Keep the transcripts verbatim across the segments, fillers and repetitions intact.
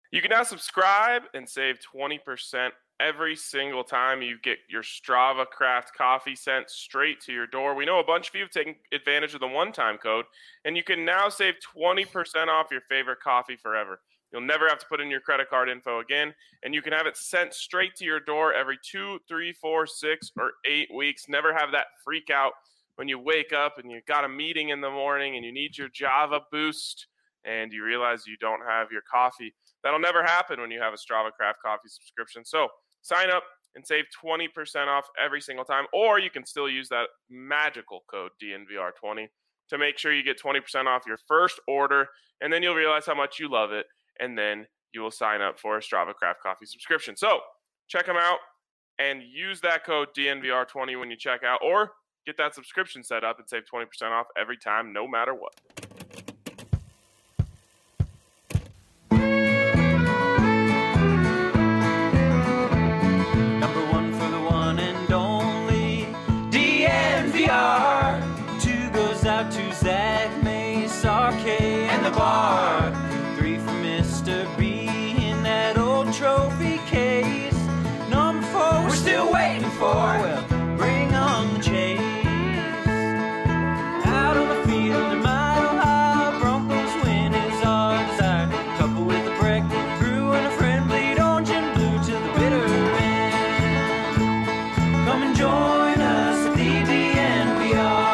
You can now subscribe and save twenty percent every single time you get your Strava Craft coffee sent straight to your door. We know a bunch of you have taken advantage of the one-time code, and you can now save twenty percent off your favorite coffee forever. You'll never have to put in your credit card info again, and you can have it sent straight to your door every two, three, four, six, or eight weeks. Never have that freak out when you wake up and you've got a meeting in the morning and you need your Java boost and you realize you don't have your coffee. That'll never happen when you have a Strava Craft coffee subscription. So sign up and save twenty percent off every single time, or you can still use that magical code D N V R twenty to make sure you get twenty percent off your first order, and then you'll realize how much you love it, and then you will sign up for a Strava Craft coffee subscription. So check them out and use that code D N V R twenty when you check out, or get that subscription set up and save twenty percent off every time, no matter what. To Zach, Mace, R K, and the bar. Three for Mister B in that old trophy case. Number four, we're still waiting for. Well, bring on the chase. Out on the field, in Mile High, Broncos win is our desire. Couple with a break, brew and a friend, bleed orange and blue to the bitter end. Come and join us at the D N V R.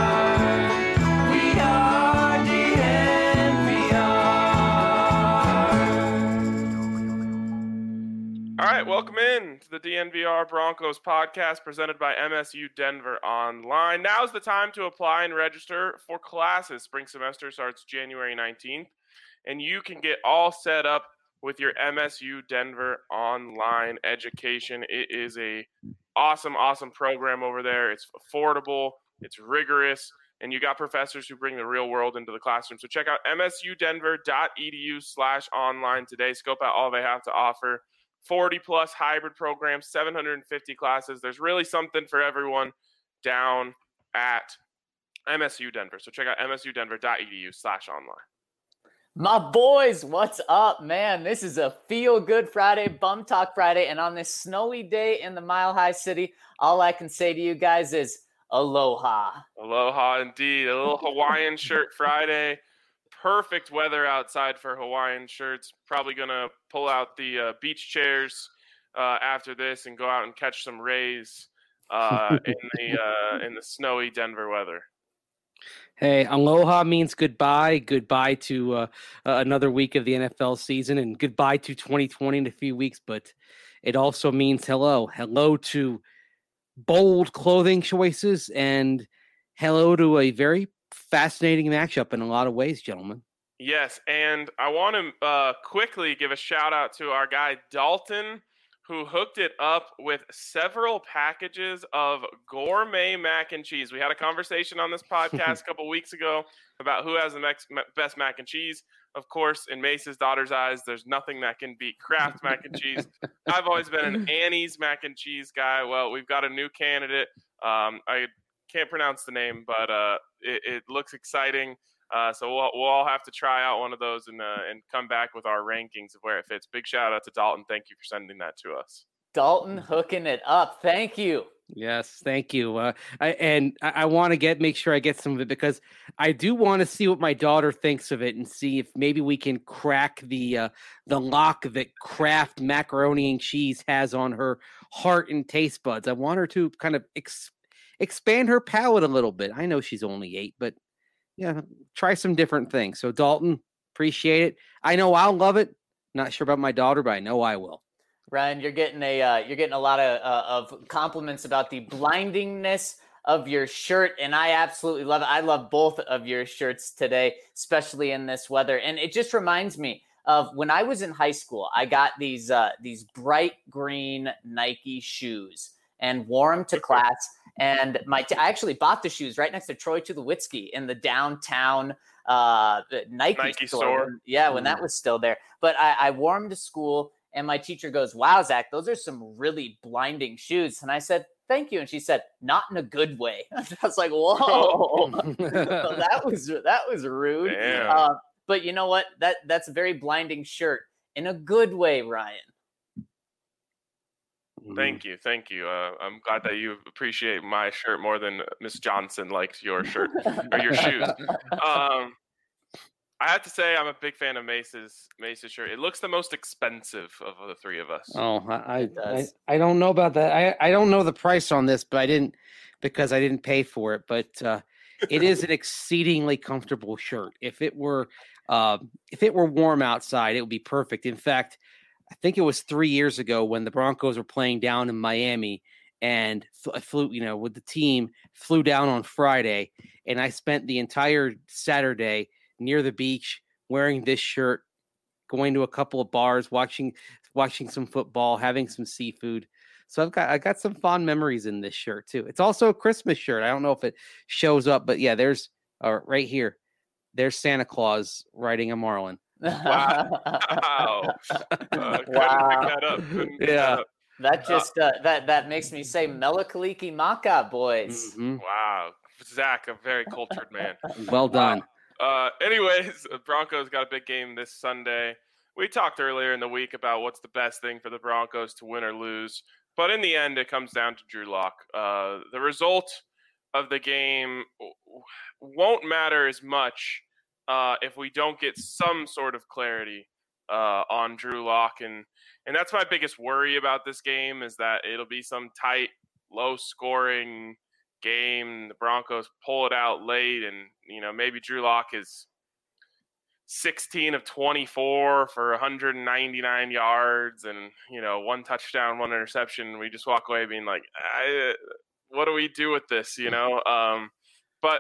All right, welcome in to the D N V R Broncos podcast presented by M S U Denver Online. Now's the time to apply and register for classes. Spring semester starts January nineteenth, and you can get all set up with your M S U Denver Online education. It is a awesome, awesome program over there. It's affordable, it's rigorous, and you got professors who bring the real world into the classroom. So check out msudenver.edu slash online today. Scope out all they have to offer. forty plus hybrid programs, seven hundred fifty classes. There's really something for everyone down at M S U Denver. So check out msudenver.edu slash online. My boys, what's up, man? This is a feel-good Friday, Bum Talk Friday, and on this snowy day in the Mile High City, all I can say to you guys is aloha. Aloha indeed. A little Hawaiian shirt Friday. Perfect weather outside for Hawaiian shirts. Probably going to pull out the uh, beach chairs uh, after this and go out and catch some rays uh, in the uh, in the snowy Denver weather. Hey, aloha means goodbye. Goodbye to uh, uh, another week of the N F L season, and goodbye to twenty twenty in a few weeks. But it also means hello. Hello to bold clothing choices, and hello to a very fascinating matchup in a lot of ways, gentlemen. Yes, and I want to uh, quickly give a shout out to our guy Dalton, who hooked it up with several packages of gourmet mac and cheese. We had a conversation on this podcast a couple weeks ago about who has the next, best mac and cheese. Of course, in Mace's daughter's eyes, there's nothing that can beat Kraft mac and cheese. I've always been an Annie's mac and cheese guy. Well, we've got a new candidate. Um, I can't pronounce the name, but uh, it, it looks exciting. Uh, so we'll, we'll all have to try out one of those and uh, and come back with our rankings of where it fits. Big shout out to Dalton. Thank you for sending that to us. Dalton hooking it up. Thank you. Yes, thank you. Uh, I, and I, I want to get make sure I get some of it because I do want to see what my daughter thinks of it and see if maybe we can crack the uh, the lock that Kraft macaroni and cheese has on her heart and taste buds. I want her to kind of ex- expand her palate a little bit. I know she's only eight, but yeah, try some different things. So Dalton, appreciate it. I know I'll love it. Not sure about my daughter, but I know I will. Ryan, you're getting a uh, you're getting a lot of uh, of compliments about the blindingness of your shirt, and I absolutely love it. I love both of your shirts today, especially in this weather. And it just reminds me of when I was in high school. I got these uh, these bright green Nike shoes and wore them to class. And my t- I actually bought the shoes right next to Troy Tulowitzki in the downtown uh, Nike, Nike store. store. Yeah, when that was still there. But I, I wore them to school. And my teacher goes, "Wow, Zach, those are some really blinding shoes." And I said, "Thank you." And she said, "Not in a good way." I was like, "Whoa, that was that was rude." Uh, but you know what? That that's a very blinding shirt. in a good way, Ryan. Thank you, thank you. Uh, I'm glad that you appreciate my shirt more than Miss Johnson likes your shirt or your shoes. Um, I have to say, I'm a big fan of Mace's Mace's shirt. It looks the most expensive of the three of us. Oh, I I, I don't know about that. I, I don't know the price on this, but I didn't because I didn't pay for it. But uh, it is an exceedingly comfortable shirt. If it were uh, if it were warm outside, it would be perfect. In fact, I think it was three years ago when the Broncos were playing down in Miami, and I flew, you know, with the team, flew down on Friday, and I spent the entire Saturday near the beach wearing this shirt, going to a couple of bars, watching watching some football, having some seafood. So I've got I got some fond memories in this shirt too. It's also a Christmas shirt. I don't know if it shows up, but yeah, there's uh, right here. There's Santa Claus riding a marlin. Wow! wow! Uh, Wow. Pick that up. Couldn't pick Yeah. that up. That just uh, that that makes me say Melakaliki Maka, boys. Mhm. Wow, Zach, a very cultured man. Well done. Uh, anyways, Broncos got a big game this Sunday. We talked earlier in the week about what's the best thing for the Broncos to win or lose, but in the end, it comes down to Drew Lock. Uh, the result of the game won't matter as much uh, if we don't get some sort of clarity uh, on Drew Lock, and and that's my biggest worry about this game is that it'll be some tight, low-scoring game. The Broncos pull it out late, and you know maybe Drew Lock is sixteen of twenty-four for one hundred ninety-nine yards, and you know one touchdown, one interception. And we just walk away being like, I, "What do we do with this?" You know. Um, but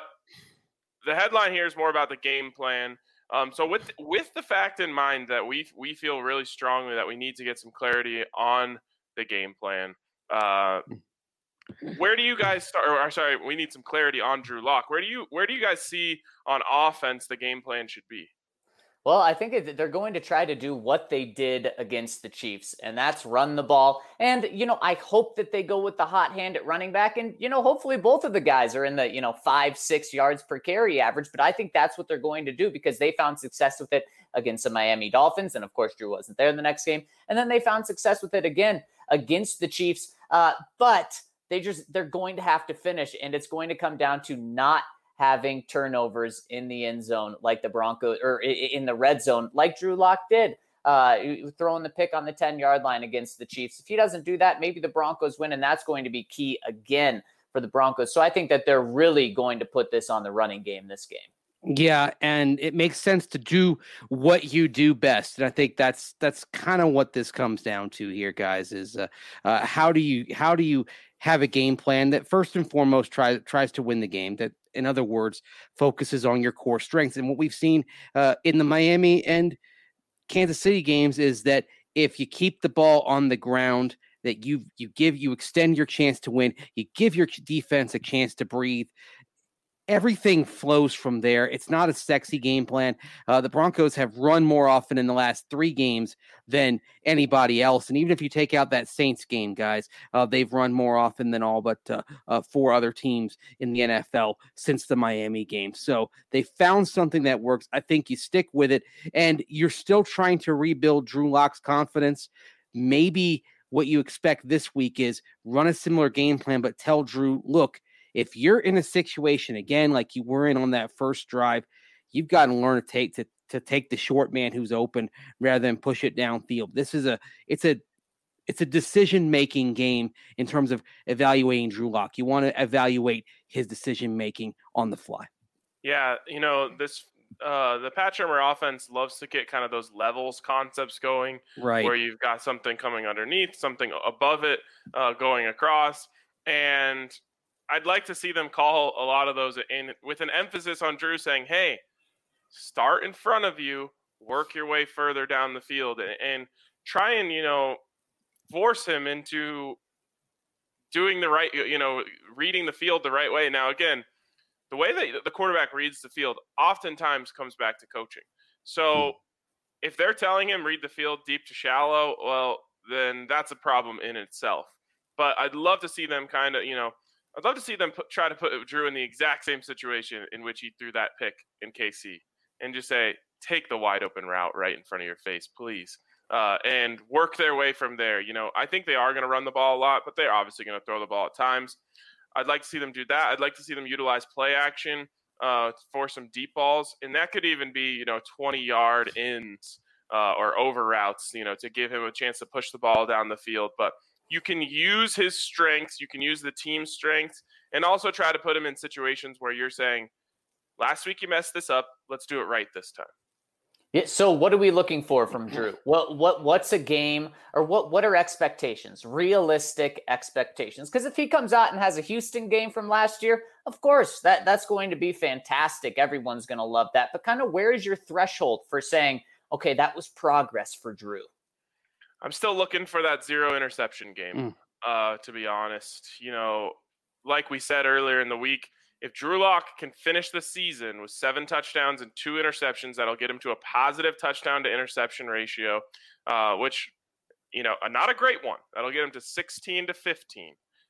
the headline here is more about the game plan. Um, so with with the fact in mind that we we feel really strongly that we need to get some clarity on the game plan. Uh, Where do you guys start? Or sorry, we need some clarity on Drew Lock. Where do you where do you guys see on offense the game plan should be? Well, I think it- they're going to try to do what they did against the Chiefs, and that's run the ball. And, you know, I hope that they go with the hot hand at running back. And, you know, hopefully both of the guys are in the, you know, five, six yards per carry average. But I think that's what they're going to do because they found success with it against the Miami Dolphins. And, of course, Drew wasn't there in the next game. And then they found success with it again against the Chiefs. Uh, but they just they're going to have to finish, and it's going to come down to not having turnovers in the end zone like the Broncos or in the red zone like Drew Lock did, uh, throwing the pick on the ten-yard line against the Chiefs. If he doesn't do that, maybe the Broncos win, and that's going to be key again for the Broncos. So I think that they're really going to put this on the running game this game. Yeah, and it makes sense to do what you do best, and I think that's that's kind of what this comes down to here, guys. Is uh, uh, how do you how do you have a game plan that first and foremost tries tries to win the game? That, in other words, focuses on your core strengths. And what we've seen uh, in the Miami and Kansas City games is that if you keep the ball on the ground, that you you give you extend your chance to win, you give your defense a chance to breathe. Everything flows from there. It's not a sexy game plan. Uh, the Broncos have run more often in the last three games than anybody else. And even if you take out that Saints game, guys, uh, they've run more often than all but uh, uh, four other teams in the N F L since the Miami game. So they found something that works. I think you stick with it, and you're still trying to rebuild Drew Lock's confidence. Maybe what you expect this week is run a similar game plan, but tell Drew, look, if you're in a situation, again, like you were in on that first drive, you've got to learn to take to, to take the short man who's open rather than push it downfield. This is a it's a it's a decision-making game in terms of evaluating Drew Lock. You want to evaluate his decision-making on the fly. Yeah, you know, this uh, the Pat Shurmur offense loves to get kind of those levels concepts going, Right. where you've got something coming underneath, something above it, uh, going across, and I'd like to see them call a lot of those in with an emphasis on Drew saying, hey, start in front of you, work your way further down the field, and, and try and, you know, force him into doing the right, you know, reading the field the right way. Now, again, the way that the quarterback reads the field oftentimes comes back to coaching. So hmm. if they're telling him read the field deep to shallow, well, then that's a problem in itself. But I'd love to see them kind of, you know, I'd love to see them put, try to put Drew in the exact same situation in which he threw that pick in K C and just say, take the wide open route right in front of your face, please. uh, and work their way from there. You know, I think they are going to run the ball a lot, but they're obviously going to throw the ball at times. I'd like to see them do that. I'd like to see them utilize play action uh, for some deep balls, and that could even be, you know, twenty-yard ins uh, or over routes, you know, to give him a chance to push the ball down the field. But you can use his strengths, you can use the team's strengths, and also try to put him in situations where you're saying, last week you messed this up, let's do it right this time. Yeah, so what are we looking for from Drew? What what what's a game, or what what are expectations? Realistic expectations. Because if he comes out and has a Houston game from last year, of course, that, that's going to be fantastic. Everyone's going to love that. But kind of where is your threshold for saying, okay, that was progress for Drew? I'm still looking for that zero interception game, mm. uh, to be honest. You know, like we said earlier in the week, if Drew Lock can finish the season with seven touchdowns and two interceptions, that'll get him to a positive touchdown to interception ratio, uh, which, you know, not a great one. That'll get him to sixteen to fifteen,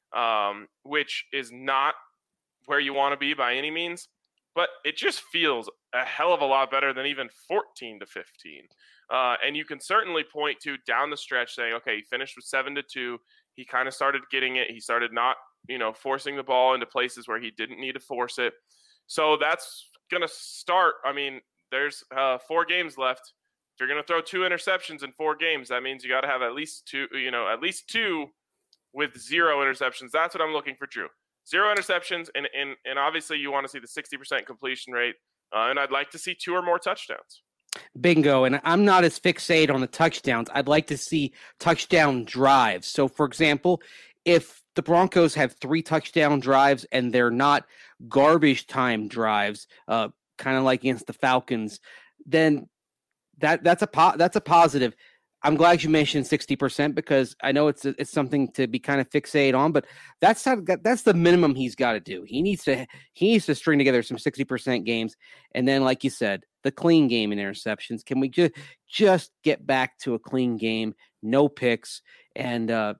um, which is not where you want to be by any means, but it just feels a hell of a lot better than even fourteen to fifteen. Uh, and you can certainly point to down the stretch saying, okay, he finished with seven to two. He kind of started getting it. He started not, you know, forcing the ball into places where he didn't need to force it. So that's going to start. I mean, there's uh, four games left. If you're going to throw two interceptions in four games, that means you got to have at least two, you know, at least two with zero interceptions. That's what I'm looking for, Drew. Zero interceptions. And, and, and obviously you want to see the sixty percent completion rate. Uh, and I'd like to see two or more touchdowns. Bingo. And I'm not as fixated on the touchdowns. I'd like to see touchdown drives. So, for example, if the Broncos have three touchdown drives and they're not garbage time drives, uh, kind of like against the Falcons, then that that's a po- that's a positive. I'm glad you mentioned sixty percent because I know it's it's something to be kind of fixated on, but that's how, that's the minimum he's got to do. He needs to he needs to string together some sixty percent games, and then, like you said, the clean game in interceptions. Can we just just get back to a clean game, no picks, and uh,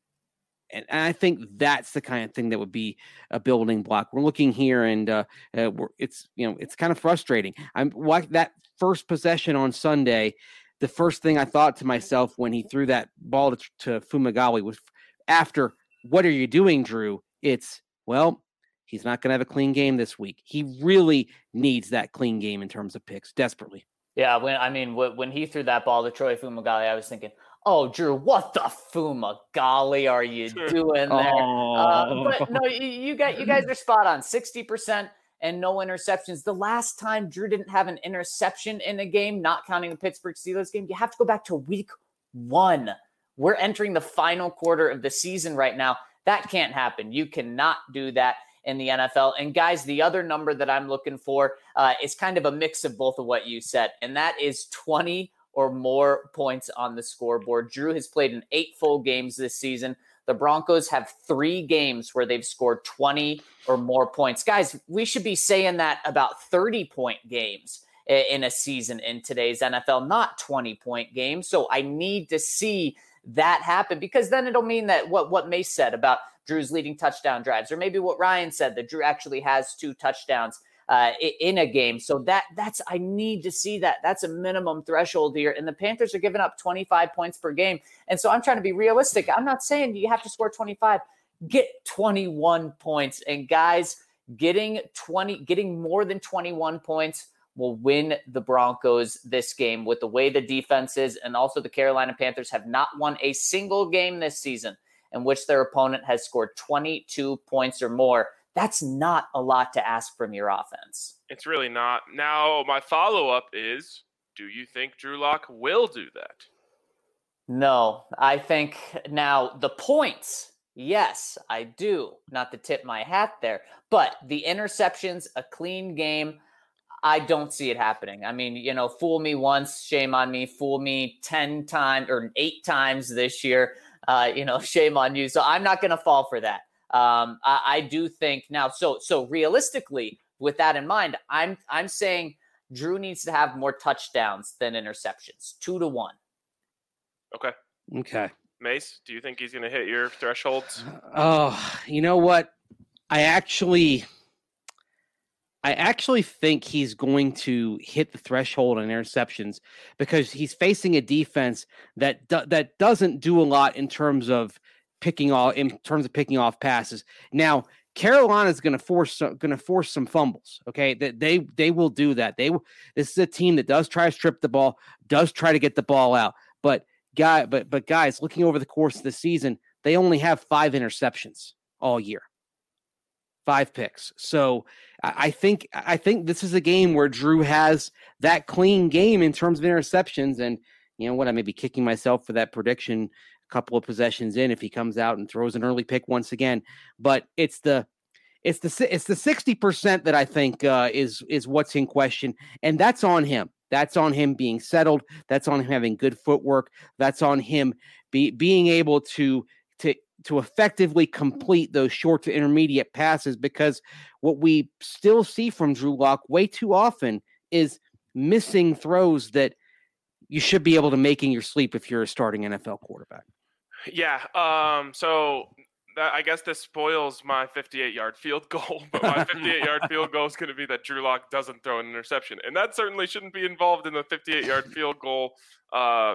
and I think that's the kind of thing that would be a building block. We're looking here, and uh, uh, we're, it's you know it's kind of frustrating. I'm like that first possession on Sunday. The first thing I thought to myself when he threw that ball to, to Fumagalli was, after, what are you doing, Drew? It's, well, he's not going to have a clean game this week. He really needs that clean game in terms of picks, desperately. Yeah, when I mean, when he threw that ball to Troy Fumagalli, I was thinking, oh, Drew, what the Fumagalli are you doing there? Oh. Uh, but no, you, you, got, you guys are spot on, sixty percent. And no interceptions. The last time Drew didn't have an interception in a game, not counting the Pittsburgh Steelers game, you have to go back to week one. We're entering the final quarter of the season right now. That can't happen. You cannot do that in the N F L. And guys, the other number that I'm looking for uh, is kind of a mix of both of what you said, and that is twenty or more points on the scoreboard. Drew has played in eight full games this season. The Broncos have three games where they've scored twenty or more points. Guys, we should be saying that about thirty-point games in a season in today's N F L, not twenty-point games. So I need to see that happen, because then it'll mean that what, what Mace said about Drew's leading touchdown drives, or maybe what Ryan said, that Drew actually has two touchdowns uh, in a game. So that that's I need to see that. That's a minimum threshold here. And the Panthers are giving up twenty-five points per game. And so I'm trying to be realistic. I'm not saying you have to score twenty-five. Get twenty-one points. And guys, getting twenty, getting more than twenty-one points will win the Broncos this game with the way the defense is. And also the Carolina Panthers have not won a single game this season in which their opponent has scored twenty-two points or more. That's not a lot to ask from your offense. It's really not. Now, my follow-up is, do you think Drew Lock will do that? No, I think now the points, yes, I do. Not to tip my hat there, but the interceptions, a clean game, I don't see it happening. I mean, you know, fool me once, shame on me. Fool me ten times or eight times this year, uh, you know, shame on you. So I'm not going to fall for that. Um, I, I do think now, so so realistically, with that in mind, I'm I'm saying Drew needs to have more touchdowns than interceptions, two to one. Okay. Okay. Mace, do you think he's going to hit your thresholds? Oh, you know what? I actually, I actually think he's going to hit the threshold on interceptions because he's facing a defense that do, that doesn't do a lot in terms of picking off in terms of picking off passes. Now, Carolina's going to force going to force some fumbles. Okay, that they they will do that. They this is a team that does try to strip the ball, does try to get the ball out. But guy, but but guys, looking over the course of the season, they only have five interceptions all year. Five picks. So I think I think this is a game where Drew has that clean game in terms of interceptions. And you know what? I may be kicking myself for that prediction a couple of possessions in if he comes out and throws an early pick once again. But it's the it's the it's the sixty percent that I think uh, is is what's in question, and that's on him. That's on him being settled. That's on him having good footwork. That's on him be, being able to to. to effectively complete those short to intermediate passes, because what we still see from Drew Lock way too often is missing throws that you should be able to make in your sleep if you're a starting N F L quarterback. Yeah. Um, so that, I guess this spoils my fifty-eight yard field goal, but my fifty-eight yard field goal is going to be that Drew Lock doesn't throw an interception. And that certainly shouldn't be involved in the fifty-eight yard field goal uh,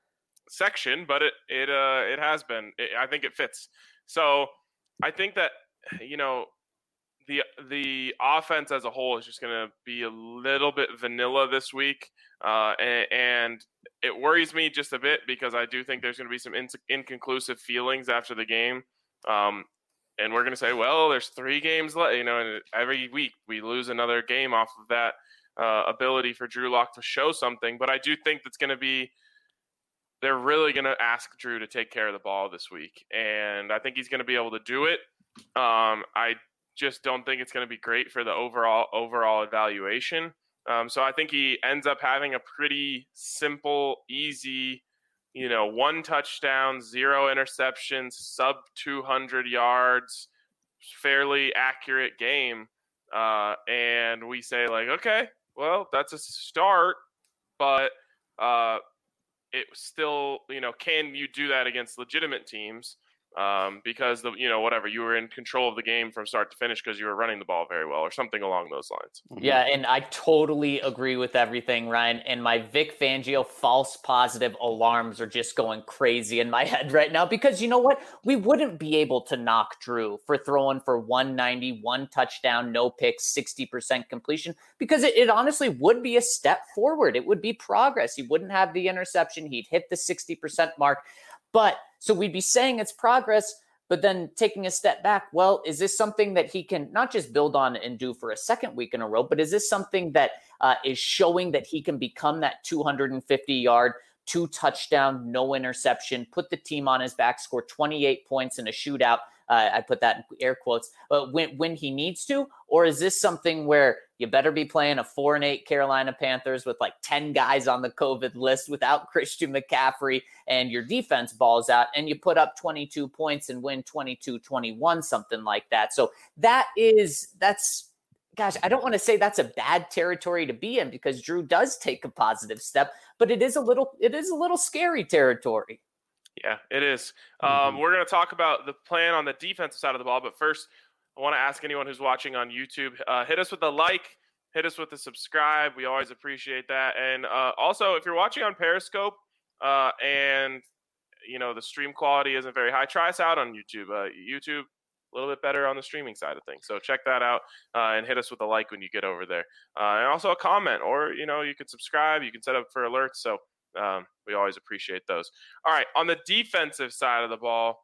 section, but it it uh it has been. It, I think it fits. So I think that, you know, the the offense as a whole is just going to be a little bit vanilla this week, uh, and, and it worries me just a bit because I do think there's going to be some in, inconclusive feelings after the game, um, and we're going to say, well, there's three games left, you know, and every week we lose another game off of that uh, ability for Drew Lock to show something. But I do think that's going to be. They're really going to ask Drew to take care of the ball this week, and I think he's going to be able to do it. Um, I just don't think it's going to be great for the overall overall evaluation. Um, so I think he ends up having a pretty simple, easy, you know, one touchdown, zero interceptions, sub two hundred yards, fairly accurate game. Uh, and we say, like, okay, well, that's a start, but uh, – it still, you know, can you do that against legitimate teams? Um, because the, you know, whatever, you were in control of the game from start to finish because you were running the ball very well or something along those lines. Yeah, and I totally agree with everything, Ryan. And my Vic Fangio false positive alarms are just going crazy in my head right now because you know what? We wouldn't be able to knock Drew for throwing for one ninety, one touchdown, no picks, sixty percent completion because it, it honestly would be a step forward. It would be progress. He wouldn't have the interception. He'd hit the sixty percent mark. But so we'd be saying it's progress, but then taking a step back, well, is this something that he can not just build on and do for a second week in a row, but is this something that uh, is showing that he can become that two hundred fifty yard, two touchdown, no interception, put the team on his back, score twenty-eight points in a shootout? Uh, I put that in air quotes, but when, when he needs to, or is this something where you better be playing a four and eight Carolina Panthers with like ten guys on the COVID list without Christian McCaffrey and your defense balls out and you put up twenty-two points and win twenty-two twenty-one, something like that. So that is, that's, gosh, I don't want to say that's a bad territory to be in because Drew does take a positive step, but it is a little, it is a little scary territory. Yeah, it is. Mm-hmm. Um, we're going to talk about the plan on the defensive side of the ball, but first, I want to ask anyone who's watching on YouTube, uh, hit us with a like, hit us with a subscribe. We always appreciate that. And uh, also, if you're watching on Periscope uh, and you know the stream quality isn't very high, try us out on YouTube. Uh, YouTube, a little bit better on the streaming side of things. So check that out uh, and hit us with a like when you get over there, uh, and also a comment, or you know you could subscribe. You can set up for alerts. So. Um, we always appreciate those. All right, on the defensive side of the ball,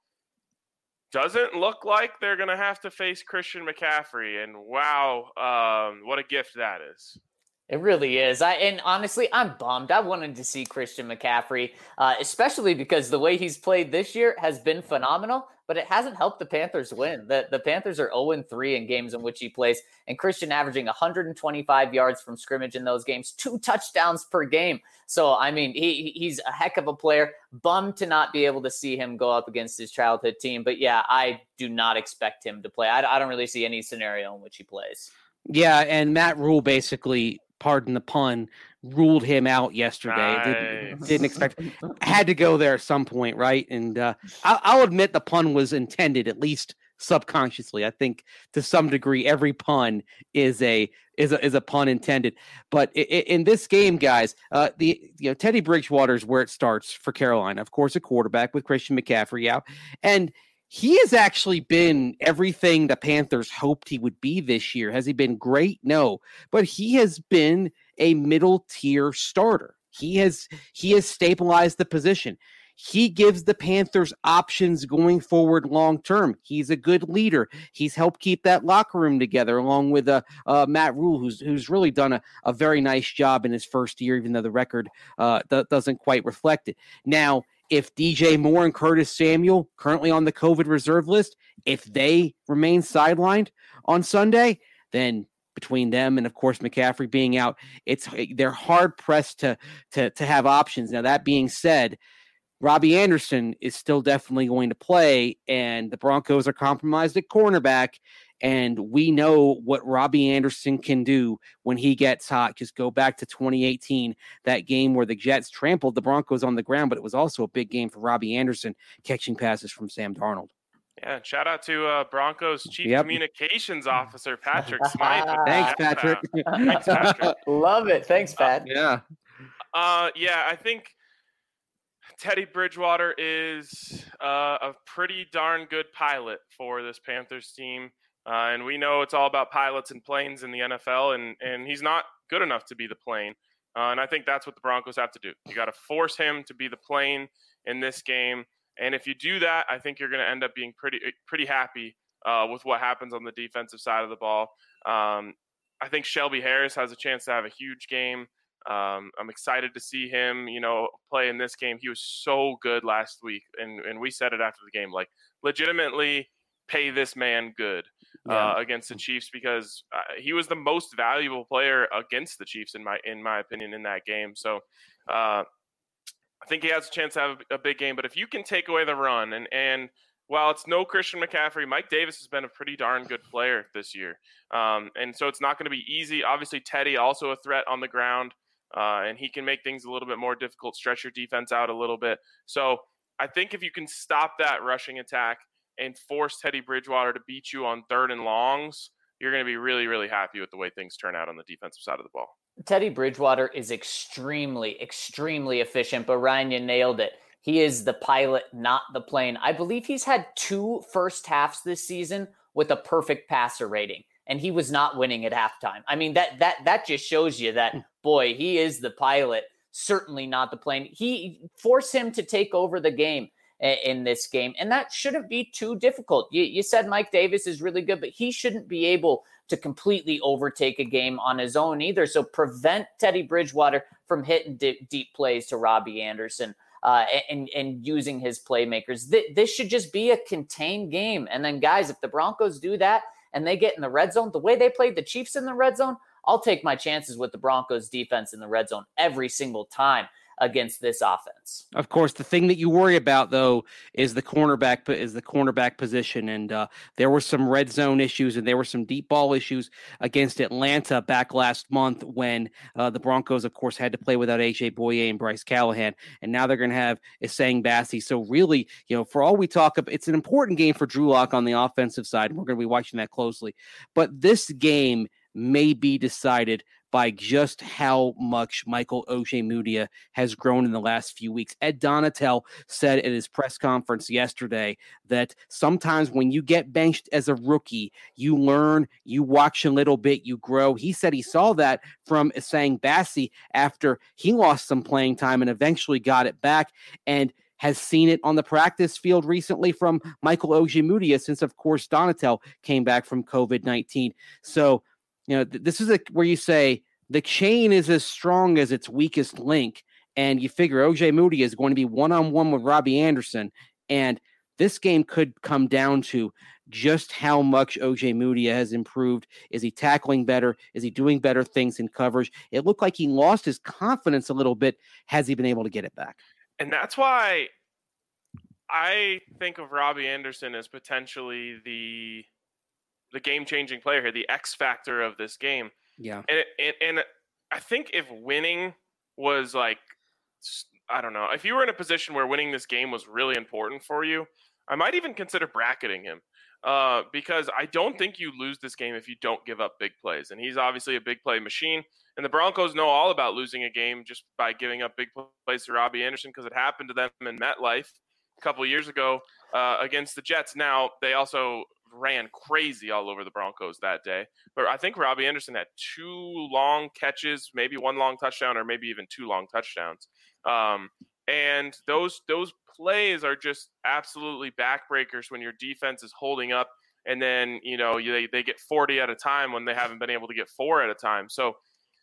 doesn't look like they're going to have to face Christian McCaffrey. And wow, um, what a gift that is. It really is. I and honestly, I'm bummed. I wanted to see Christian McCaffrey, uh, especially because the way he's played this year has been phenomenal, but it hasn't helped the Panthers win. The, the Panthers are oh and three in games in which he plays, and Christian averaging one hundred twenty-five yards from scrimmage in those games, two touchdowns per game. So, I mean, he he's a heck of a player. Bummed to not be able to see him go up against his childhood team. But, yeah, I do not expect him to play. I, I don't really see any scenario in which he plays. Yeah, and Matt Rule basically, pardon the pun, ruled him out yesterday. Nice. Didn't, didn't expect, had to go there at some point, right? And uh, I'll, I'll admit the pun was intended, at least subconsciously. I think to some degree, every pun is a is a is a pun intended. But in, in this game, guys, uh, the you know Teddy Bridgewater is where it starts for Carolina. Of course, a quarterback with Christian McCaffrey out, and he has actually been everything the Panthers hoped he would be this year. Has he been great? No, but he has been a middle tier starter. He has he has stabilized the position. He gives the Panthers options going forward long term. He's a good leader. He's helped keep that locker room together, along with uh, uh, Matt Rule, who's who's really done a, a very nice job in his first year, even though the record uh, th- doesn't quite reflect it. Now, if D J Moore and Curtis Samuel, currently on the COVID reserve list, if they remain sidelined on Sunday, then between them and, of course, McCaffrey being out, it's they're hard pressed to to to have options. Now, that being said, Robbie Anderson is still definitely going to play, and the Broncos are compromised at cornerback, and we know what Robbie Anderson can do when he gets hot. Just go back to twenty eighteen, that game where the Jets trampled the Broncos on the ground, but it was also a big game for Robbie Anderson catching passes from Sam Darnold. Yeah, shout out to uh, Broncos Chief Yep. Communications Officer Patrick Smythe. Thanks, Patrick. Thanks, Patrick. Love it. Thanks, Pat. Yeah. Uh, yeah, I think Teddy Bridgewater is uh, a pretty darn good pilot for this Panthers team. Uh, and we know it's all about pilots and planes in the N F L, and, and he's not good enough to be the plane. Uh, and I think that's what the Broncos have to do. You got to force him to be the plane in this game. And if you do that, I think you're going to end up being pretty pretty happy uh, with what happens on the defensive side of the ball. Um, I think Shelby Harris has a chance to have a huge game. Um, I'm excited to see him, you know, play in this game. He was so good last week, and, and we said it after the game, like, legitimately pay this man good uh, yeah. against the Chiefs, because uh, he was the most valuable player against the Chiefs, in my in my opinion, in that game. So uh, I think he has a chance to have a big game. But if you can take away the run, and and while it's no Christian McCaffrey, Mike Davis has been a pretty darn good player this year. Um, and so it's not going to be easy. Obviously, Teddy also a threat on the ground. Uh, and he can make things a little bit more difficult, stretch your defense out a little bit. So I think if you can stop that rushing attack and force Teddy Bridgewater to beat you on third and longs, you're going to be really, really happy with the way things turn out on the defensive side of the ball. Teddy Bridgewater is extremely, extremely efficient, but Ryan, you nailed it. He is the pilot, not the plane. I believe he's had two first halves this season with a perfect passer rating, and he was not winning at halftime. I mean, that that that just shows you that, boy, he is the pilot, certainly not the plane. He forced him to take over the game in this game, and that shouldn't be too difficult. You, you said Mike Davis is really good, but he shouldn't be able to completely overtake a game on his own either. So prevent Teddy Bridgewater from hitting deep, deep plays to Robbie Anderson uh, and, and using his playmakers. Th- this should just be a contained game. And then, guys, if the Broncos do that and they get in the red zone, the way they played the Chiefs in the red zone, I'll take my chances with the Broncos defense in the red zone every single time against this offense. Of course, the thing that you worry about, though, is the cornerback is the cornerback position. And uh, there were some red zone issues and there were some deep ball issues against Atlanta back last month when uh, the Broncos, of course, had to play without A J Boye and Bryce Callahan. And now they're going to have Essang Bassey. So really, you know, for all we talk about, it's an important game for Drew Lock on the offensive side. And we're going to be watching that closely. But this game may be decided by just how much Michael Ojemudia has grown in the last few weeks. Ed Donatel said at his press conference yesterday that sometimes when you get benched as a rookie, you learn, you watch a little bit, you grow. He said he saw that from Essang Bassey after he lost some playing time and eventually got it back, and has seen it on the practice field recently from Michael Ojemudia since, of course, Donatel came back from covid nineteen. So, you know, th- this is a, where you say the chain is as strong as its weakest link, and you figure Ojemudia is going to be one-on-one with Robbie Anderson, and this game could come down to just how much Ojemudia has improved. Is he tackling better? Is he doing better things in coverage? It looked like he lost his confidence a little bit. Has he been able to get it back? And that's why I think of Robbie Anderson as potentially the the game-changing player here, the X factor of this game. Yeah. And, and and I think if winning was like, I don't know, if you were in a position where winning this game was really important for you, I might even consider bracketing him uh, because I don't think you lose this game if you don't give up big plays. And he's obviously a big play machine. And the Broncos know all about losing a game just by giving up big plays to Robbie Anderson because it happened to them in MetLife a couple of years ago uh, against the Jets. Now, they also ran crazy all over the Broncos that day. But I think Robbie Anderson had two long catches, maybe one long touchdown, or maybe even two long touchdowns. Um, and those those plays are just absolutely backbreakers when your defense is holding up, and then you know they they get forty at a time when they haven't been able to get four at a time. So,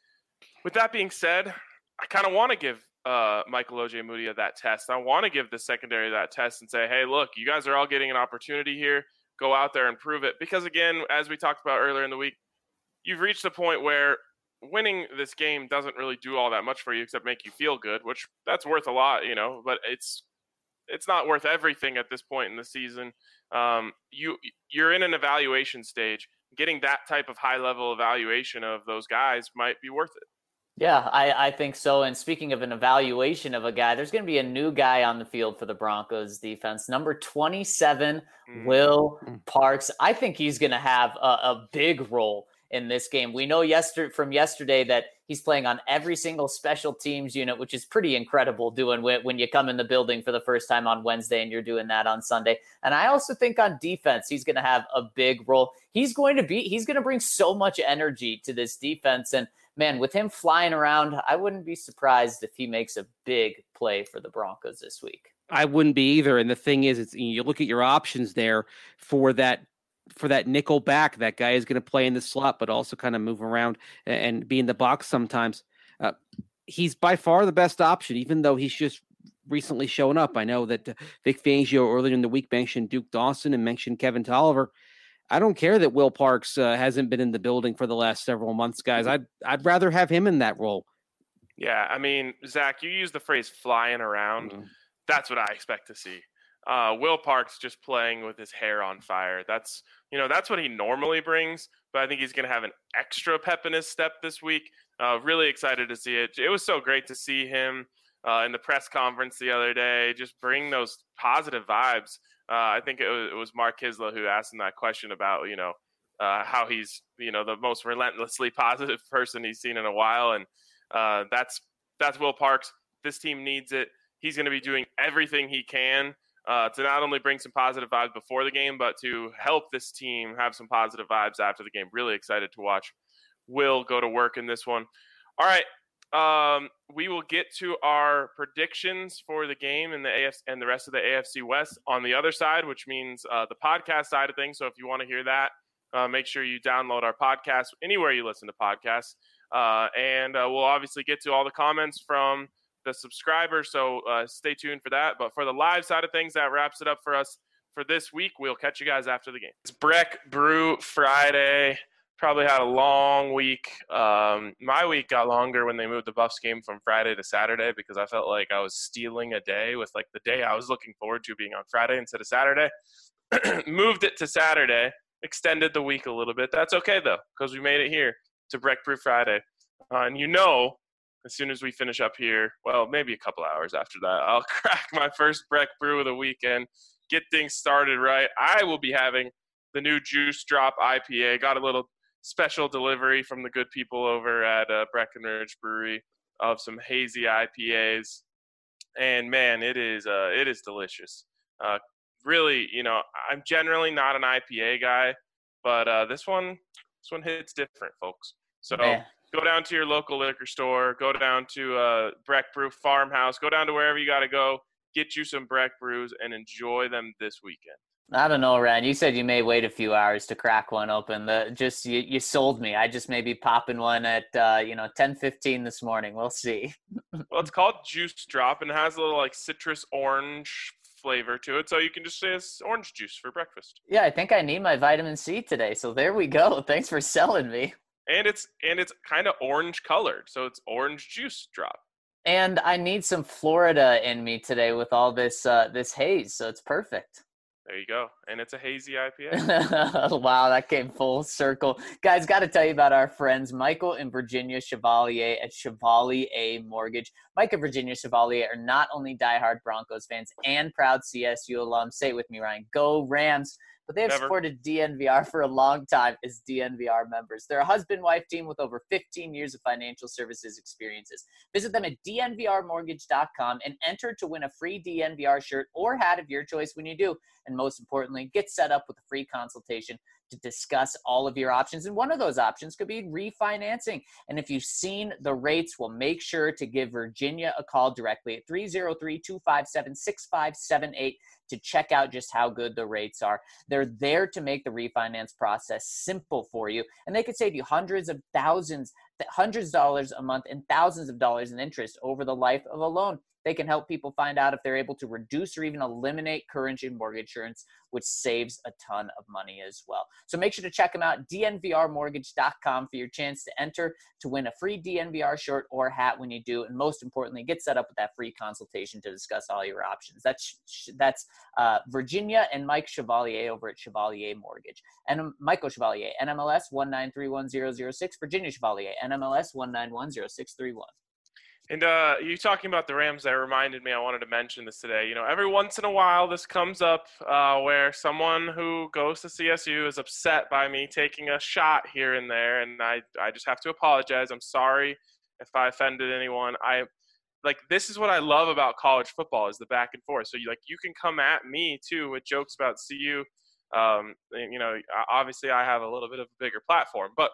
with that being said, I kind of want to give uh, Michael Ojemudia that test. I want to give the secondary that test and say, hey, look, you guys are all getting an opportunity here. Go out there and prove it. Because again, as we talked about earlier in the week, you've reached the point where winning this game doesn't really do all that much for you except make you feel good, which that's worth a lot, you know, but it's it's not worth everything at this point in the season. Um, you you're in an evaluation stage. Getting that type of high level evaluation of those guys might be worth it. Yeah, I, I think so. And speaking of an evaluation of a guy, there's going to be a new guy on the field for the Broncos defense. Number twenty-seven, mm. Will Parks. I think he's going to have a, a big role in this game. We know yesterday from yesterday that he's playing on every single special teams unit, which is pretty incredible doing when you come in the building for the first time on Wednesday and you're doing that on Sunday. And I also think on defense, he's going to have a big role. He's going to be, he's going to bring so much energy to this defense. And man, with him flying around, I wouldn't be surprised if he makes a big play for the Broncos this week. I wouldn't be either. And the thing is, it's, you look at your options there for that for that nickel back. That guy is going to play in the slot, but also kind of move around and be in the box sometimes. Uh, he's by far the best option, even though he's just recently shown up. I know that Vic Fangio earlier in the week mentioned Duke Dawson and mentioned Kevin Tolliver. I don't care that Will Parks uh, hasn't been in the building for the last several months, guys. I'd I'd rather have him in that role. Yeah, I mean, Zach, you use the phrase flying around. Mm-hmm. That's what I expect to see. Uh, Will Parks just playing with his hair on fire. That's, you know, that's what he normally brings, but I think he's going to have an extra pep in his step this week. Uh, really excited to see it. It was so great to see him uh, in the press conference the other day, just bring those positive vibes. Uh, I think it was, it was Mark Kisla who asked him that question about, you know, uh, how he's, you know, the most relentlessly positive person he's seen in a while. And uh, that's, that's Will Parks. This team needs it. He's going to be doing everything he can uh, to not only bring some positive vibes before the game, but to help this team have some positive vibes after the game. Really excited to watch Will go to work in this one. All right. Um, we will get to our predictions for the game and the A F C and the rest of the A F C West on the other side, which means uh, the podcast side of things. So if you want to hear that, uh, make sure you download our podcast anywhere you listen to podcasts. Uh, and uh, we'll obviously get to all the comments from the subscribers. So uh, stay tuned for that. But for the live side of things, that wraps it up for us for this week. We'll catch you guys after the game. It's Breck Brew Friday. Probably had a long week. Um, my week got longer when they moved the Buffs game from Friday to Saturday because I felt like I was stealing a day with like the day I was looking forward to being on Friday instead of Saturday. Moved it to Saturday, extended the week a little bit. That's okay though, because we made it here to Breck Brew Friday. Uh, and you know, as soon as we finish up here, well, maybe a couple hours after that, I'll crack my first Breck Brew of the weekend, get things started right. I will be having the new Juice Drop I P A. Got a little special delivery from the good people over at uh, Breckenridge Brewery of some hazy I P As, and man, it is uh, it is delicious. Uh, really, you know, I'm generally not an I P A guy, but uh, this one this one hits different, folks. So man, go down to your local liquor store, go down to uh, Breck Brew Farmhouse, go down to wherever you got to go, get you some Breck Brews, and enjoy them this weekend. I don't know, Ryan. You said you may wait a few hours to crack one open. The just you, you sold me. I just may be popping one at uh, you know ten fifteen this morning. We'll see. Well, it's called Juice Drop and it has a little like citrus orange flavor to it, so you can just say it's orange juice for breakfast. Yeah, I think I need my vitamin C today. So there we go. Thanks for selling me. And it's and it's kind of orange colored, so it's orange juice drop. And I need some Florida in me today with all this uh, this haze, so it's perfect. There you go. And it's a hazy I P A. Wow, that came full circle. Guys, got to tell you about our friends Michael and Virginia Chevalier at Chevalier Mortgage. Mike and Virginia Chevalier are not only diehard Broncos fans and proud C S U alums. Say it with me, Ryan. Go Rams. But they have Never. supported D N V R for a long time as D N V R members. They're a husband-wife team with over fifteen years of financial services experiences. Visit them at D N V R mortgage dot com and enter to win a free D N V R shirt or hat of your choice when you do. And most importantly, get set up with a free consultation to discuss all of your options. And one of those options could be refinancing. And if you've seen the rates, well, make sure to give Virginia a call directly at three oh three, two five seven, six five seven eight to check out just how good the rates are. They're there to make the refinance process simple for you. And they could save you hundreds of thousands, hundreds of dollars a month and thousands of dollars in interest over the life of a loan. They can help people find out if they're able to reduce or even eliminate current and mortgage insurance, which saves a ton of money as well. So make sure to check them out, D N V R mortgage dot com, for your chance to enter to win a free D N V R shirt or hat when you do. And most importantly, get set up with that free consultation to discuss all your options. That's that's uh, Virginia and Mike Chevalier over at Chevalier Mortgage. And Michael Chevalier, N M L S one nine three one zero zero six, Virginia Chevalier, N M L S one nine one zero six three one. And uh, you talking about the Rams, that reminded me, I wanted to mention this today. You know, every once in a while this comes up uh, where someone who goes to C S U is upset by me taking a shot here and there, and I, I just have to apologize. I'm sorry if I offended anyone. I like this is what I love about college football, is the back and forth. So you like you can come at me too with jokes about C U. Um, you know, obviously I have a little bit of a bigger platform, but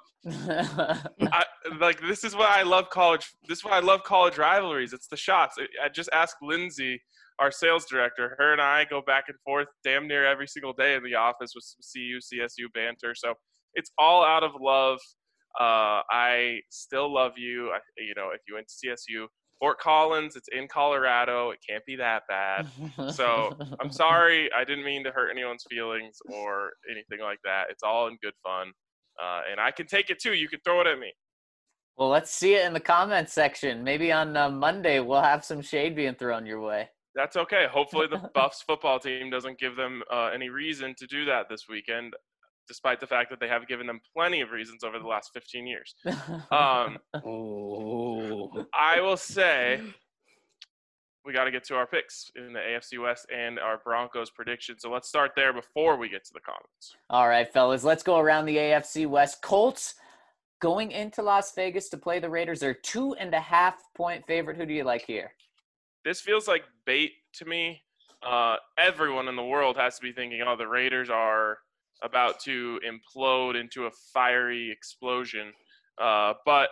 I, like, this is what I love college. This is why I love college rivalries. It's the shots. I just asked Lindsay, our sales director. Her and I go back and forth damn near every single day in the office with some C U, C S U banter. So it's all out of love. Uh, I still love you. I, you know, if you went to C S U, Fort Collins, it's in Colorado. It can't be that bad. So I'm sorry. I didn't mean to hurt anyone's feelings or anything like that. It's all in good fun. Uh, and I can take it too. You can throw it at me. Well, let's see it in the comments section. Maybe on uh, Monday we'll have some shade being thrown your way. That's okay. Hopefully the Buffs football team doesn't give them uh, any reason to do that this weekend, despite the fact that they have given them plenty of reasons over the last fifteen years. Um, Oh. I will say we got to get to our picks in the A F C West and our Broncos predictions. So let's start there before we get to the comments. All right, fellas, let's go around the A F C West. Colts going into Las Vegas to play the Raiders. They're two and a half point favorite. Who do you like here? This feels like bait to me. Uh, everyone in the world has to be thinking, oh, the Raiders are about to implode into a fiery explosion. Uh, but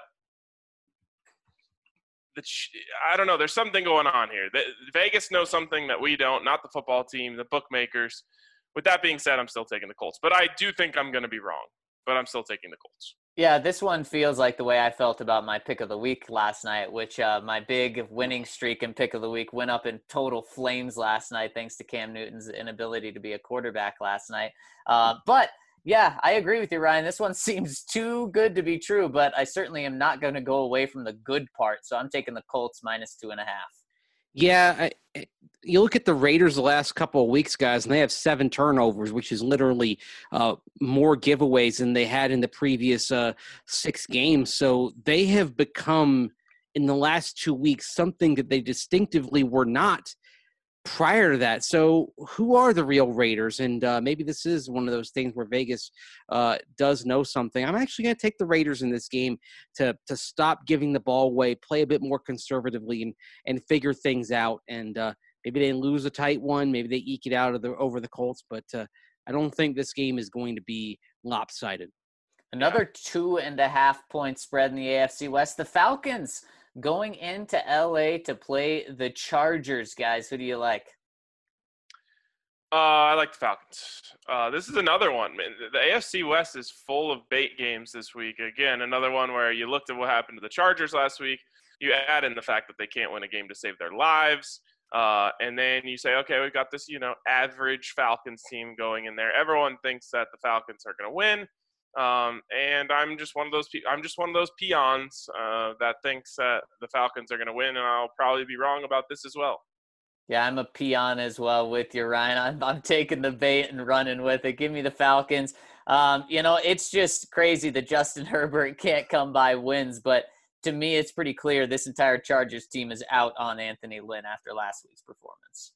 the ch- I don't know. There's something going on here. The, Vegas knows something that we don't, not the football team, the bookmakers. With that being said, I'm still taking the Colts. But I do think I'm going to be wrong. But I'm still taking the Colts. Yeah, this one feels like the way I felt about my pick of the week last night, which uh, my big winning streak in pick of the week went up in total flames last night thanks to Cam Newton's inability to be a quarterback last night. Uh, but, yeah, I agree with you, Ryan. This one seems too good to be true, but I certainly am not going to go away from the good part. So I'm taking the Colts minus two and a half. Yeah, I, you look at the Raiders the last couple of weeks, guys, and they have seven turnovers, which is literally uh, more giveaways than they had in the previous uh, six games. So they have become, in the last two weeks, something that they distinctively were not prior to that. So who are the real Raiders? And uh, maybe this is one of those things where Vegas uh, does know something. I'm actually going to take the Raiders in this game to to stop giving the ball away, play a bit more conservatively, and and figure things out. And uh, maybe they lose a tight one. Maybe they eke it out of the over the Colts. But uh, I don't think this game is going to be lopsided. Another two and a half point spread in the A F C West. The Falcons going into L A to play the Chargers, guys. Who do you like? Uh, I like the Falcons. Uh, this is another one. Man. The A F C West is full of bait games this week. Again, another one where you looked at what happened to the Chargers last week. You add in the fact that they can't win a game to save their lives. Uh, and then you say, okay, we've got this, you know, average Falcons team going in there. Everyone thinks that the Falcons are going to win. Um, and I'm just one of those. I'm just one of those peons uh, that thinks that the Falcons are going to win, and I'll probably be wrong about this as well. Yeah, I'm a peon as well with you, Ryan. I'm, I'm taking the bait and running with it. Give me the Falcons. Um, you know, it's just crazy that Justin Herbert can't come by wins, but to me, it's pretty clear this entire Chargers team is out on Anthony Lynn after last week's performance.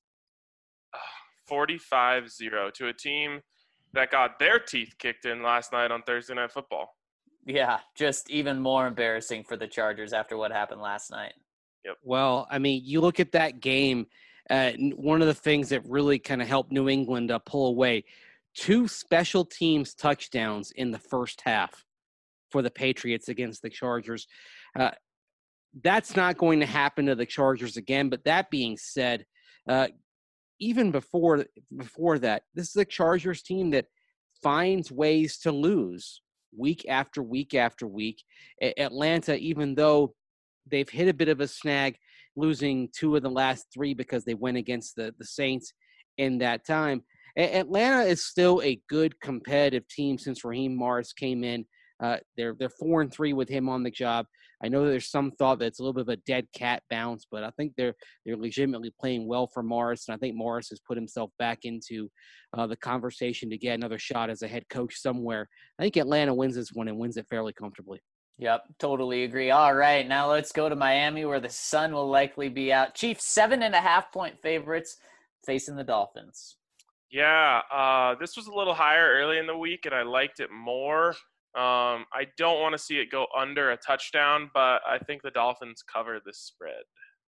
forty-five zero to a team that got their teeth kicked in last night on Thursday Night Football. Yeah, just even more embarrassing for the Chargers after what happened last night. Yep. Well, I mean, you look at that game, uh, one of the things that really kind of helped New England uh, pull away, two special teams touchdowns in the first half for the Patriots against the Chargers. Uh, that's not going to happen to the Chargers again. But that being said, uh, even before before that, this is a Chargers team that finds ways to lose week after week after week. A- Atlanta, even though they've hit a bit of a snag, losing two of the last three because they went against the, the Saints in that time. A- Atlanta is still a good competitive team since Raheem Morris came in. Uh, they're they're four and three with him on the job. I know there's some thought that it's a little bit of a dead cat bounce, but I think they're they're legitimately playing well for Morris, and I think Morris has put himself back into uh, the conversation to get another shot as a head coach somewhere. I think Atlanta wins this one and wins it fairly comfortably. Yep, totally agree. All right, now let's go to Miami where the sun will likely be out. Chiefs, seven and a half point favorites facing the Dolphins. Yeah, uh, this was a little higher early in the week, and I liked it more. Um, I don't want to see it go under a touchdown, but I think the Dolphins cover this spread.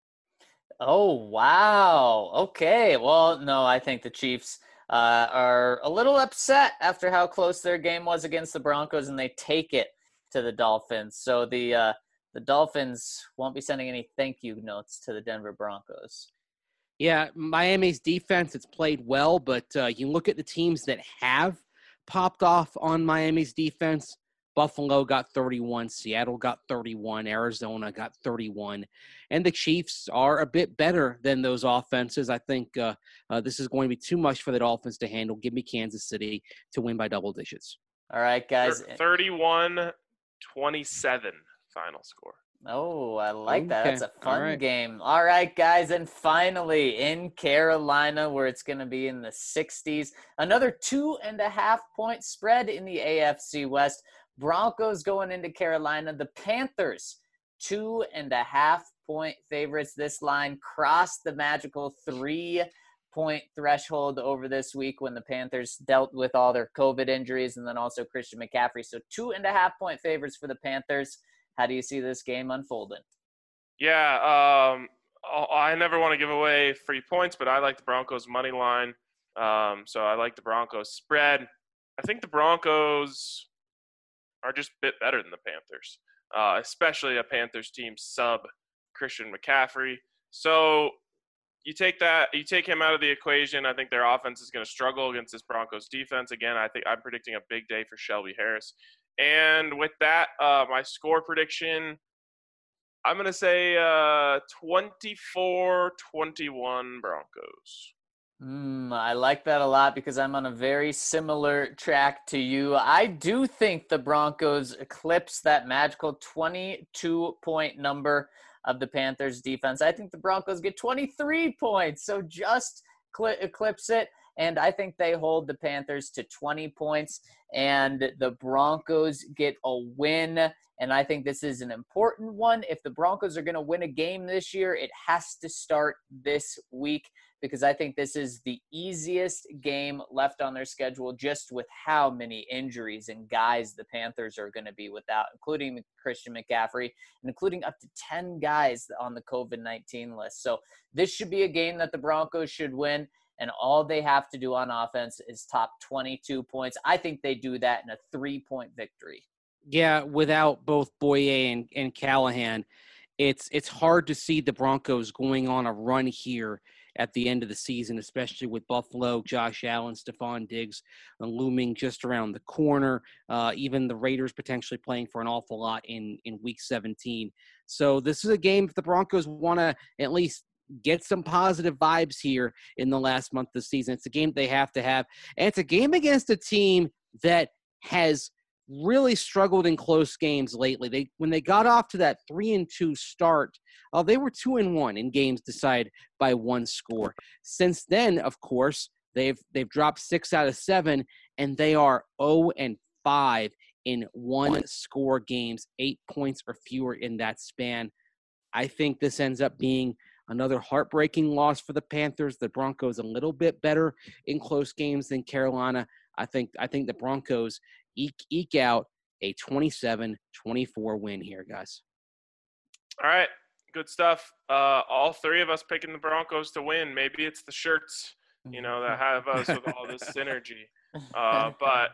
Oh, wow. Okay. Well, no, I think the Chiefs uh, are a little upset after how close their game was against the Broncos, and they take it to the Dolphins. So the uh, the Dolphins won't be sending any thank you notes to the Denver Broncos. Yeah, Miami's defense, it's played well, but uh, you look at the teams that have popped off on Miami's defense. Buffalo got thirty-one, Seattle got thirty-one, Arizona got thirty-one, and the Chiefs are a bit better than those offenses. I think uh, uh, this is going to be too much for the Dolphins to handle. Give me Kansas City to win by double digits. All right, guys. thirty-one twenty-seven final score. Oh, I like that. Okay. That's a fun All right. game. All right, guys. And finally, in Carolina, where it's going to be in the sixties, another two and a half point spread in the A F C West. Broncos going into Carolina. The Panthers, two and a half point favorites. This line crossed the magical three point threshold over this week when the Panthers dealt with all their COVID injuries and then also Christian McCaffrey. So two and a half point favorites for the Panthers. How do you see this game unfolding? Yeah, um, I never want to give away free points, but I like the Broncos money line. Um, so I like the Broncos spread. I think the Broncos are just a bit better than the Panthers, uh, especially a Panthers team sub Christian McCaffrey. So you take that, you take him out of the equation. I think their offense is going to struggle against this Broncos defense. Again, I think I'm predicting a big day for Shelby Harris. And with that, uh, my score prediction, I'm going to say uh, twenty-four twenty-one Broncos. Mm, I like that a lot because I'm on a very similar track to you. I do think the Broncos eclipse that magical twenty-two point number of the Panthers defense. I think the Broncos get twenty-three points, so just cl- eclipse it. And I think they hold the Panthers to twenty points, and the Broncos get a win. And I think this is an important one. If the Broncos are going to win a game this year, it has to start this week because I think this is the easiest game left on their schedule just with how many injuries and guys the Panthers are going to be without, including Christian McCaffrey and including up to ten guys on the COVID nineteen list. So this should be a game that the Broncos should win. And all they have to do on offense is top twenty-two points. I think they do that in a three-point victory. Yeah, without both Boye and, and Callahan, it's it's hard to see the Broncos going on a run here at the end of the season, especially with Buffalo, Josh Allen, Stephon Diggs uh, looming just around the corner. Uh, even the Raiders potentially playing for an awful lot in, in Week seventeen. So this is a game if the Broncos want to at least get some positive vibes here in the last month of the season. It's a game they have to have. And it's a game against a team that has really struggled in close games lately. They when they got off to that three and two start, uh, they were two and one in games decided by one score. Since then, of course, they've they've dropped six out of seven, and they are zero and five in one score games, eight points or fewer in that span. I think this ends up being another heartbreaking loss for the Panthers. The Broncos a little bit better in close games than Carolina. I think I think the Broncos eke, eke out a twenty-seven twenty-four win here, guys. All right, good stuff. Uh, all three of us picking the Broncos to win. Maybe it's the shirts, you know, that have us with all this synergy. Uh, but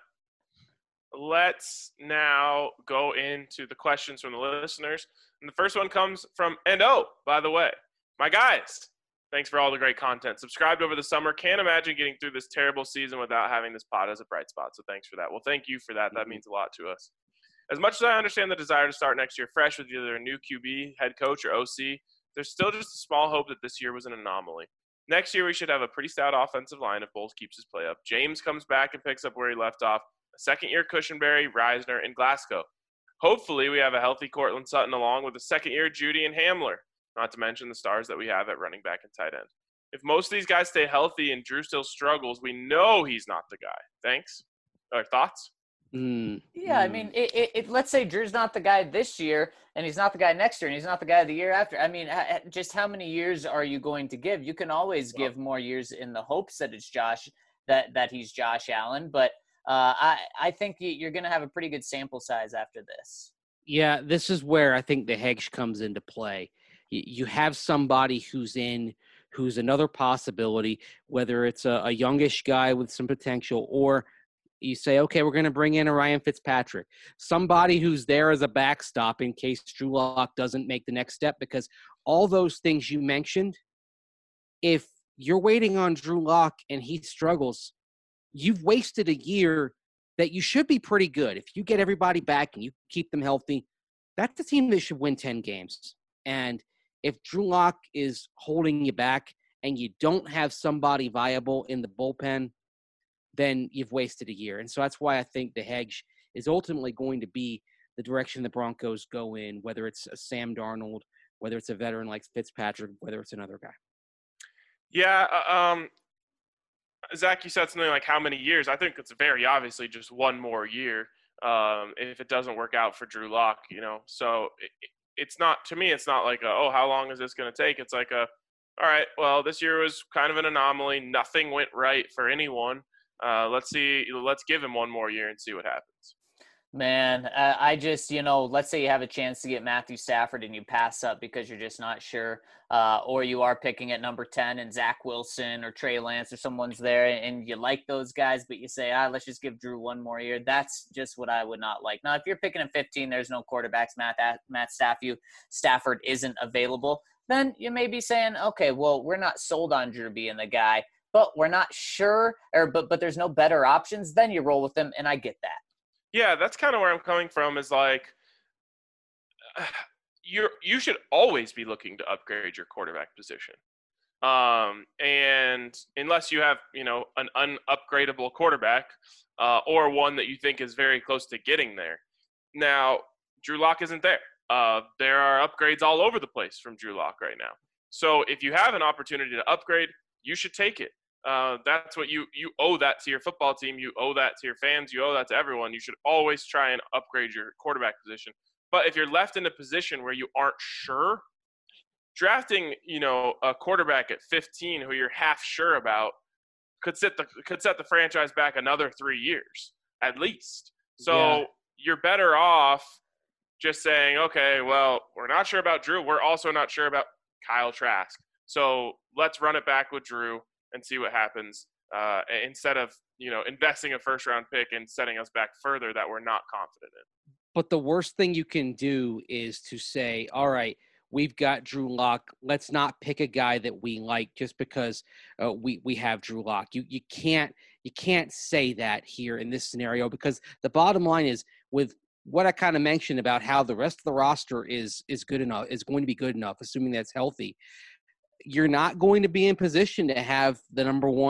let's now go into the questions from the listeners. And the first one comes from, and oh, by the way, my guys, thanks for all the great content. Subscribed over the summer. Can't imagine getting through this terrible season without having this pod as a bright spot. So thanks for that. Well, thank you for that. That means a lot to us. As much as I understand the desire to start next year fresh with either a new Q B, head coach, or O C, there's still just a small hope that this year was an anomaly. Next year, we should have a pretty stout offensive line if Bowles keeps his play up. James comes back and picks up where he left off. A second-year Cushenberry, Reisner, and Glasgow. Hopefully, we have a healthy Cortland Sutton along with a second-year Judy and Hamler, not to mention the stars that we have at running back and tight end. If most of these guys stay healthy and Drew still struggles, we know he's not the guy. Thanks. Or thoughts? Mm, Yeah, I mm. mean, it, it, it, let's say Drew's not the guy this year, and he's not the guy next year, and he's not the guy the year after. I mean, ha- just how many years are you going to give? You can always Well, give more years in the hopes that it's Josh, that that he's Josh Allen, but uh, I I think you're going to have a pretty good sample size after this. Yeah, this is where I think the hedge comes into play. You, you have somebody who's in, who's another possibility, whether it's a, a youngish guy with some potential, or you say, okay, we're going to bring in a Ryan Fitzpatrick, somebody who's there as a backstop in case Drew Lock doesn't make the next step, because all those things you mentioned, if you're waiting on Drew Lock and he struggles, you've wasted a year that you should be pretty good. If you get everybody back and you keep them healthy, that's the team that should win ten games. And if Drew Lock is holding you back and you don't have somebody viable in the bullpen, then you've wasted a year. And so that's why I think the hedge is ultimately going to be the direction the Broncos go in, whether it's a Sam Darnold, whether it's a veteran like Fitzpatrick, whether it's another guy. Yeah, uh, um, Zach, you said something like how many years? I think it's very obviously just one more year um, if it doesn't work out for Drew Lock, you know. So it, it's not, to me, it's not like, a, oh, how long is this going to take? It's like, a, all right, well, this year was kind of an anomaly. Nothing went right for anyone. Uh, let's see. Let's give him one more year and see what happens. Man, uh, I just, you know, let's say you have a chance to get Matthew Stafford and you pass up because you're just not sure, uh, or you are picking at number ten and Zach Wilson or Trey Lance or someone's there and you like those guys, but you say, ah, let's just give Drew one more year. That's just what I would not like. Now, if you're picking at fifteen, there's no quarterbacks, Matt, Matt Stafford, Stafford isn't available, then you may be saying, okay, well, we're not sold on Drew being the guy, but we're not sure, or but but there's no better options, then you roll with him, and I get that. Yeah, that's kind of where I'm coming from is like you're you should always be looking to upgrade your quarterback position. Um, and unless you have, you know, an unupgradable quarterback uh, or one that you think is very close to getting there. Now, Drew Lock isn't there. Uh, there are upgrades all over the place from Drew Lock right now. So if you have an opportunity to upgrade, you should take it. Uh, that's what you you owe that to your football team. You owe that to your fans. You owe that to everyone. You should always try and upgrade your quarterback position. But if you're left in a position where you aren't sure, drafting, you know, a quarterback at fifteen who you're half sure about could set the could set the franchise back another three years at least. So Yeah. You're better off just saying, okay, well, we're not sure about Drew. We're also not sure about Kyle Trask. So let's run it back with Drew and see what happens uh, instead of, you know, investing a first round pick and setting us back further that we're not confident in. But the worst thing you can do is to say, all right, we've got Drew Lock. Let's not pick a guy that we like just because uh, we we have Drew Lock. You you can't you can't say that here in this scenario, because the bottom line is, with what I kind of mentioned about how the rest of the roster is is good enough, is going to be good enough, assuming that's healthy, you're not going to be in position to have the number one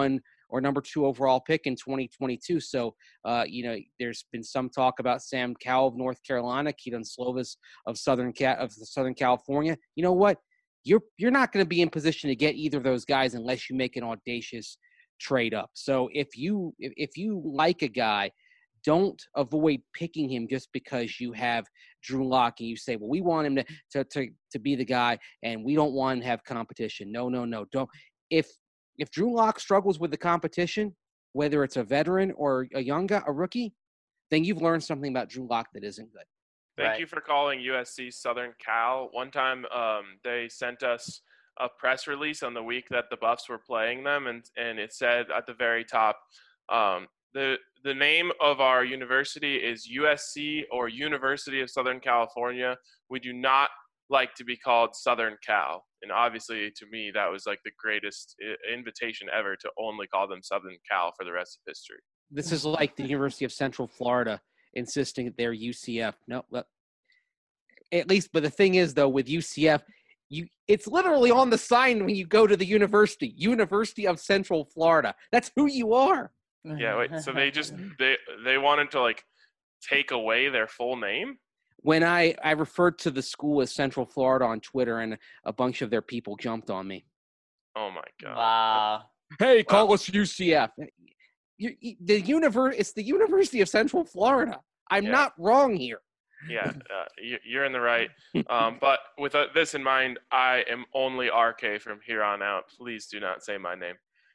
or number two overall pick in twenty twenty-two. So, uh, you know, there's been some talk about Sam Cowell of North Carolina, Keaton Slovis of Southern Ca- of Southern California. You know what? You're you're not going to be in position to get either of those guys unless you make an audacious trade up. So if you if, if you like a guy, don't avoid picking him just because you have Drew Lock and you say, well, we want him to, to to to be the guy and we don't want to have competition. No, no, no. Don't. If if Drew Lock struggles with the competition, whether it's a veteran or a young guy, a rookie, then you've learned something about Drew Lock that isn't good. Thank Right. you for calling U S C Southern Cal. One time um, they sent us a press release on the week that the Buffs were playing them, and, and it said at the very top, um, the the name of our university is U S C or University of Southern California. We do not like to be called Southern Cal. And obviously, to me, that was like the greatest invitation ever to only call them Southern Cal for the rest of history. This is like the University of Central Florida insisting that they're U C F. No, but at least, but the thing is, though, with U C F, you it's literally on the sign when you go to the university, University of Central Florida. That's who you are. Yeah, wait, so they just they they wanted to like take away their full name? When I, I referred to the school as Central Florida on Twitter, and a bunch of their people jumped on me. Oh my god. Wow. Hey, call Wow. us U C F. You, you, the univer- it's the University of Central Florida. I'm Yeah. not wrong here. Yeah, uh, you, you're in the right. Um, but with uh, this in mind, I am only R K from here on out. Please do not say my name.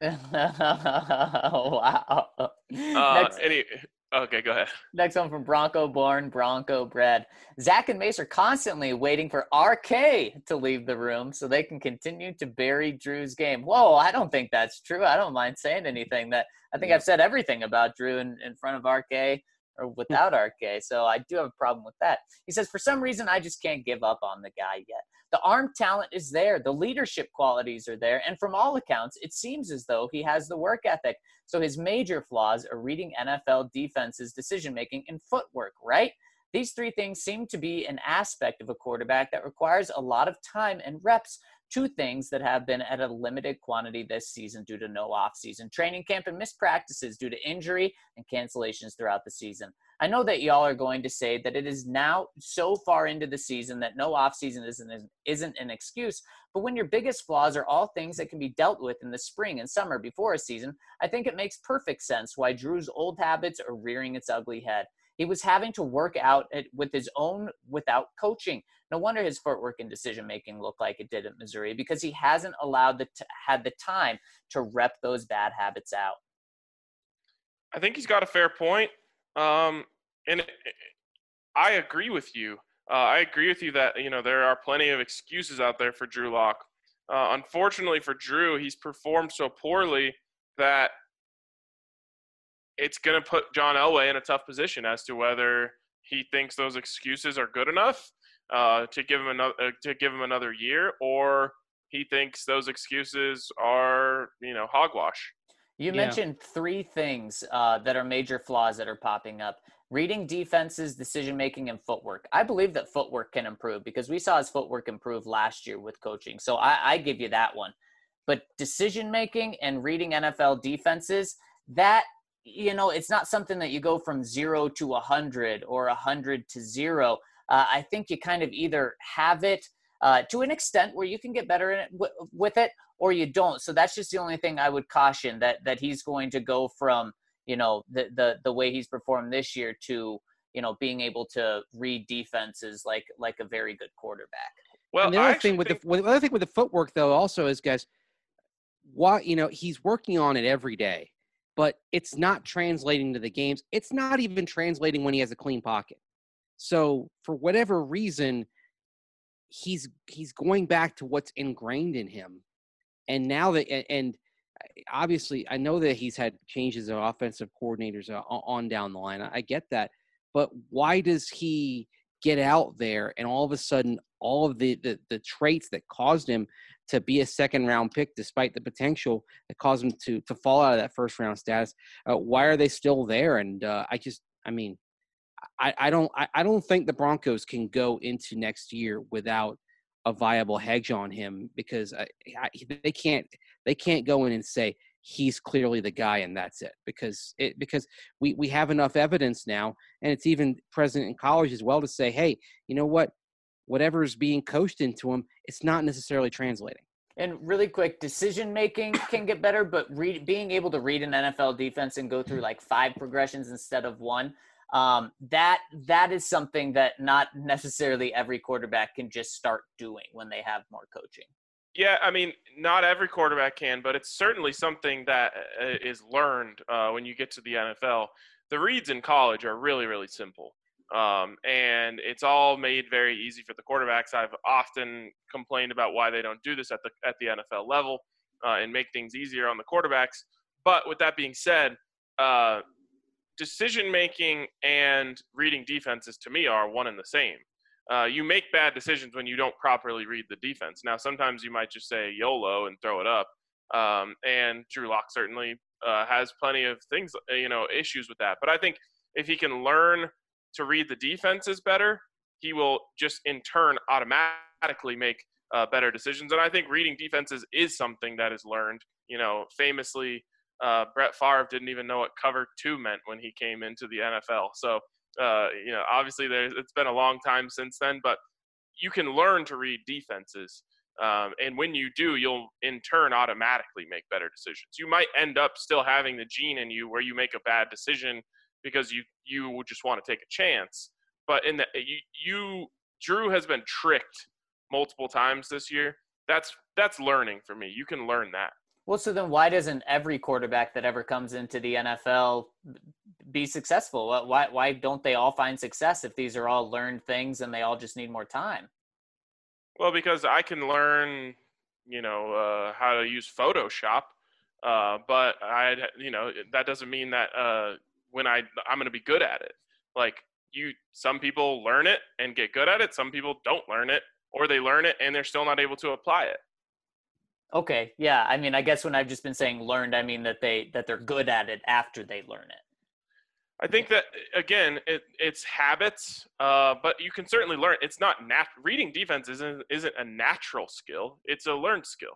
Wow. Uh, next, any, okay, go ahead. next one from Bronco born, Bronco bred. Zach and Mace are constantly waiting for R K to leave the room so they can continue to bury Drew's game. Whoa, I don't think that's true. I don't mind saying anything. That I think I've said everything about Drew in, in front of R K or without R K. So I do have a problem with that. He says, for some reason, I just can't give up on the guy yet. The arm talent is there. The leadership qualities are there. And from all accounts, it seems as though he has the work ethic. So his major flaws are reading N F L defenses, decision-making, and footwork, right? These three things seem to be an aspect of a quarterback that requires a lot of time and reps, two things that have been at a limited quantity this season due to no offseason training camp and missed practices due to injury and cancellations throughout the season. I know that y'all are going to say that it is now so far into the season that no offseason isn't, isn't an excuse, but when your biggest flaws are all things that can be dealt with in the spring and summer before a season, I think it makes perfect sense why Drew's old habits are rearing its ugly head. He was having to work out at, with his own without coaching. No wonder his footwork and decision-making look like it did at Missouri, because he hasn't allowed the t- had the time to rep those bad habits out. I think he's got a fair point. Um, and I agree with you. Uh, I agree with you that, you know, there are plenty of excuses out there for Drew Lock. Uh, unfortunately for Drew, he's performed so poorly that it's going to put John Elway in a tough position as to whether he thinks those excuses are good enough uh, to give him another uh, to give him another year, or he thinks those excuses are, you know, hogwash. You Yeah. mentioned three things uh, that are major flaws that are popping up. Reading defenses, decision-making, and footwork. I believe that footwork can improve because we saw his footwork improve last year with coaching. So I, I give you that one. But decision-making and reading N F L defenses, that, you know, it's not something that you go from zero to one hundred or one hundred to zero. Uh, I think you kind of either have it uh, to an extent where you can get better in it, w- with it, or you don't. So that's just the only thing I would caution, that that he's going to go from, you know, the the the way he's performed this year to, you know, being able to read defenses like like a very good quarterback. Well, and the I other actually thing with think, the with, the other thing with the footwork though also is, guys, why you know he's working on it every day, but it's not translating to the games. It's not even translating when he has a clean pocket. So for whatever reason, he's he's going back to what's ingrained in him. And now that and obviously I know that he's had changes of offensive coordinators on down the line. I get that, but why does he get out there and all of a sudden all of the the, the traits that caused him to be a second round pick, despite the potential that caused him to to fall out of that first round status, uh, why are they still there? And uh, I just, I mean, I, I don't, I, I don't think the Broncos can go into next year without a viable hedge on him, because I, I, they can't, they can't go in and say, he's clearly the guy and that's it. Because it because we, we have enough evidence now, and it's even present in college as well, to say, hey, you know what? Whatever is being coached into him, it's not necessarily translating. And really quick, decision making can get better, but read, being able to read an N F L defense and go through like five progressions instead of one, um, that that is something that not necessarily every quarterback can just start doing when they have more coaching. Yeah, I mean, not every quarterback can, but it's certainly something that is learned uh, when you get to the N F L. The reads in college are really, really simple. Um, and it's all made very easy for the quarterbacks. I've often complained about why they don't do this at the at the N F L level uh, and make things easier on the quarterbacks. But with that being said, uh, decision-making and reading defenses to me are one and the same. Uh, you make bad decisions when you don't properly read the defense. Now, sometimes you might just say YOLO and throw it up. Um, and Drew Lock certainly uh, has plenty of things, you know, issues with that. But I think if he can learn to read the defenses better, he will just in turn automatically make uh, better decisions. And I think reading defenses is something that is learned. You know, famously, uh, Brett Favre didn't even know what cover two meant when he came into the N F L. So, uh, you know, obviously there's, it's been a long time since then, but you can learn to read defenses. Um, and when you do, you'll in turn automatically make better decisions. You might end up still having the gene in you where you make a bad decision because you you just want to take a chance. But in the you, you Drew has been tricked multiple times this year. That's that's learning for me. You can learn that. Well, so then why doesn't every quarterback that ever comes into the N F L be successful? Why why don't they all find success if these are all learned things and they all just need more time? Well, because I can learn, you know, uh, how to use Photoshop, uh, but I, you know, that doesn't mean that uh, when I I'm going to be good at it. Like you, some people learn it and get good at it. Some people don't learn it, or they learn it and they're still not able to apply it. Okay, yeah. I mean, I guess when I've just been saying learned, I mean that they that they're good at it after they learn it. I think that, again, it, it's habits, uh, but you can certainly learn. It's not nat- reading defense isn't, isn't a natural skill. It's a learned skill.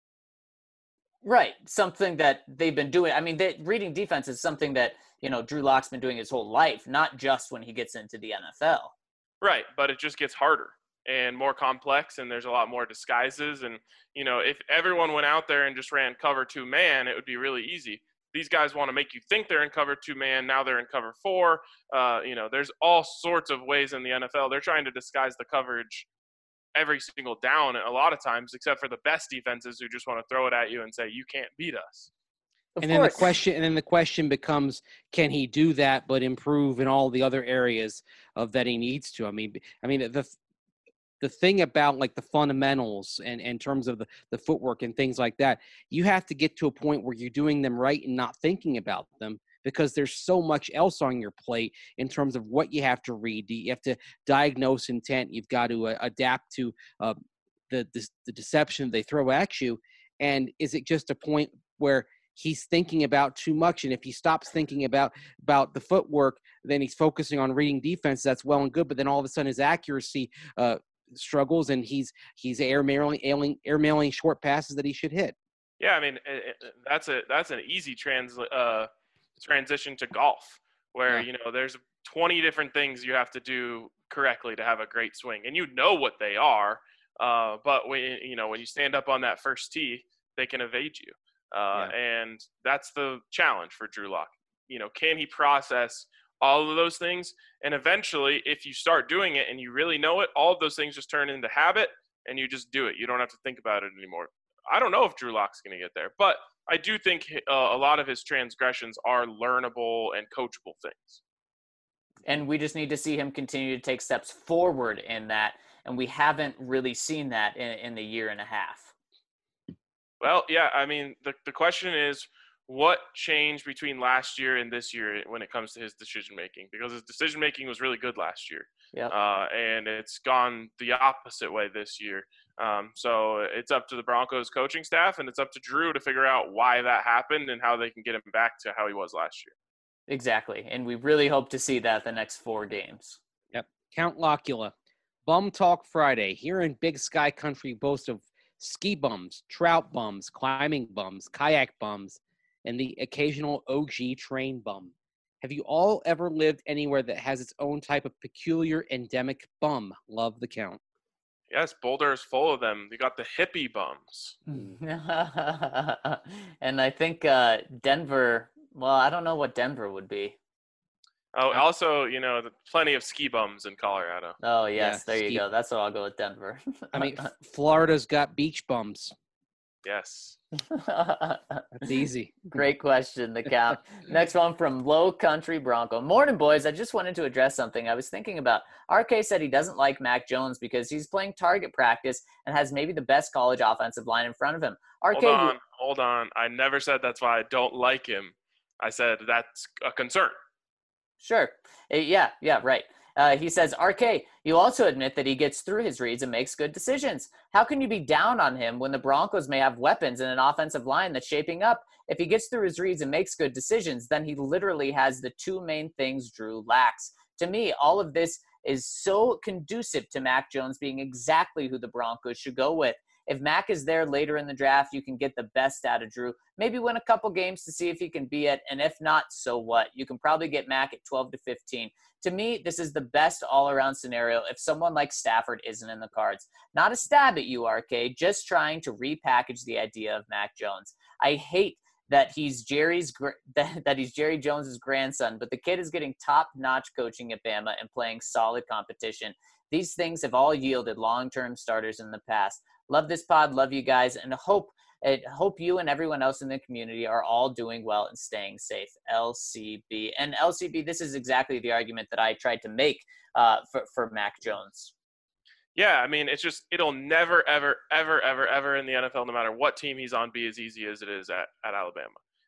Right. Something that they've been doing. I mean, they, reading defense is something that, you know, Drew Lock's been doing his whole life, not just when he gets into the N F L. Right, but it just gets harder and more complex, and there's a lot more disguises. And, you know, if everyone went out there and just ran cover two man, it would be really easy. These guys want to make you think they're in cover two man. Now they're in cover four. Uh, you know, there's all sorts of ways in the N F L. They're trying to disguise the coverage every single down a lot of times, except for the best defenses who just want to throw it at you and say, you can't beat us. Of and course. then the question, and then the question becomes, can he do that, but improve in all the other areas of that he needs to? I mean, I mean, the, the thing about like the fundamentals and in terms of the, the footwork and things like that, you have to get to a point where you're doing them right and not thinking about them, because there's so much else on your plate in terms of what you have to read. You have to diagnose intent. You've got to uh, adapt to uh, the, the the deception they throw at you. And is it just a point where he's thinking about too much? And if he stops thinking about about the footwork, then he's focusing on reading defense. That's well and good. But then all of a sudden his accuracy uh, struggles, and he's he's air mailing ailing, air mailing short passes that he should hit. Yeah, I mean it, it, that's a that's an easy trans uh, transition to golf, where yeah. you know there's twenty different things you have to do correctly to have a great swing, and you know what they are. Uh, but when you know when you stand up on that first tee, they can evade you, uh, yeah. and that's the challenge for Drew Lock. You know, can he process all of those things? And eventually, if you start doing it and you really know it, all of those things just turn into habit, and you just do it. You don't have to think about it anymore. I don't know if Drew Lock's going to get there, but I do think uh, a lot of his transgressions are learnable and coachable things. And we just need to see him continue to take steps forward in that, and we haven't really seen that in, in the year and a half. Well, yeah, I mean, the, the question is, what changed between last year and this year when it comes to his decision-making? Because his decision-making was really good last year. Yep. Uh, and it's gone the opposite way this year. Um, so it's up to the Broncos coaching staff, and it's up to Drew to figure out why that happened and how they can get him back to how he was last year. Exactly. And we really hope to see that the next four games. Yep. Count Locula. Bum Talk Friday. Here in Big Sky Country, boast of ski bums, trout bums, climbing bums, kayak bums, and the occasional O G train bum. Have you all ever lived anywhere that has its own type of peculiar endemic bum? Love the count. Yes, Boulder is full of them. You got the hippie bums. And I think uh, Denver, well, I don't know what Denver would be. Oh, also, you know, the, plenty of ski bums in Colorado. Oh, yes, Yeah, there you ski- go. That's what I'll go with Denver. I mean, Florida's got beach bums. Yes. That's easy. Great question, the count. Next one from Low Country Bronco. Morning, boys. I just wanted to address something I was thinking about. R K said he doesn't like Mac Jones because he's playing target practice and has maybe the best college offensive line in front of him. R K, Hold on, you- hold on. I never said that's why I don't like him. I said that's a concern. Sure. Uh, Yeah, yeah, right. Uh, he says, R K, you also admit that he gets through his reads and makes good decisions. How can you be down on him when the Broncos may have weapons and an offensive line that's shaping up? If he gets through his reads and makes good decisions, then he literally has the two main things Drew lacks. To me, all of this is so conducive to Mac Jones being exactly who the Broncos should go with. If Mac is there later in the draft, you can get the best out of Drew. Maybe win a couple games to see if he can be it. And if not, so what? You can probably get Mac at twelve to fifteen. To me, this is the best all-around scenario if someone like Stafford isn't in the cards. Not a stab at you, R K, just trying to repackage the idea of Mac Jones. I hate that he's Jerry's that, that he's Jerry Jones's grandson, but the kid is getting top-notch coaching at Bama and playing solid competition. These things have all yielded long-term starters in the past. Love this pod, love you guys, and hope I hope you and everyone else in the community are all doing well and staying safe. L C B. And L C B, this is exactly the argument that I tried to make uh, for, for Mac Jones. Yeah, I mean, it's just, it'll never, ever, ever, ever, ever in the N F L, no matter what team he's on, be as easy as it is at, at Alabama.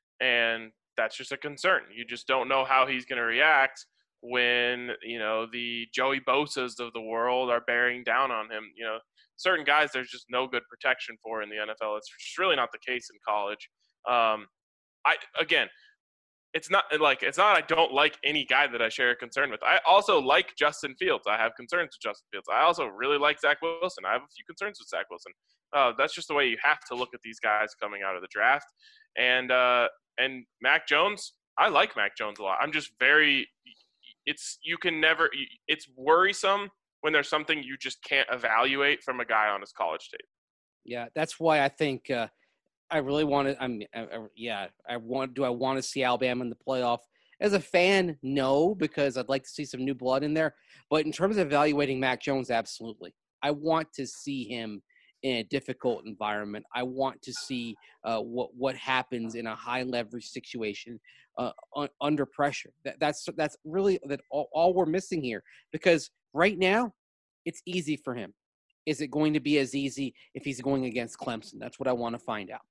And that's just a concern. You just don't know how he's going to react when, you know, the Joey Bosa's of the world are bearing down on him. You know, certain guys there's just no good protection for in the N F L. It's just really not the case in college. Um, I again, it's not like it's not I don't like any guy that I share a concern with. I also like Justin Fields. I have concerns with Justin Fields. I also really like Zach Wilson. I have a few concerns with Zach Wilson. Uh, that's just the way you have to look at these guys coming out of the draft. And uh, and Mac Jones, I like Mac Jones a lot. I'm just very. It's you can never. It's worrisome when there's something you just can't evaluate from a guy on his college tape. Yeah, that's why I think uh, I really want to. I'm I, I, yeah. I want. Do I want to see Alabama in the playoff? As a fan, no, because I'd like to see some new blood in there. But in terms of evaluating Mac Jones, absolutely. I want to see him in a difficult environment. I want to see uh, what what happens in a high leverage situation uh, un, under pressure. That, that's that's really that all, all we're missing here. Because right now, it's easy for him. Is it going to be as easy if he's going against Clemson? That's what I want to find out.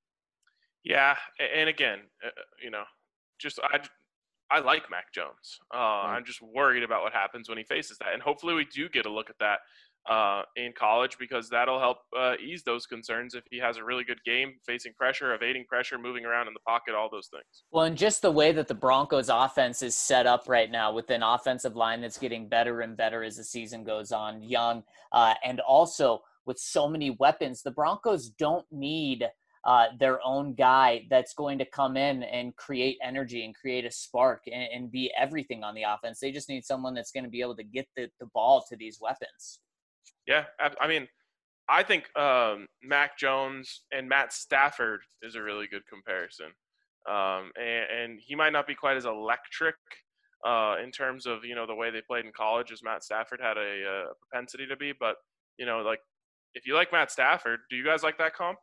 Yeah, and again, uh, you know, just I, I like Mac Jones. Uh, Right. I'm just worried about what happens when he faces that, and hopefully we do get a look at that uh, in college because that'll help uh, ease those concerns if he has a really good game, facing pressure, evading pressure, moving around in the pocket, all those things. Well, and just the way that the Broncos offense is set up right now with an offensive line that's getting better and better as the season goes on, young, uh, and also with so many weapons, the Broncos don't need uh, their own guy that's going to come in and create energy and create a spark and, and be everything on the offense. They just need someone that's going to be able to get the, the ball to these weapons. Yeah, I mean, I think um, Mac Jones and Matt Stafford is a really good comparison. Um, and, and he might not be quite as electric uh, in terms of, you know, the way they played in college as Matt Stafford had a, a propensity to be. But, you know, like, if you like Matt Stafford, do you guys like that comp?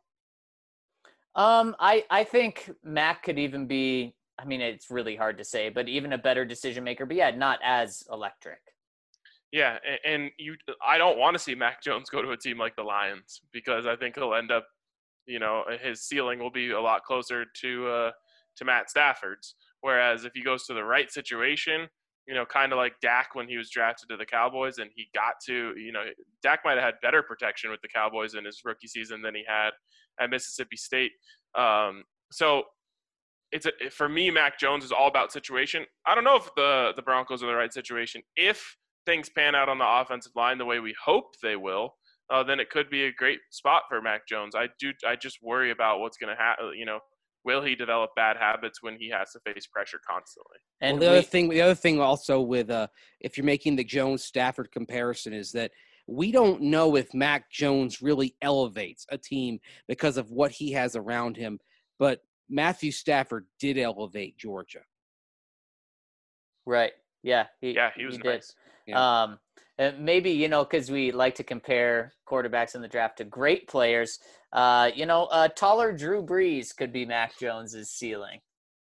Um, I, I think Mac could even be, I mean, it's really hard to say, but even a better decision maker, but yeah, not as electric. Yeah, and, and you, I don't want to see Mac Jones go to a team like the Lions because I think he'll end up, you know, his ceiling will be a lot closer to uh, to Matt Stafford's. Whereas if he goes to the right situation, you know, kind of like Dak when he was drafted to the Cowboys and he got to, you know, Dak might have had better protection with the Cowboys in his rookie season than he had at Mississippi State. Um, so it's a, for me, Mac Jones is all about situation. I don't know if the the Broncos are the right situation. If things pan out on the offensive line the way we hope they will, uh, then it could be a great spot for Mac Jones. I do. I just worry about what's going to happen. You know, will he develop bad habits when he has to face pressure constantly? And well, the we, other thing, the other thing also with uh, if you're making the Jones Stafford comparison is that we don't know if Mac Jones really elevates a team because of what he has around him, but Matthew Stafford did elevate Georgia. Right. Yeah. He, yeah, he was he nice. Did. Yeah. Um, maybe, you know, because we like to compare quarterbacks in the draft to great players. Uh, you know, uh, taller Drew Brees could be Mac Jones's ceiling.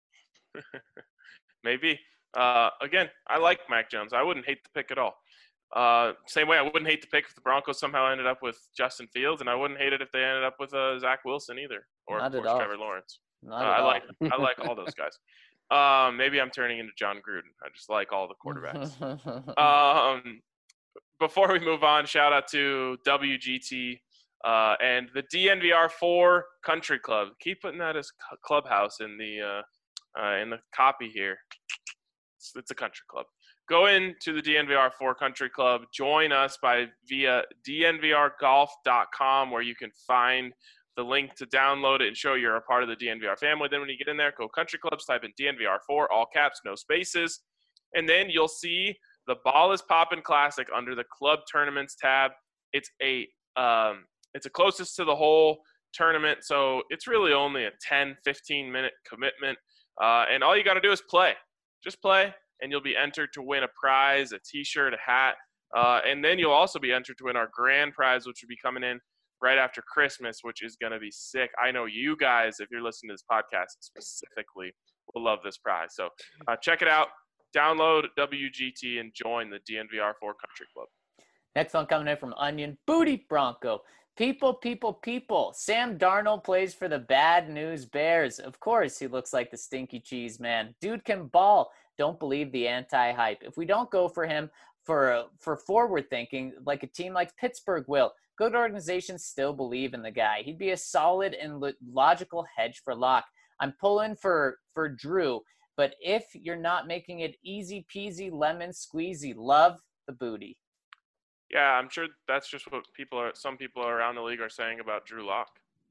Maybe. Uh, again, I like Mac Jones. I wouldn't hate the pick at all. Uh, same way I wouldn't hate the pick if the Broncos somehow ended up with Justin Fields, and I wouldn't hate it if they ended up with uh, Zach Wilson either, or Not of course at all. Trevor Lawrence. Not uh, at I all. like I like all those guys. Um, maybe I'm turning into John Gruden. I just like all the quarterbacks. um, before we move on, shout out to W G T uh, and the D N V R four Country Club. Keep putting that as clubhouse in the uh, uh, in the copy here. It's, it's a country club. Go into the D N V R four Country Club. Join us by via D N V R golf dot com, where you can find the link to download it and show you're a part of the D N V R family. Then when you get in there, go Country Clubs, type in D N V R four, all caps, no spaces. And then you'll see the Ball is Poppin' Classic under the Club Tournaments tab. It's a um, it's a closest to the whole tournament, so it's really only a ten, fifteen minute commitment. Uh, and all you got to do is play. Just play, and you'll be entered to win a prize, a T-shirt, a hat. Uh, and then you'll also be entered to win our grand prize, which will be coming in right after Christmas, which is going to be sick. I know you guys, if you're listening to this podcast specifically, will love this prize. So uh, check it out. Download W G T and join the D N V R four Country Club. Next one coming in from Onion Booty Bronco. People, people, people. Sam Darnold plays for the Bad News Bears. Of course, he looks like the stinky cheese man. Dude can ball. Don't believe the anti-hype. If we don't go for him for for forward thinking, like a team like Pittsburgh will, good organizations still believe in the guy. He'd be a solid and lo- logical hedge for Locke. I'm pulling for for Drew, but if you're not making it easy peasy lemon squeezy, love the booty. Yeah, I'm sure that's just what people are. Some people around the league are saying about Drew Lock.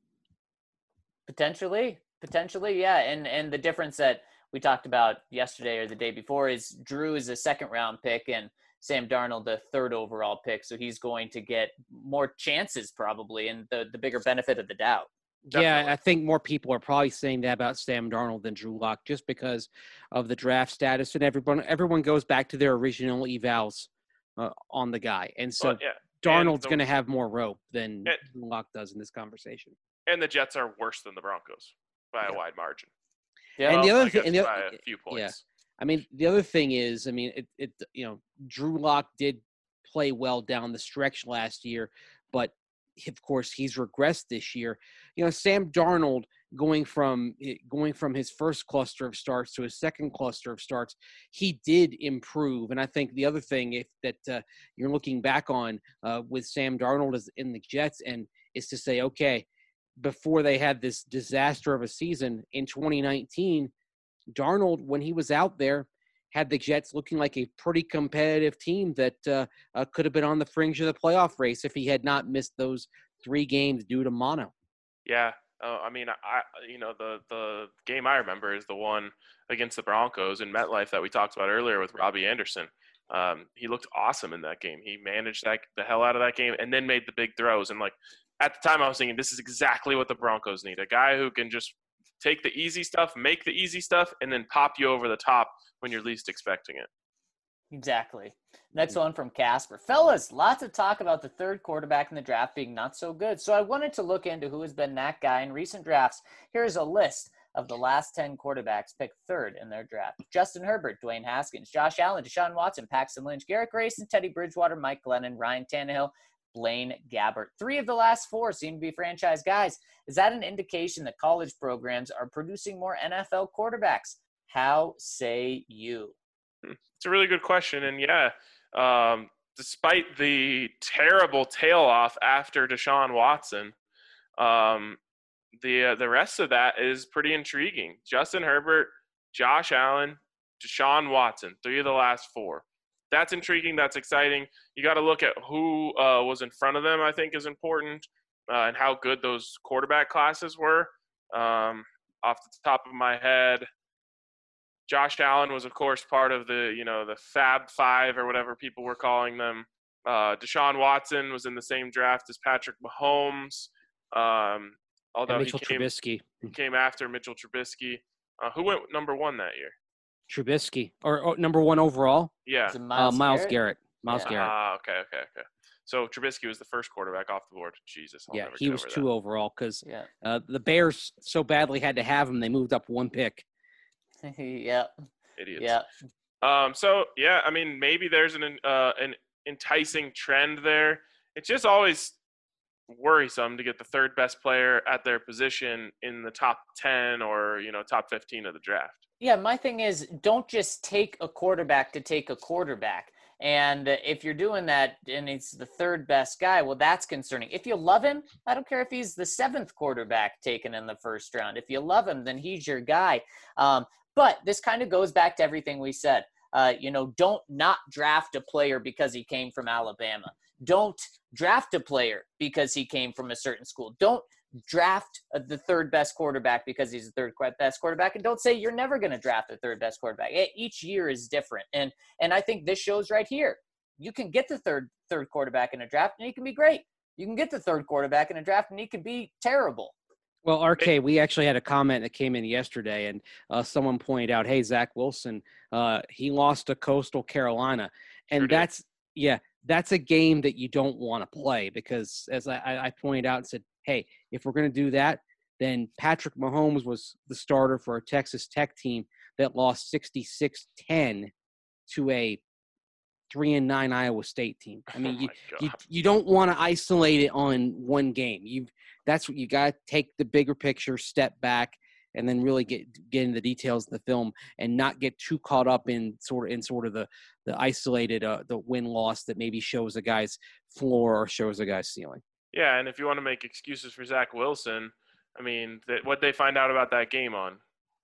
Potentially, potentially, yeah. And and the difference that we talked about yesterday or the day before is Drew is a second round pick and Sam Darnold the third overall pick, so he's going to get more chances probably, and the the bigger benefit of the doubt. Definitely. Yeah, I think more people are probably saying that about Sam Darnold than Drew Lock, just because of the draft status, and everyone everyone goes back to their original evals uh, on the guy, and so well, yeah. Darnold's going to have more rope than and, Drew Lock does in this conversation. And the Jets are worse than the Broncos by yeah. a wide margin. Yeah, and well, the other thing, and the, by a few points. Yeah. I mean, the other thing is, I mean, it, it you know, Drew Lock did play well down the stretch last year, but of course he's regressed this year. You know, Sam Darnold going from going from his first cluster of starts to his second cluster of starts, he did improve. And I think the other thing, if that uh, you're looking back on uh, with Sam Darnold as in the Jets, and is to say, okay, before they had this disaster of a season in twenty nineteen, Darnold, when he was out there, had the Jets looking like a pretty competitive team that uh, uh, could have been on the fringe of the playoff race if he had not missed those three games due to mono. Yeah, uh, I mean, I you know the the game I remember is the one against the Broncos in MetLife that we talked about earlier with Robbie Anderson. Um, he looked awesome in that game. He managed that the hell out of that game and then made the big throws. And like at the time, I was thinking this is exactly what the Broncos need: a guy who can just take the easy stuff, make the easy stuff, and then pop you over the top when you're least expecting it. Exactly. Next one from Casper. Fellas, lots of talk about the third quarterback in the draft being not so good. So I wanted to look into who has been that guy in recent drafts. Here's a list of the last ten quarterbacks picked third in their draft: Justin Herbert, Dwayne Haskins, Josh Allen, Deshaun Watson, Paxton Lynch, Garrett Grayson, Teddy Bridgewater, Mike Glennon, Ryan Tannehill, Blaine Gabbert. Three of the last four seem to be franchise guys. Is that an indication that college programs are producing more N F L quarterbacks? How say you? It's a really good question. And yeah, um, despite the terrible tail off after Deshaun Watson, um, the uh, the rest of that is pretty intriguing. Justin Herbert, Josh Allen, Deshaun Watson, three of the last four. That's intriguing. That's exciting. You got to look at who uh, was in front of them, I think is important, uh, and how good those quarterback classes were. Um, off the top of my head. Josh Allen was, of course, part of the, you know, the Fab Five or whatever people were calling them. Uh, Deshaun Watson was in the same draft as Patrick Mahomes, um, although And Mitchell he came, Trubisky. he came after Mitchell Trubisky. Uh, who went number one that year? Trubisky. Or, or number one overall? Yeah. Is it Uh, Myles Miles Garrett? Garrett. Miles Yeah. Garrett. Ah, okay, okay, okay. So Trubisky was the first quarterback off the board. Jesus, I'll Yeah, never he get was over two that. overall because Yeah. uh, the Bears so badly had to have him, they moved up one pick. yeah. Idiots. Yeah. Um. So yeah, I mean, maybe there's an uh, an enticing trend there. It's just always worrisome to get the third best player at their position in the top ten or, you know, top fifteen of the draft. Yeah, my thing is, don't just take a quarterback to take a quarterback. And if you're doing that and it's the third best guy, well, that's concerning. If you love him, I don't care if he's the seventh quarterback taken in the first round. If you love him, then he's your guy. Um, but this kind of goes back to everything we said. Uh, you know, don't not draft a player because he came from Alabama. Don't draft a player because he came from a certain school. Don't draft the third best quarterback because he's the third best quarterback, and don't say you're never going to draft the third best quarterback. Each year is different, and and I think this shows right here. You can get the third third quarterback in a draft, and he can be great. You can get the third quarterback in a draft, and he can be terrible. Well, R K, we actually had a comment that came in yesterday, and uh, someone pointed out, hey, Zach Wilson, uh, he lost to Coastal Carolina. And Sure did. that's, yeah, that's a game that you don't want to play because, as I, I pointed out and said, hey, if we're going to do that, then Patrick Mahomes was the starter for a Texas Tech team that lost sixty-six ten to a three and nine Iowa State team. I mean, Oh you, my you God. you don't want to isolate it on one game. You that's what you got to take the bigger picture, step back, and then really get get into the details of the film and not get too caught up in sort of in sort of the the isolated uh, the win loss that maybe shows a guy's floor or shows a guy's ceiling. Yeah, and if you want to make excuses for Zach Wilson, I mean, that what they find out about that game on,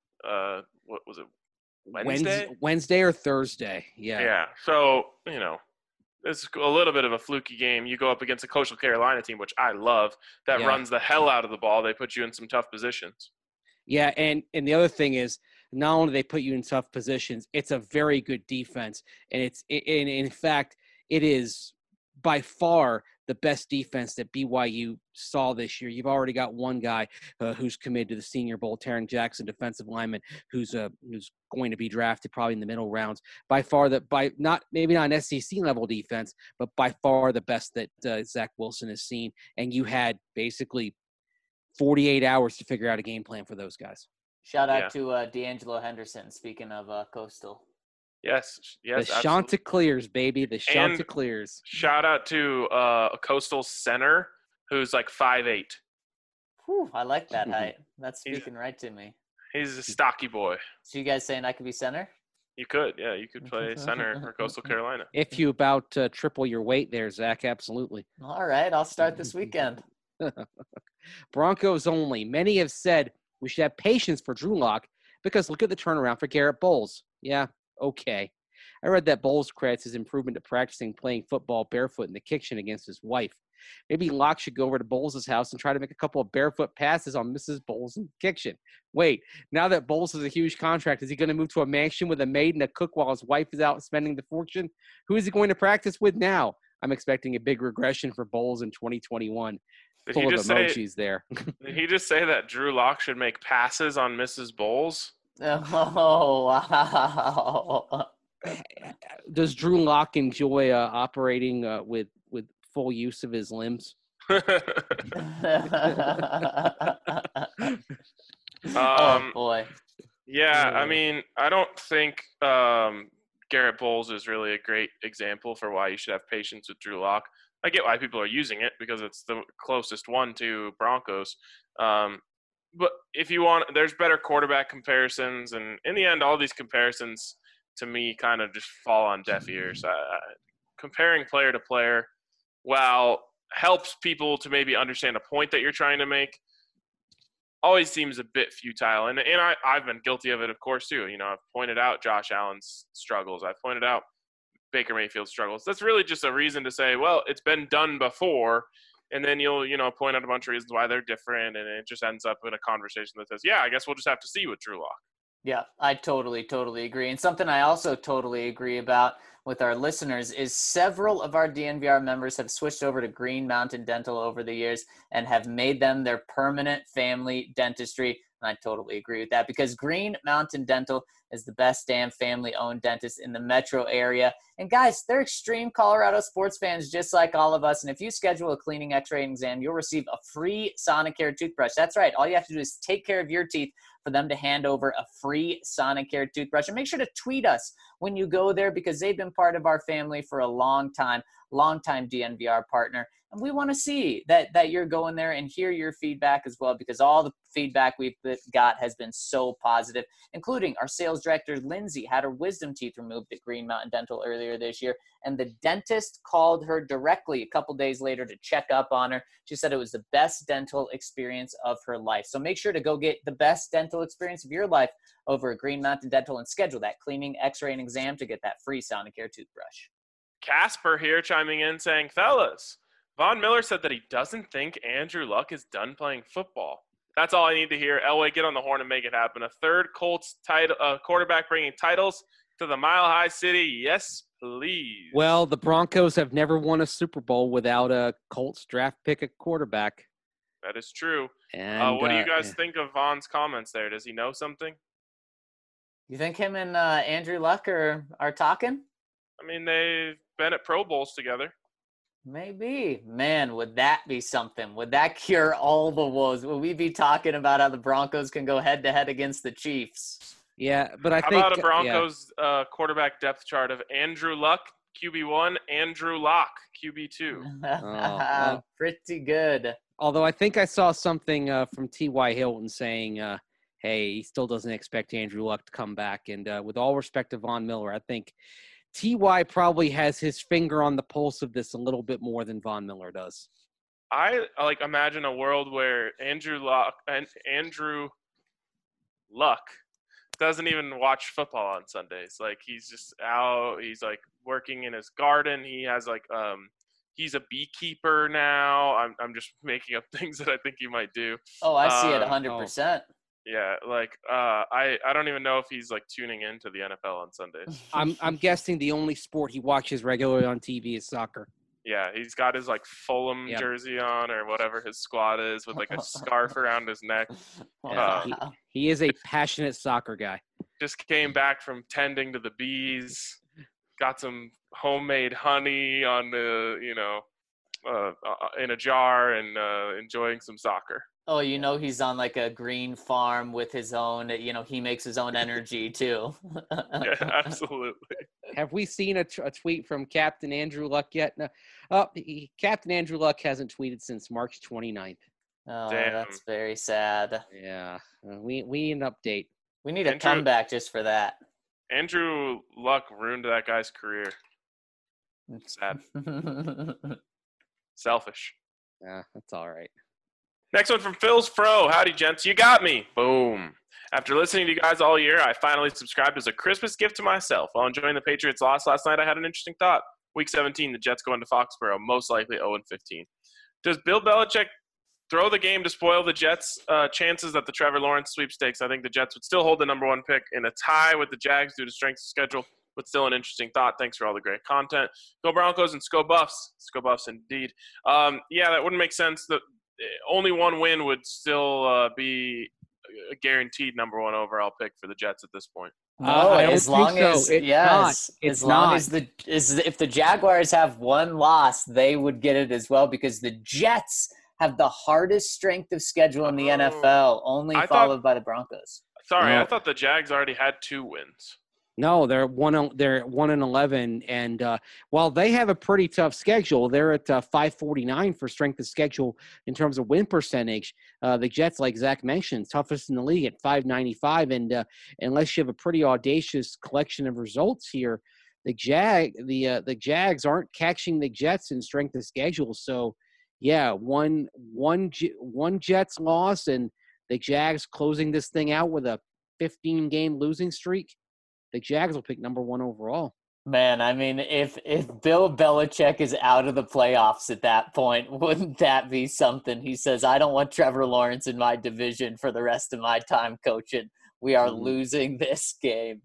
uh, what was it, Wednesday? Wednesday, Wednesday or Thursday? Yeah. Yeah. So, you know, it's a little bit of a fluky game. You go up against a Coastal Carolina team, which I love, that Yeah. runs the hell out of the ball. They put you in some tough positions. Yeah, and and the other thing is, not only do they put you in tough positions, it's a very good defense, and it's in in fact it is by far the best defense that B Y U saw this year. You've already got one guy uh, who's committed to the Senior Bowl, Taron Jackson, defensive lineman, who's uh, who's going to be drafted probably in the middle rounds. By far, the by not maybe not an S E C level defense, but by far the best that uh, Zach Wilson has seen. And you had basically forty-eight hours to figure out a game plan for those guys. Shout out Yeah. to uh, D'Angelo Henderson. Speaking of uh, Coastal. Yes, yes, the absolutely. Chanticleers, baby, the And- Chanticleers. Shout out to uh, a Coastal center who's like five eight. Whew, I like that height. That's He's- speaking right to me. He's a stocky boy. So you guys saying I could be center? You could, yeah, you could play center for Coastal Carolina. If you about uh, triple your weight there, Zach, absolutely. All right, I'll start this weekend. Broncos only. Many have said we should have patience for Drew Lock because look at the turnaround for Garrett Bowles. Yeah, okay. I read that Bowles credits his improvement to practicing playing football barefoot in the kitchen against his wife. Maybe Locke should go over to Bowles' house and try to make a couple of barefoot passes on Missus Bowles in the kitchen. Wait, now that Bowles has a huge contract, is he going to move to a mansion with a maid and a cook while his wife is out spending the fortune? Who is he going to practice with now? I'm expecting a big regression for Bowles in twenty twenty-one. Did Full he of just say? emojis there. Did he just say that Drew Lock should make passes on Missus Bowles? Oh, wow. Does Drew Lock enjoy uh, operating uh, with with full use of his limbs? oh, Um, boy. Yeah, I Yeah. mean, I don't think um, Garrett Bowles is really a great example for why you should have patience with Drew Lock. I get why people are using it because it's the closest one to Broncos. Um, but if you want, there's better quarterback comparisons, and in the end, all these comparisons to me kind of just fall on deaf ears. Uh, comparing player to player, while helps people to maybe understand a point that you're trying to make, always seems a bit futile. And and I, I've been guilty of it, of course, too. You know, I've pointed out Josh Allen's struggles. I've pointed out Baker Mayfield's struggles. That's really just a reason to say, well, it's been done before. and then you'll, you know, point out a bunch of reasons why they're different, and it just ends up in a conversation that says, yeah, I guess we'll just have to see with Drew Lock. Yeah, I totally, totally agree. And something I also totally agree about with our listeners is several of our D N V R members have switched over to Green Mountain Dental over the years and have made them their permanent family dentistry. And I totally agree with that, because Green Mountain Dental is the best damn family-owned dentist in the metro area. And guys, they're extreme Colorado sports fans just like all of us. And if you schedule a cleaning, x-ray, and exam, you'll receive a free Sonicare toothbrush. That's right. All you have to do is take care of your teeth for them to hand over a free Sonicare toothbrush. And make sure to tweet us when you go there, because they've been part of our family for a long time, long-time D N V R partner. And we want to see that that you're going there and hear your feedback as well, because all the feedback we've got has been so positive, including our sales director, Lindsay, had her wisdom teeth removed at Green Mountain Dental earlier this year. And the dentist called her directly a couple days later to check up on her. She said it was the best dental experience of her life. So make sure to go get the best dental experience of your life over at Green Mountain Dental and schedule that cleaning, x-ray, and exam to get that free Sonicare toothbrush. Casper here chiming in saying, fellas, Von Miller said that he doesn't think Andrew Luck is done playing football. That's all I need to hear. Elway, get on the horn and make it happen. A third Colts title, uh, quarterback bringing titles to the Mile High City. Yes, please. Well, the Broncos have never won a Super Bowl without a Colts draft pick at quarterback. That is true. And, uh, what do you uh, guys think of Von's comments there? Does he know something? You think him and uh, Andrew Luck are, are talking? I mean, they've been at Pro Bowls together. Maybe. Man, would that be something? Would that cure all the woes? Would we be talking about how the Broncos can go head-to-head against the Chiefs? Yeah, but I how think – How about a Broncos yeah. uh, quarterback depth chart of Andrew Luck, Q B one, Andrew Lock, Q B two? Oh, well, pretty good. Although I think I saw something uh, from T Y. Hilton saying, uh, hey, he still doesn't expect Andrew Luck to come back. And uh, with all respect to Von Miller, I think – T Y probably has his finger on the pulse of this a little bit more than Von Miller does. I like imagine a world where Andrew Luck and Andrew Luck doesn't even watch football on Sundays. Like he's just out. He's like working in his garden. He has like um he's a beekeeper now. I'm I'm just making up things that I think he might do. Oh, I see um, it one hundred percent. Yeah, like uh, I, I don't even know if he's like tuning into the N F L on Sundays. I'm I'm guessing the only sport he watches regularly on T V is soccer. Yeah, he's got his like Fulham yep. jersey on or whatever his squad is with like a scarf around his neck. Yeah, uh, he, he is a passionate soccer guy. Just came back from tending to the bees. Got some homemade honey on the you know uh, in a jar and uh, enjoying some soccer. Oh, you know he's on like a green farm with his own, you know, he makes his own energy too. Yeah, absolutely. Have we seen a, t- a tweet from Captain Andrew Luck yet? No. Oh, he, Captain Andrew Luck hasn't tweeted since March twenty-ninth. Oh, Damn. That's very sad. Yeah, uh, we we need an update. We need a Andrew, comeback just for that. Andrew Luck ruined that guy's career. Sad. Selfish. Yeah, that's all right. Next one from Phil's Fro. Howdy, gents. You got me. Boom. After listening to you guys all year, I finally subscribed as a Christmas gift to myself. While enjoying the Patriots' loss last night, I had an interesting thought. Week seventeen, the Jets go into Foxborough, most likely oh and fifteen. Does Bill Belichick throw the game to spoil the Jets' uh, chances at the Trevor Lawrence sweepstakes? I think the Jets would still hold the number one pick in a tie with the Jags due to strength of schedule, but still an interesting thought. Thanks for all the great content. Go Broncos and Sco Buffs. Sco Buffs indeed. Um, yeah, that wouldn't make sense. The only one win would still uh, be a guaranteed number one overall pick for the Jets at this point. No, Uh, I as don't think long so. as It's yes, not. It's as long not. as the is if the Jaguars have one loss, they would get it as well, because the Jets have the hardest strength of schedule in the Oh. N F L, only I thought- followed by the Broncos. Sorry, No. I thought the Jags already had two wins. No, they're one. They're one and eleven, and uh, while they have a pretty tough schedule, they're at uh, five forty-nine for strength of schedule in terms of win percentage. Uh, the Jets, like Zach mentioned, toughest in the league at five ninety-five, and uh, unless you have a pretty audacious collection of results here, the Jag, the uh, the Jags aren't catching the Jets in strength of schedule. So, yeah, one one one Jets loss, and the Jags closing this thing out with a fifteen game losing streak. The Jags will pick number one overall. Man, I mean, if if Bill Belichick is out of the playoffs at that point, wouldn't that be something? He says, I don't want Trevor Lawrence in my division for the rest of my time coaching. We are Mhm. losing this game.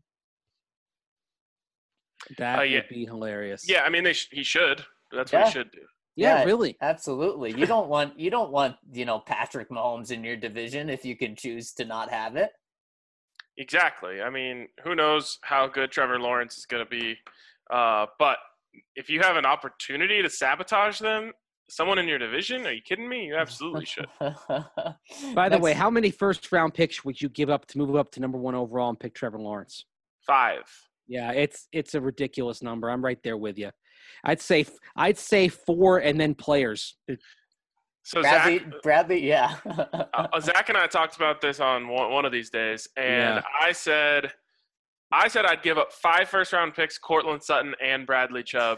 That Uh, yeah. would be hilarious. Yeah, I mean, they sh- he should. That's what Yeah. he should do. Yeah, Yeah. really. Absolutely. You don't want you don't want, you know, Patrick Mahomes in your division if you can choose to not have it. Exactly. I mean, who knows how good Trevor Lawrence is going to be. Uh, but if you have an opportunity to sabotage them, someone in your division, are you kidding me? You absolutely should. By the way, Next- how many first round picks would you give up to move up to number one overall and pick Trevor Lawrence? Five. Yeah, it's it's a ridiculous number. I'm right there with you. I'd say I'd say four and then players. So Bradley, Zach, Bradley, yeah. uh, Zach and I talked about this on one, one of these days, and Yeah. I said, I said I'd give up five first round picks, Cortland Sutton and Bradley Chubb.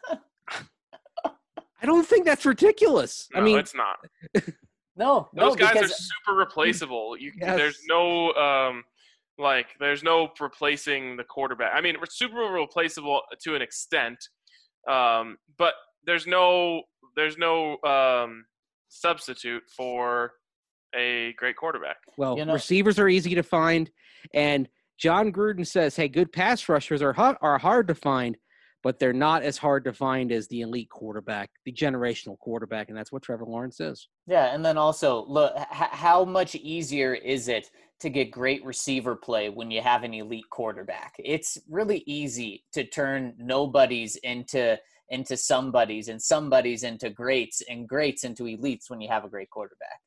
I don't think that's ridiculous. No, I mean, it's not. no, no, Those guys because are super replaceable. You, Yes. There's no um, like, there's no replacing the quarterback. I mean, we're super replaceable to an extent, um, but there's no, there's no um, substitute for a great quarterback. well, You know- receivers are easy to find, and John Gruden says, "Hey, good pass rushers are hu- are hard to find, but they're not as hard to find as the elite quarterback, the generational quarterback," and that's what Trevor Lawrence is. Yeah, and then also, look, h- how much easier is it to get great receiver play when you have an elite quarterback? It's really easy to turn nobodies into into somebodies and somebodies into greats and greats into elites when you have a great quarterback.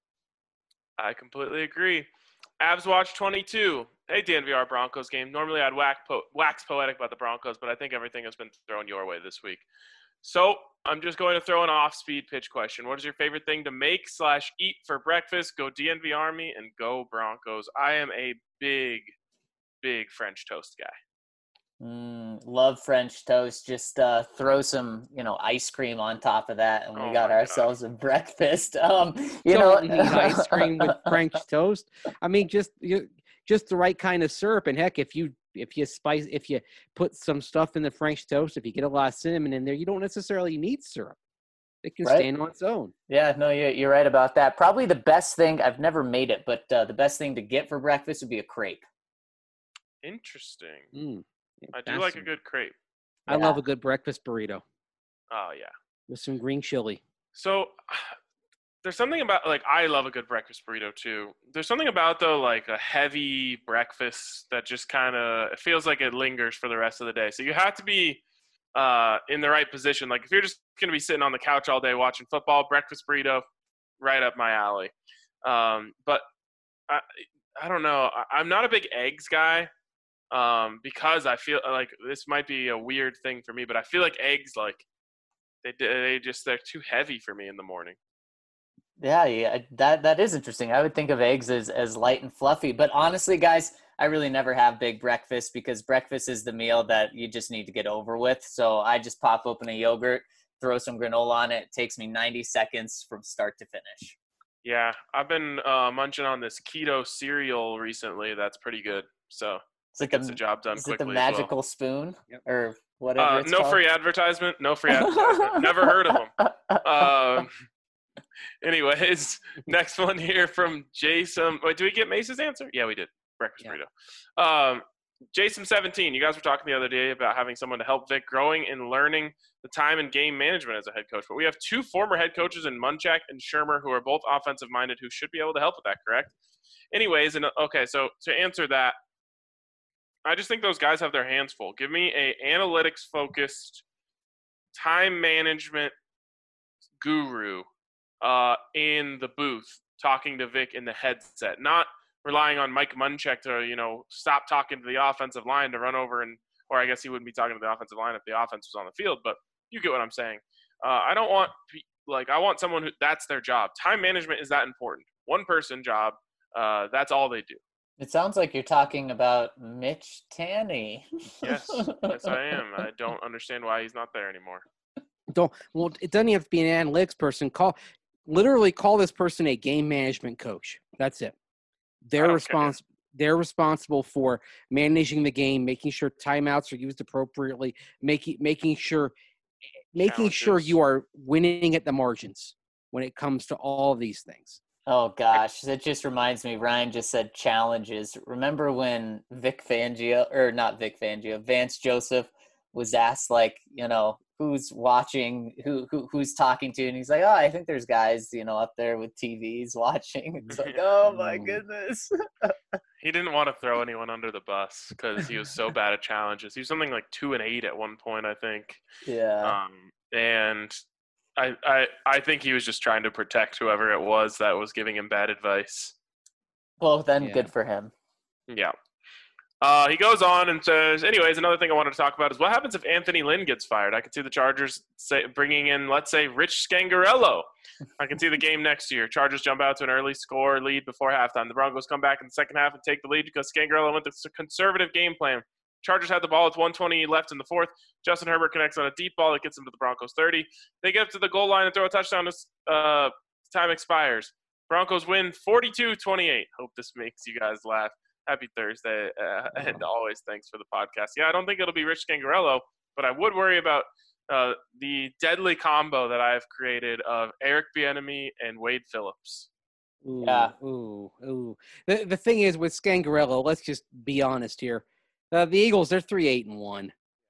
I completely agree. Avs Watch twenty-two. Hey, D N V R Broncos game. Normally I'd wax, po- wax poetic about the Broncos, but I think everything has been thrown your way this week. So I'm just going to throw an off-speed pitch question. What is your favorite thing to make slash eat for breakfast? Go D N V Army and go Broncos. I am a big, big French toast guy. Mm, love French toast. Just uh, throw some, you know, ice cream on top of that, and we Oh got my God. ourselves a breakfast. Um, you Don't know, need ice cream with French toast. I mean, just you, just the right kind of syrup. And heck, if you if you spice, if you put some stuff in the French toast, if you get a lot of cinnamon in there, you don't necessarily need syrup. It can Right. stand on its own. Yeah, no, you're, you're right about that. Probably the best thing, I've never made it, but uh, the best thing to get for breakfast would be a crepe. Interesting. Mm, I do like a fascinating. good crepe. I Yeah. love a good breakfast burrito Oh, yeah. with some green chili. So there's something about, like, I love a good breakfast burrito too. There's something about, though, like a heavy breakfast that just kind of, it feels like it lingers for the rest of the day. So you have to be uh, in the right position. Like if you're just going to be sitting on the couch all day watching football, breakfast burrito, right up my alley. Um, but I, I don't know. I, I'm not a big eggs guy. Um, because I feel like this might be a weird thing for me, but I feel like eggs, like they they just they're too heavy for me in the morning. Yeah, yeah, that that is interesting. I would think of eggs as, as light and fluffy, but honestly, guys, I really never have big breakfast because breakfast is the meal that you just need to get over with. So I just pop open a yogurt, throw some granola on it. It takes me ninety seconds from start to finish. Yeah, I've been uh, munching on this keto cereal recently. That's pretty good. So It's like gets the, the job done is it the quickly. as well. magical spoon Yep. or whatever Uh, it's no called? free advertisement. No free advertisement. Never heard of them. Um, anyways, next one here from Jason. Wait, did we get Mace's answer? Yeah, we did. Breakfast Yeah. burrito. Um, Jason seventeen. You guys were talking the other day about having someone to help Vic growing and learning the time and game management as a head coach. But we have two former head coaches in Munchak and Shermer who are both offensive minded who should be able to help with that, correct? Anyways, and okay, so to answer that, I just think those guys have their hands full. Give me a analytics focused time management guru uh, in the booth talking to Vic in the headset, not relying on Mike Munchak to, you know, stop talking to the offensive line to run over and, or I guess he wouldn't be talking to the offensive line if the offense was on the field, but you get what I'm saying. Uh, I don't want, like, I want someone who, that's their job. Time management is that important. One person job, uh, that's all they do. It sounds like you're talking about Mitch Tanny. Yes, yes, I am. I don't understand why he's not there anymore. Don't well, it doesn't have to be an analytics person. Call literally call this person a game management coach. That's it. I They're don't responsible. they're responsible for managing the game, making sure timeouts are used appropriately, making making sure making sure Challenges. you are winning at the margins when it comes to all of these things. Oh gosh, that just reminds me. Ryan just said challenges. Remember when Vic Fangio, or not Vic Fangio, Vance Joseph was asked, like, you know, who's watching, who, who who's talking to, and he's like, oh, I think there's guys, you know, up there with T Vs watching. It's like, oh my goodness. He didn't want to throw anyone under the bus because he was so bad at challenges. He was something like two and eight at one point, I think. Yeah. Um, and I, I I think he was just trying to protect whoever it was that was giving him bad advice. Well, then Yeah. good for him. Yeah. Uh, he goes on and says, anyways, another thing I wanted to talk about is what happens if Anthony Lynn gets fired? I could see the Chargers say, bringing in, let's say, Rich Scangarello. I can see the game next year. Chargers jump out to an early score lead before halftime. The Broncos come back in the second half and take the lead because Scangarello went with a conservative game plan. Chargers had the ball with one twenty left in the fourth. Justin Herbert connects on a deep ball that gets them to the Broncos thirty. They get up to the goal line and throw a touchdown as uh, time expires. Broncos win forty-two twenty-eight. Hope this makes you guys laugh. Happy Thursday, uh, and always thanks for the podcast. Yeah, I don't think it'll be Rich Scangarello, but I would worry about uh, the deadly combo that I have created of Eric Bieniemy and Wade Phillips. Ooh, Yeah. Ooh, ooh. The the thing is with Scangarello, let's just be honest here. Uh, the Eagles, they're three eight and one.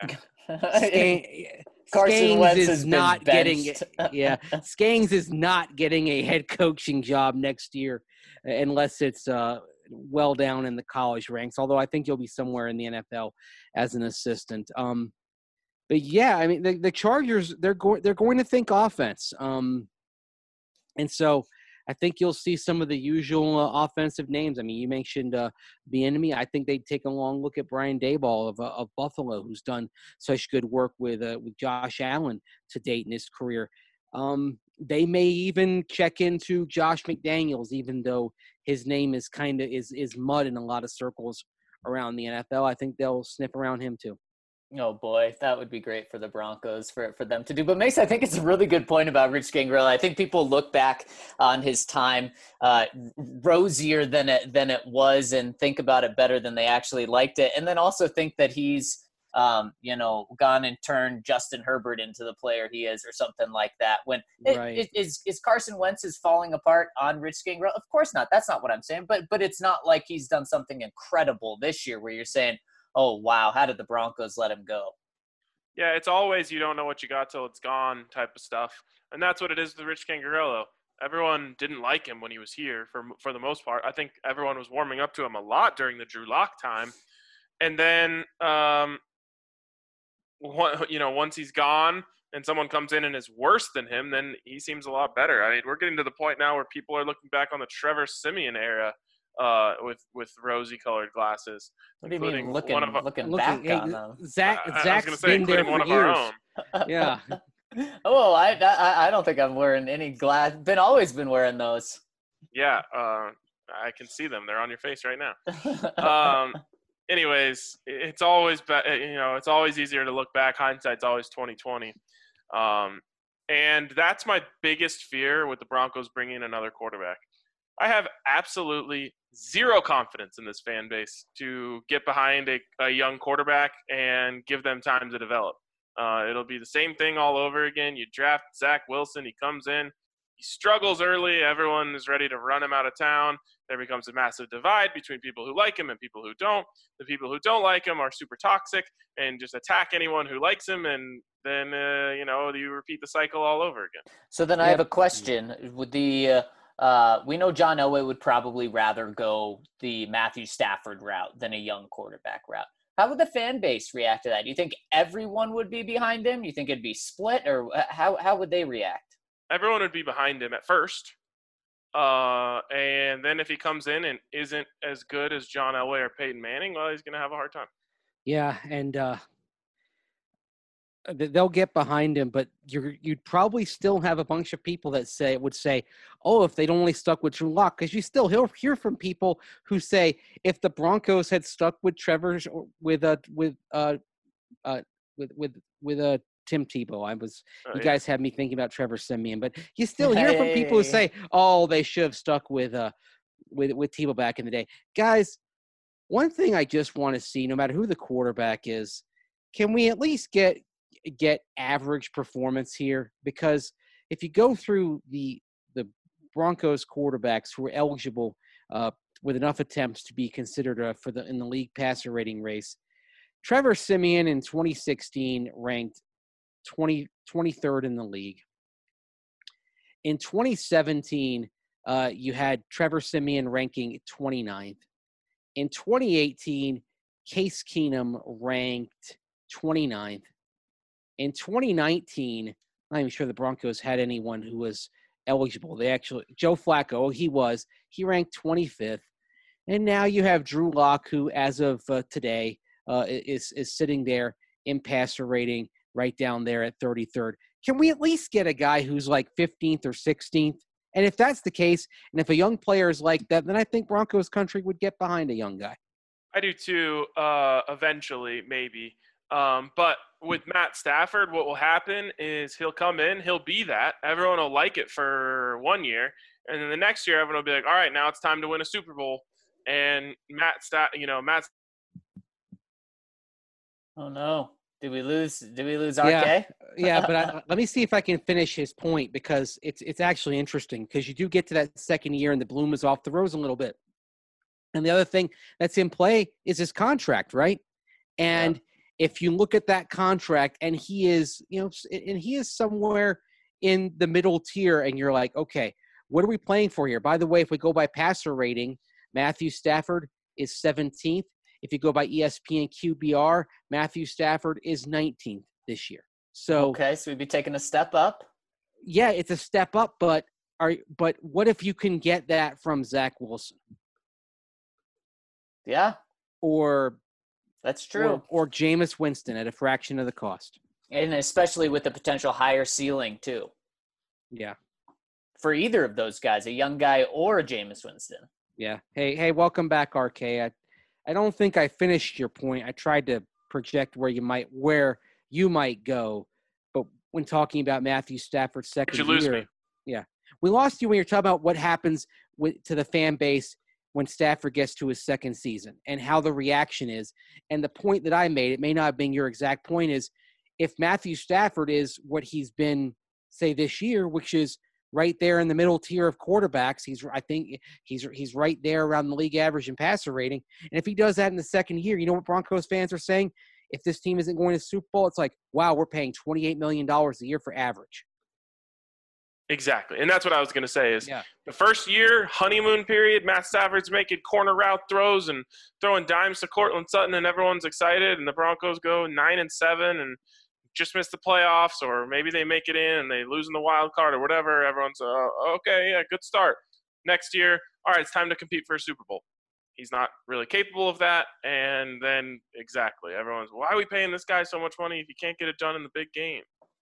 Scan- Carson Skangs Wentz is has been not getting benched. yeah. Skangs is not getting a head coaching job next year unless it's uh, well down in the college ranks. Although I think you'll be somewhere in the N F L as an assistant. Um, but yeah, I mean the, the Chargers they're going they're going to think offense. Um, and so I think you'll see some of the usual uh, offensive names. I mean, you mentioned uh, Bieniemy. I think they'd take a long look at Brian Daboll of, uh, of Buffalo, who's done such good work with uh, with Josh Allen to date in his career. Um, they may even check into Josh McDaniels, even though his name is kind of is is mud in a lot of circles around the N F L. I think they'll sniff around him too. Oh boy, that would be great for the Broncos for, for them to do. But Mace, I think it's a really good point about Rich Scangarello. I think people look back on his time uh, rosier than it than it was, and think about it better than they actually liked it, and then also think that he's um, you know gone and turned Justin Herbert into the player he is, or something like that. When Right. it, it, is is Carson Wentz is falling apart on Rich Scangarello? Of course not. That's not what I'm saying. But but it's not like he's done something incredible this year where you're saying, oh, wow, how did the Broncos let him go? Yeah, it's always you don't know what you got till it's gone type of stuff. And that's what it is with Rich Scangarello. Everyone didn't like him when he was here for for the most part. I think everyone was warming up to him a lot during the Drew Lock time. And then, um, one, you know, once he's gone and someone comes in and is worse than him, then he seems a lot better. I mean, we're getting to the point now where people are looking back on the Trevor Siemian era uh, with with rosy-colored glasses. What do you mean including looking, one of our- looking Looking, back hey, on them? Zach I- I was Zach's going to say, been there including one for of years. our own. Yeah. Oh, I, I I don't think I'm wearing any glass. Been always been wearing those. Yeah, uh, I can see them. They're on your face right now. Um, anyways, it's always be- you know it's always easier to look back. Hindsight's always twenty twenty, um, and that's my biggest fear with the Broncos bringing in another quarterback. I have absolutely zero confidence in this fan base to get behind a, a young quarterback and give them time to develop. Uh, it'll be the same thing all over again. You draft Zach Wilson, he comes in, he struggles early, everyone is ready to run him out of town. There becomes a massive divide between people who like him and people who don't. The people who don't like him are super toxic and just attack anyone who likes him, and then, uh, you know, you repeat the cycle all over again. So then I have a question. With the uh, uh, we know John Elway would probably rather go the Matthew Stafford route than a young quarterback route. How would the fan base react to that? Do you think everyone would be behind him? Do you think it'd be split, or how how would they react? Everyone would be behind him at first. Uh, and then if he comes in and isn't as good as John Elway or Peyton Manning, well, he's going to have a hard time. Yeah, and uh, they'll get behind him, but you're, you'd probably still have a bunch of people that say would say, "Oh, if they'd only stuck with Drew Lock," because you still hear hear from people who say, "If the Broncos had stuck with Trevor's with uh with uh uh with with with a." Uh, Tim Tebow. I was. Oh, you yeah. guys have me thinking about Trevor Siemian, but you still hear from people who say, "Oh, they should have stuck with uh, with with Tebow back in the day." Guys, one thing I just want to see, no matter who the quarterback is, can we at least get get average performance here? Because if you go through the the Broncos quarterbacks who are eligible uh, with enough attempts to be considered uh, for the in the league passer rating race, Trevor Siemian in twenty sixteen ranked twenty, twenty-third in the league. In twenty seventeen, uh, you had Trevor Siemian ranking twenty-ninth. In twenty eighteen, Case Keenum ranked twenty-ninth. In twenty nineteen, I'm not even sure the Broncos had anyone who was eligible. They actually, Joe Flacco, he was. He ranked twenty-fifth. And now you have Drew Lock, who, as of uh, today, uh, is is sitting there in passer rating right down there at thirty-third. Can we at least get a guy who's like fifteenth or sixteenth? And if that's the case, and if a young player is like that, then I think Broncos country would get behind a young guy. I do too, uh, eventually, maybe. Um, but with Matt Stafford, what will happen is he'll come in, he'll be that. Everyone will like it for one year. And then the next year, everyone will be like, all right, now it's time to win a Super Bowl. And Matt, Sta- you know, Matt. Oh, no. Did we lose? Did we lose R K? Yeah, yeah, but I, let me see if I can finish his point, because it's it's actually interesting, because you do get to that second year and the bloom is off the rose a little bit. And the other thing that's in play is his contract, right? And yeah. if you look at that contract, and he is, you know, and he is somewhere in the middle tier, and you're like, okay, what are we playing for here? By the way, if we go by passer rating, Matthew Stafford is seventeenth. If you go by E S P N Q B R, Matthew Stafford is nineteenth this year. So okay, so we'd be taking a step up. Yeah, it's a step up, but are but what if you can get that from Zach Wilson? Yeah, or that's true. Or, or Jameis Winston at a fraction of the cost, and especially with the potential higher ceiling too. Yeah, for either of those guys, a young guy or a Jameis Winston. Yeah. Hey, hey, welcome back, R K. I, I don't think I finished your point. I tried to project where you might where you might go, but when talking about Matthew Stafford's second Did you lose year, me? Yeah, we lost you when you're talking about what happens with to the fan base when Stafford gets to his second season and how the reaction is. And the point that I made, it may not have been your exact point, is if Matthew Stafford is what he's been, say, this year, which is right there in the middle tier of quarterbacks. He's, I think he's he's right there around the league average in passer rating. And if he does that in the second year, you know what Broncos fans are saying? If this team isn't going to Super Bowl, it's like, wow, we're paying twenty-eight million dollars a year for average. Exactly. And that's what I was going to say is yeah. the first year, honeymoon period, Matt Stafford's making corner route throws and throwing dimes to Cortland Sutton, and everyone's excited. And the Broncos go nine and seven and just missed the playoffs, or maybe they make it in and they lose in the wild card or whatever. Everyone's uh, okay, yeah, good start. Next year, all right, it's time to compete for a Super Bowl. He's not really capable of that, and then exactly, everyone's, why are we paying this guy so much money if he can't get it done in the big game?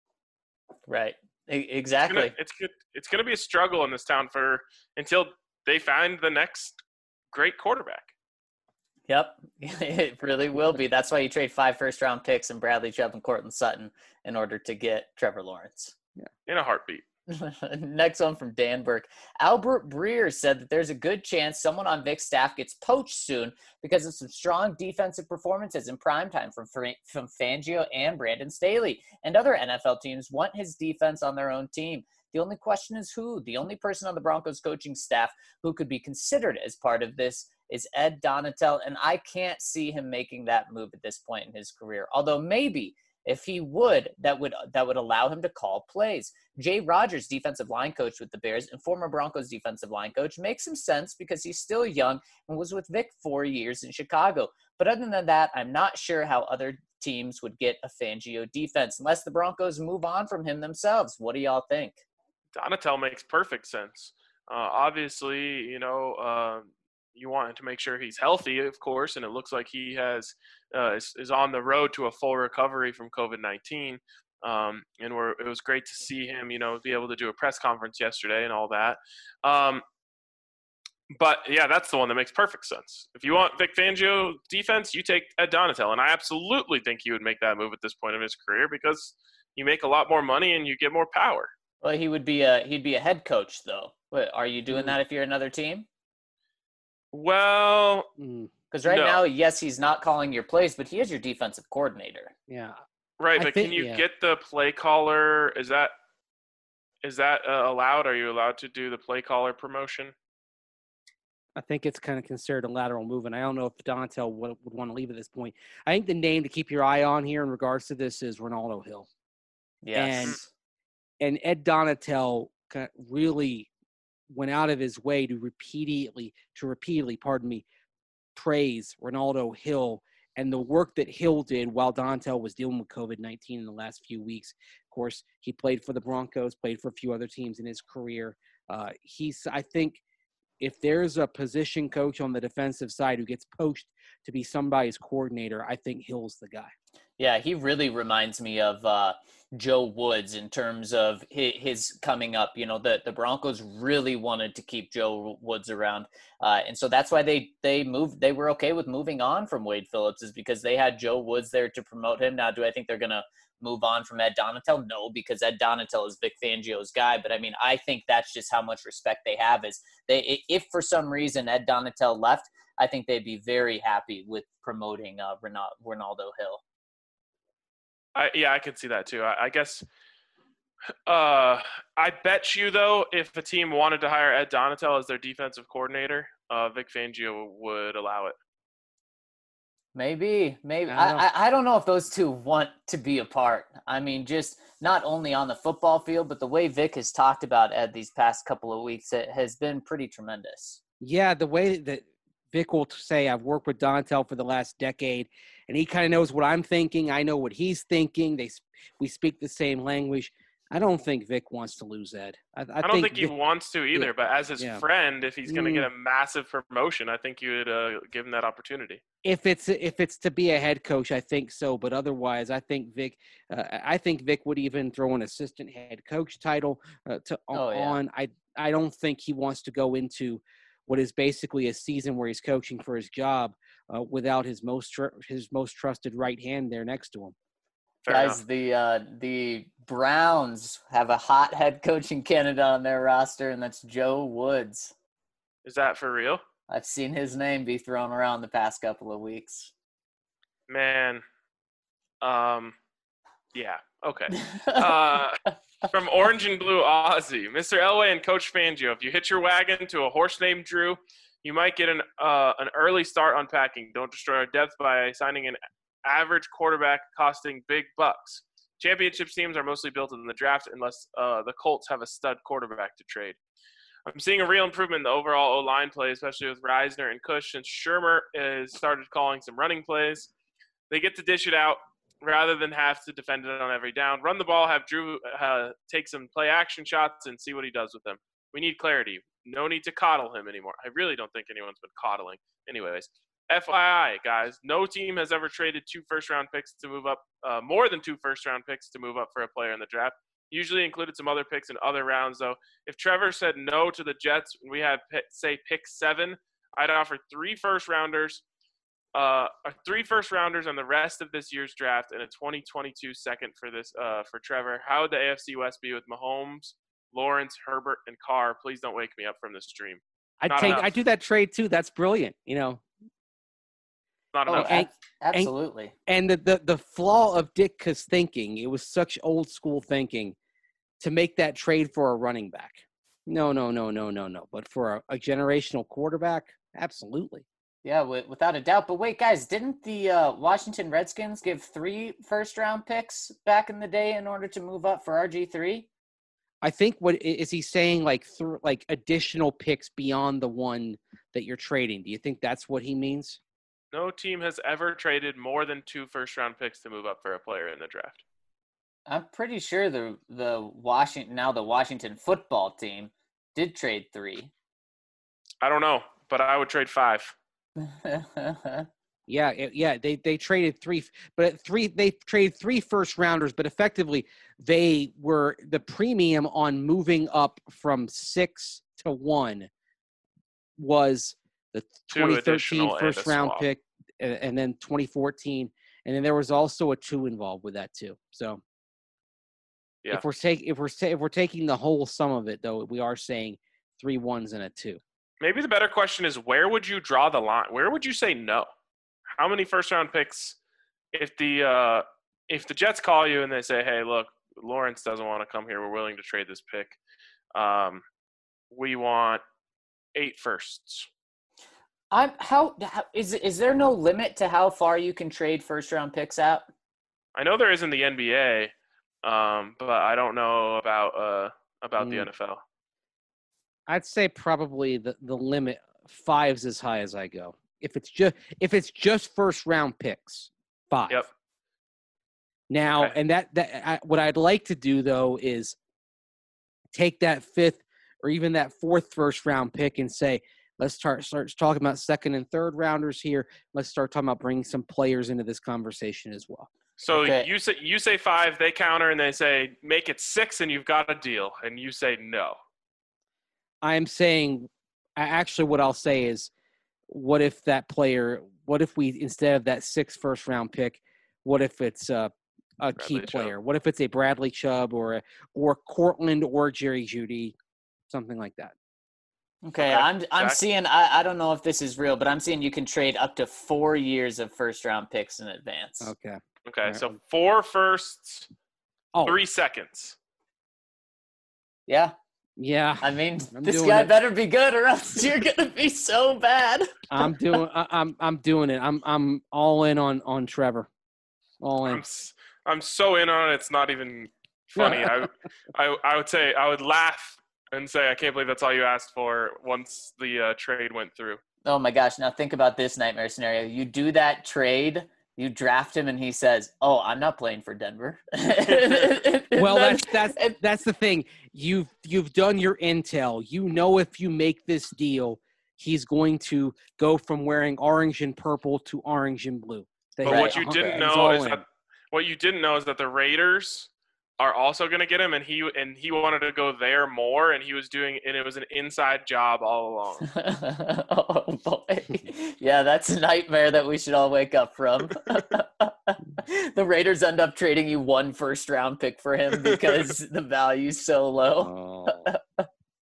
Right, e- exactly. It's gonna, it's good. It's going to be a struggle in this town for until they find the next great quarterback. Yep, it really will be. That's why you trade five first-round picks and Bradley Chubb and Cortland Sutton in order to get Trevor Lawrence. Yeah, in a heartbeat. Next one from Dan Burke. Albert Breer said that there's a good chance someone on Vic's staff gets poached soon because of some strong defensive performances in primetime from, from Fangio and Brandon Staley. And other N F L teams want his defense on their own team. The only question is who? The only person on the Broncos coaching staff who could be considered as part of this is Ed Donatel, and I can't see him making that move at this point in his career. Although maybe if he would, that would that would allow him to call plays. Jay Rodgers, defensive line coach with the Bears and former Broncos defensive line coach, makes some sense because he's still young and was with Vic four years in Chicago. But other than that, I'm not sure how other teams would get a Fangio defense unless the Broncos move on from him themselves. What do y'all think? Donatel makes perfect sense. Uh, obviously, you know, uh, you want to make sure he's healthy, of course, and it looks like he has uh, is, is on the road to a full recovery from COVID nineteen. Um, and we're, it was great to see him, you know, be able to do a press conference yesterday and all that. Um, but, yeah, that's the one that makes perfect sense. If you want Vic Fangio defense, you take Ed Donatel. And I absolutely think he would make that move at this point in his career because you make a lot more money and you get more power. Well, he would be a he'd be a head coach, though. What, are you doing that if you're another team? Well, mm. Because right No. now, yes, he's not calling your plays, but he is your defensive coordinator. Yeah. Right, I but think- can you yeah. get the play caller? Is that is that uh, allowed? Are you allowed to do the play caller promotion? I think it's kind of considered a lateral move, and I don't know if Donatell would, would want to leave at this point. I think the name to keep your eye on here in regards to this is Ronaldo Hill. Yes. And Ed Donatell kind of really went out of his way to repeatedly, to repeatedly, pardon me, praise Ronaldo Hill and the work that Hill did while Donatell was dealing with COVID nineteen in the last few weeks. Of course, he played for the Broncos, played for a few other teams in his career. Uh, he's, I think, if there's a position coach on the defensive side who gets poached to be somebody's coordinator, I think Hill's the guy. Yeah, he really reminds me of uh, Joe Woods in terms of his, his coming up. You know, the, the Broncos really wanted to keep Joe Woods around. Uh, and so that's why they, they moved. They were okay with moving on from Wade Phillips, is because they had Joe Woods there to promote him. Now, do I think they're going to move on from Ed Donatell? No, because Ed Donatell is Vic Fangio's guy. But I mean, I think that's just how much respect they have. Is they, if for some reason Ed Donatell left, I think they'd be very happy with promoting uh, Ronaldo Hill. I, yeah, I could see that too. I, I guess. Uh, I bet you though, if a team wanted to hire Ed Donatell as their defensive coordinator, uh, Vic Fangio would allow it. Maybe, maybe. I I, don't know. I, I don't know if those two want to be apart. I mean, just not only on the football field, but the way Vic has talked about Ed these past couple of weeks, it has been pretty tremendous. Yeah, the way that Vic will say, I've worked with Donatell for the last decade, and he kind of knows what I'm thinking. I know what he's thinking. They We speak the same language. I don't think Vic wants to lose Ed. I, I, I don't think, think he Vic, wants to either, yeah, but as his yeah. friend, if he's going to Mm. get a massive promotion, I think you would uh, give him that opportunity. if it's if it's to be a head coach, I think so. But otherwise, I think Vic, uh, I think Vic would even throw an assistant head coach title uh, to Oh, yeah. on. I I don't think he wants to go into what is basically a season where he's coaching for his job uh, without his most tr- his most trusted right hand there next to him. Fair Guys, enough. the uh, the Browns have a hot head coaching candidate on their roster, and that's Joe Woods. Is that for real? I've seen his name be thrown around the past couple of weeks. Man. Um, yeah. Okay. Uh, from Orange and Blue Aussie, Mister Elway and Coach Fangio, if you hitch your wagon to a horse named Drew, you might get an uh, an early start unpacking. Don't destroy our depth by signing an average quarterback costing big bucks. Championship teams are mostly built in the draft unless uh, the Colts have a stud quarterback to trade. I'm seeing a real improvement in the overall O-line play, especially with Reisner and Cush, since Shermer has started calling some running plays. They get to dish it out rather than have to defend it on every down. Run the ball, have Drew uh, take some play action shots, and see what he does with them. We need clarity. No need to coddle him anymore. I really don't think anyone's been coddling. Anyways, F Y I, guys, no team has ever traded two first-round picks to move up, uh, more than two first-round picks to move up for a player in the draft. Usually included some other picks in other rounds, though. If Trevor said no to the Jets, we had, say, pick seven, I'd offer three first-rounders, uh, three first-rounders on the rest of this year's draft and a twenty twenty-two second for this uh, for Trevor. How would the A F C West be with Mahomes, Lawrence, Herbert, and Carr? Please don't wake me up from this dream. I Not take enough. I do that trade too. That's brilliant. You know, Not Oh, enough. and- ab- absolutely. and the, the the flaw of Ditka's thinking, it was such old school thinking to make that trade for a running back. No, no, no, no, no, no. But for a, a generational quarterback, absolutely. Yeah, w- without a doubt. But wait, guys, didn't the uh, Washington Redskins give three first-round picks back in the day in order to move up for R G three? I think what i- is he saying? Like th- like additional picks beyond the one that you're trading. Do you think that's what he means? No team has ever traded more than two first-round picks to move up for a player in the draft. I'm pretty sure the the Washington now the Washington football team did trade three. I don't know, but I would trade five. Yeah, it- yeah. They they traded three, but at three they traded three first rounders, but effectively they were the premium on moving up from six to one was the Two twenty thirteen additional and a first round swap. pick, and, and then twenty fourteen, and then there was also a two involved with that too. So Yeah. if we're taking if we're ta- if we're taking the whole sum of it, though, we are saying three ones and a two. Maybe the better question is, where would you draw the line? Where would you say no? How many first-round picks, if the uh, if the Jets call you and they say, hey, look, Lawrence doesn't want to come here, we're willing to trade this pick. Um, we want eight firsts. I'm how, how is is there no limit to how far you can trade first-round picks out? I know there is in the N B A, um, but I don't know about uh, about mm. the N F L. I'd say probably the, the limit five's as high as I go. If it's just if it's just first round picks, five. Yep. Now, okay. and that that I, what I'd like to do though is take that fifth or even that fourth first round pick and say, let's start start talking about second and third rounders here. Let's start talking about bringing some players into this conversation as well. So okay. you say you say five, they counter and they say make it six, and you've got a deal, and you say no. I'm saying, actually, what I'll say is, what if that player? What if we instead of that sixth first round pick, what if it's a, a key player? Chubb. What if it's a Bradley Chubb or a, or Cortland or Jerry Jeudy, something like that? Okay, okay. I'm I'm Zach? seeing. I, I don't know if this is real, but I'm seeing you can trade up to four years of first round picks in advance. Okay. Okay, right. so four firsts, oh. three seconds. Yeah. Yeah. I mean, I'm this guy it. better be good, or else you're gonna be so bad. I'm doing. I, I'm. I'm doing it. I'm. I'm all in on on Trevor. All in. I'm. I'm so in on it. It's not even funny. I. I. I would say I would laugh and say I can't believe that's all you asked for once the uh, trade went through. Oh my gosh! Now think about this nightmare scenario. You do that trade. You draft him, and he says, "Oh, I'm not playing for Denver." Well, that's that's that's the thing. You've you've done your intel. You know, if you make this deal, he's going to go from wearing orange and purple to orange and blue. But right. what you didn't know is in. that what you didn't know is that the Raiders are also going to get him, and he and he wanted to go there more, and he was doing, and it was an inside job all along. Oh boy, yeah, that's a nightmare that we should all wake up from. The Raiders end up trading you one first round pick for him because the value's so low. Oh.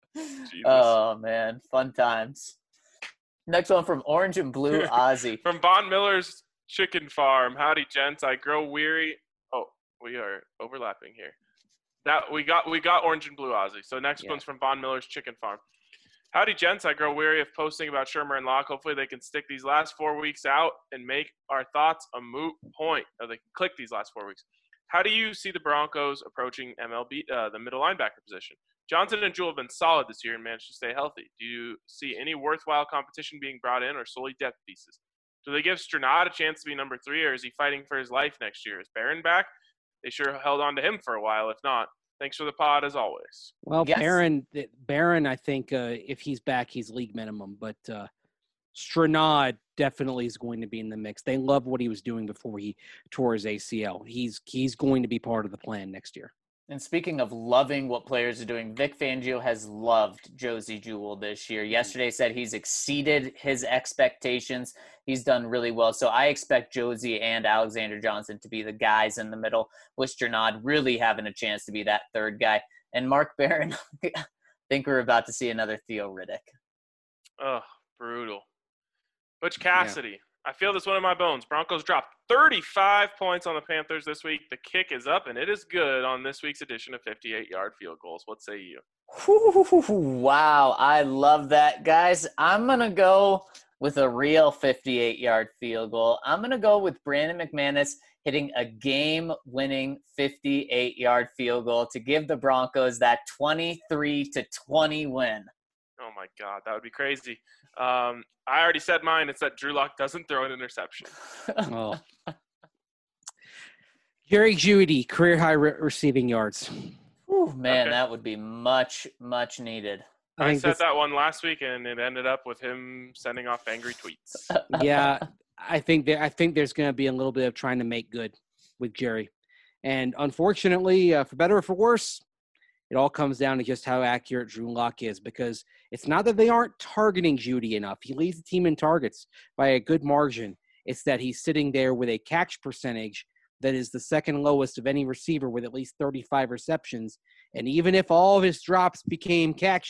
Oh man, fun times. Next one from Orange and Blue Ozzy. From Von Miller's Chicken Farm. Howdy, gents. I grow weary. Oh, we are overlapping here. That we got we got Orange and Blue Ozzy. So next yeah. one's from Von Miller's Chicken Farm. Howdy, gents. I grow weary of posting about Shermer and Locke. Hopefully they can stick these last four weeks out and make our thoughts a moot point. Or they can click these last four weeks. How do you see the Broncos approaching M L B, uh, the middle linebacker position? Johnson and Jewell have been solid this year and managed to stay healthy. Do you see any worthwhile competition being brought in or solely depth pieces? Do they give Stranad a chance to be number three, or is he fighting for his life next year? Is Barron back? They sure held on to him for a while. If not, thanks for the pod as always. Well, yes. Barron, Barron, I think uh, if he's back, he's league minimum. But uh, Stranad definitely is going to be in the mix. They love what he was doing before he tore his A C L. He's he's going to be part of the plan next year. And speaking of loving what players are doing, Vic Fangio has loved Josey Jewell this year. Yesterday said he's exceeded his expectations. He's done really well. So I expect Josey and Alexander Johnson to be the guys in the middle, with Stranad really having a chance to be that third guy. And Mark Barron, I think we're about to see another Theo Riddick. Oh, brutal. Butch Cassidy. Yeah. I feel this one in my bones. Broncos dropped thirty-five points on the Panthers this week. The kick is up, and it is good on this week's edition of fifty-eight-yard field goals. What say you? Wow, I love that, guys. I'm going to go with a real fifty-eight-yard field goal. I'm going to go with Brandon McManus hitting a game-winning fifty-eight-yard field goal to give the Broncos that twenty-three to twenty win. Oh, my God. That would be crazy. Um, I already said mine. It's that Drew Lock doesn't throw an interception. Oh. Jerry Jeudy, career high re- receiving yards. Ooh, man, okay. That would be much, much needed. I, I said this... that one last week, and it ended up with him sending off angry tweets. Yeah, I think that I think there's going to be a little bit of trying to make good with Jerry, and unfortunately, uh, for better or for worse, it all comes down to just how accurate Drew Lock is, because it's not that they aren't targeting Jeudy enough. He leads the team in targets by a good margin. It's that he's sitting there with a catch percentage that is the second lowest of any receiver with at least thirty-five receptions. And even if all of his drops became catches,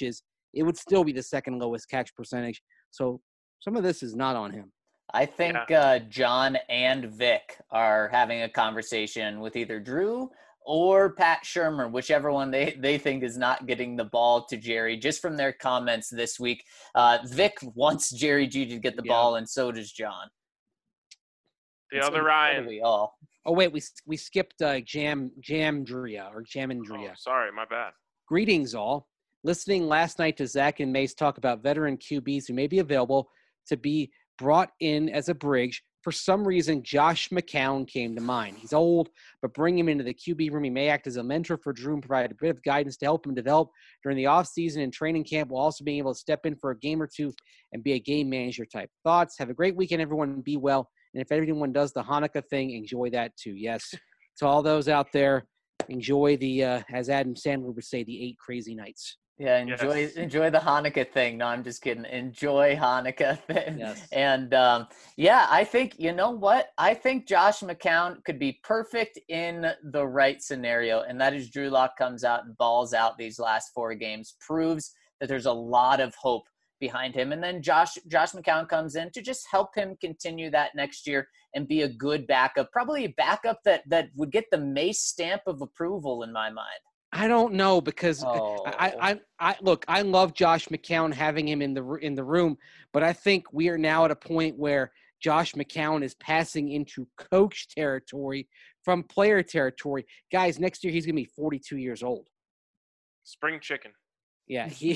it would still be the second lowest catch percentage. So some of this is not on him. I think Yeah. uh, John and Vic are having a conversation with either Drew or Pat Shermer, whichever one they, they think is not getting the ball to Jerry, just from their comments this week. Uh, Vic wants Jerry G to get the Yeah. ball, and so does John. The And so other do- so do Ryan. we all. Oh, wait, we we skipped uh, Jam Jamdria or Jamandria. Oh, sorry, my bad. Greetings, all. Listening last night to Zach and Mace talk about veteran Q Bs who may be available to be brought in as a bridge. For some reason, Josh McCown came to mind. He's old, but bring him into the Q B room. He may act as a mentor for Drew and provide a bit of guidance to help him develop during the offseason and training camp, while also being able to step in for a game or two and be a game manager type. Thoughts? Have a great weekend, everyone. Be well. And if everyone does the Hanukkah thing, enjoy that too. Yes, to all those out there, enjoy the, uh, as Adam Sandler would say, the eight crazy nights. Yeah, enjoy Yes. enjoy the Hanukkah thing. No, I'm just kidding. Enjoy Hanukkah thing. Yes. And um, yeah, I think, you know what? I think Josh McCown could be perfect in the right scenario, and that is Drew Lock comes out and balls out these last four games, proves that there's a lot of hope behind him. And then Josh Josh McCown comes in to just help him continue that next year and be a good backup, probably a backup that that would get the Mace stamp of approval in my mind. I don't know because Oh. I, I, I look. I love Josh McCown having him in the in the room, but I think we are now at a point where Josh McCown is passing into coach territory from player territory. Guys, next year he's gonna be forty-two years old. Spring chicken. Yeah, he.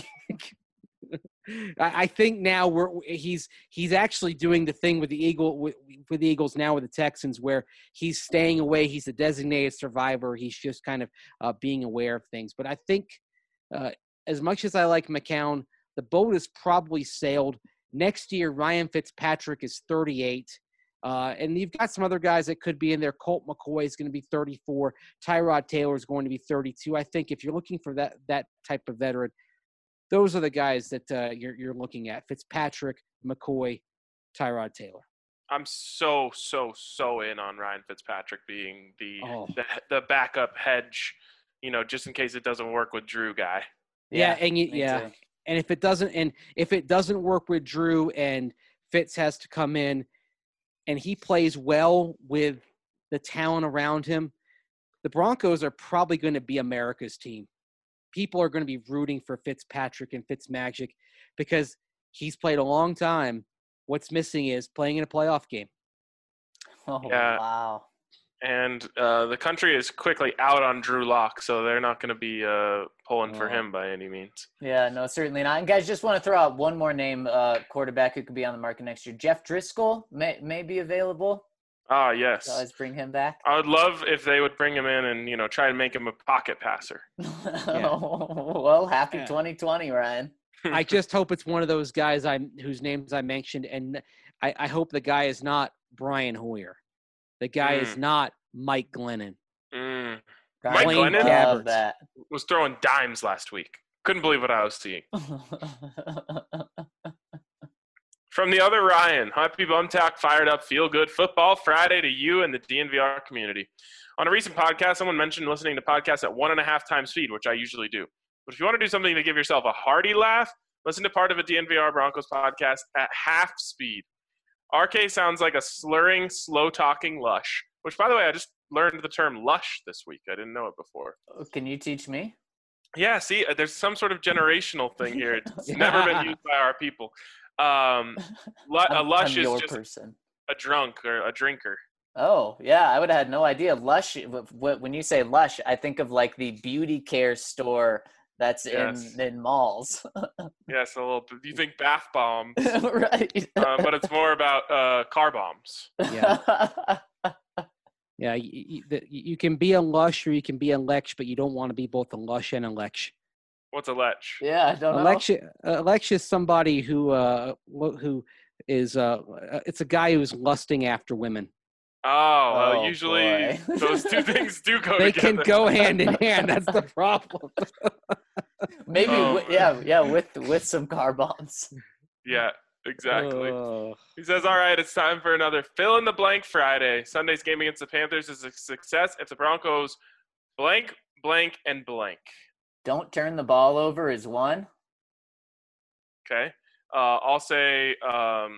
I I think now we're he's he's actually doing the thing with the Eagle with, with the Eagles now with the Texans where he's staying away. He's a designated survivor. He's just kind of uh, being aware of things. But I think uh, as much as I like McCown, the boat has probably sailed. Next year, Ryan Fitzpatrick is thirty-eight. Uh, and you've got some other guys that could be in there. Colt McCoy is going to be thirty-four. Tyrod Taylor is going to be thirty-two. I think if you're looking for that that type of veteran, those are the guys that uh, you're you're looking at: Fitzpatrick, McCoy, Tyrod Taylor. I'm so so so in on Ryan Fitzpatrick being the Oh. the, the backup hedge, you know, just in case it doesn't work with Drew guy. Yeah, and you, me yeah, too. and if it doesn't, and if it doesn't work with Drew and Fitz has to come in, and he plays well with the talent around him, the Broncos are probably going to be America's team. People are going to be rooting for Fitzpatrick and Fitzmagic because he's played a long time. What's missing is playing in a playoff game. Oh, Yeah. wow. And uh, the country is quickly out on Drew Lock, so they're not going to be uh, pulling for Oh. him by any means. Yeah, no, certainly not. And guys, just want to throw out one more name, uh, quarterback who could be on the market next year. Jeff Driscoll may, may be available. Ah, yes. So let's bring him back. I would love if they would bring him in and, you know, try and make him a pocket passer. Well, happy Yeah. twenty twenty, Ryan. I just hope it's one of those guys I whose names I mentioned, and I, I hope the guy is not Brian Hoyer. The guy is Mm. not Mike Glennon. Mm. Ryan Mike would Glennon? love that. Was throwing dimes last week. Couldn't believe what I was seeing. From the other Ryan, happy Bumtack, fired up, feel good football Friday to you and the D N V R community. On a recent podcast, someone mentioned listening to podcasts at one and a half times speed, which I usually do. But if you want to do something to give yourself a hearty laugh, listen to part of a D N V R Broncos podcast at half speed. R K sounds like a slurring, slow-talking lush, which, by the way, I just learned the term lush this week. I didn't know it before. Can you teach me? Yeah, see, uh, there's some sort of generational thing here. It's never been used by our people. Um, lu- a I'm, lush I'm your is just person. a drunk or a drinker. Oh, yeah, I would have had no idea. Lush, w- w- when you say Lush, I think of like the beauty care store that's Yes. in, in malls. Yes, a little. You think bath bombs, Right. uh, but it's more about uh, car bombs. Yeah. Yeah, you, you, the, you can be a lush or you can be a lech, but you don't want to be both a lush and a lech. What's a lech? Yeah, I don't A know. lech, a lech is somebody who uh lo- who is uh it's a guy who's lusting after women. Oh, well, Oh, usually boy. those two things do go They together. can go hand in hand. That's the problem. Maybe, Oh, wi- yeah, yeah, with with some car bombs. Yeah, exactly. Oh. He says, all right, it's time for another fill in the blank Friday. Sunday's game against the Panthers is a success if the Broncos blank, blank, and blank. Don't turn the ball over is one. Okay. Uh, I'll say um,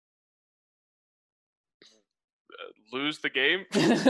lose the game.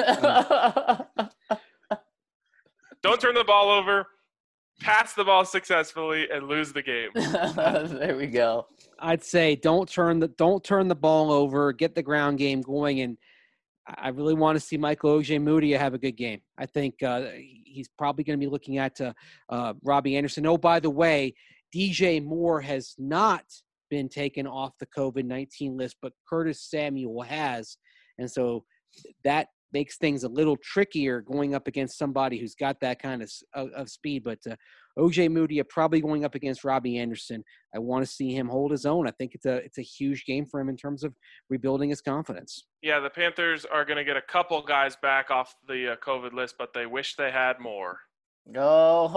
Don't turn the ball over. Pass the ball successfully and lose the game. There we go. I'd say don't turn the don't turn the ball over. Get the ground game going, and I really want to see Michael Ojemudia have a good game. I think uh, he's probably going to be looking at uh, uh, Robbie Anderson. Oh, by the way, D J Moore has not been taken off the COVID nineteen list, but Curtis Samuel has, and so that makes things a little trickier going up against somebody who's got that kind of of, of speed. But uh, Ojemudia probably going up against Robbie Anderson. I want to see him hold his own. I think it's a it's a huge game for him in terms of rebuilding his confidence. Yeah, the Panthers are going to get a couple guys back off the uh, COVID list, but they wish they had more. Oh,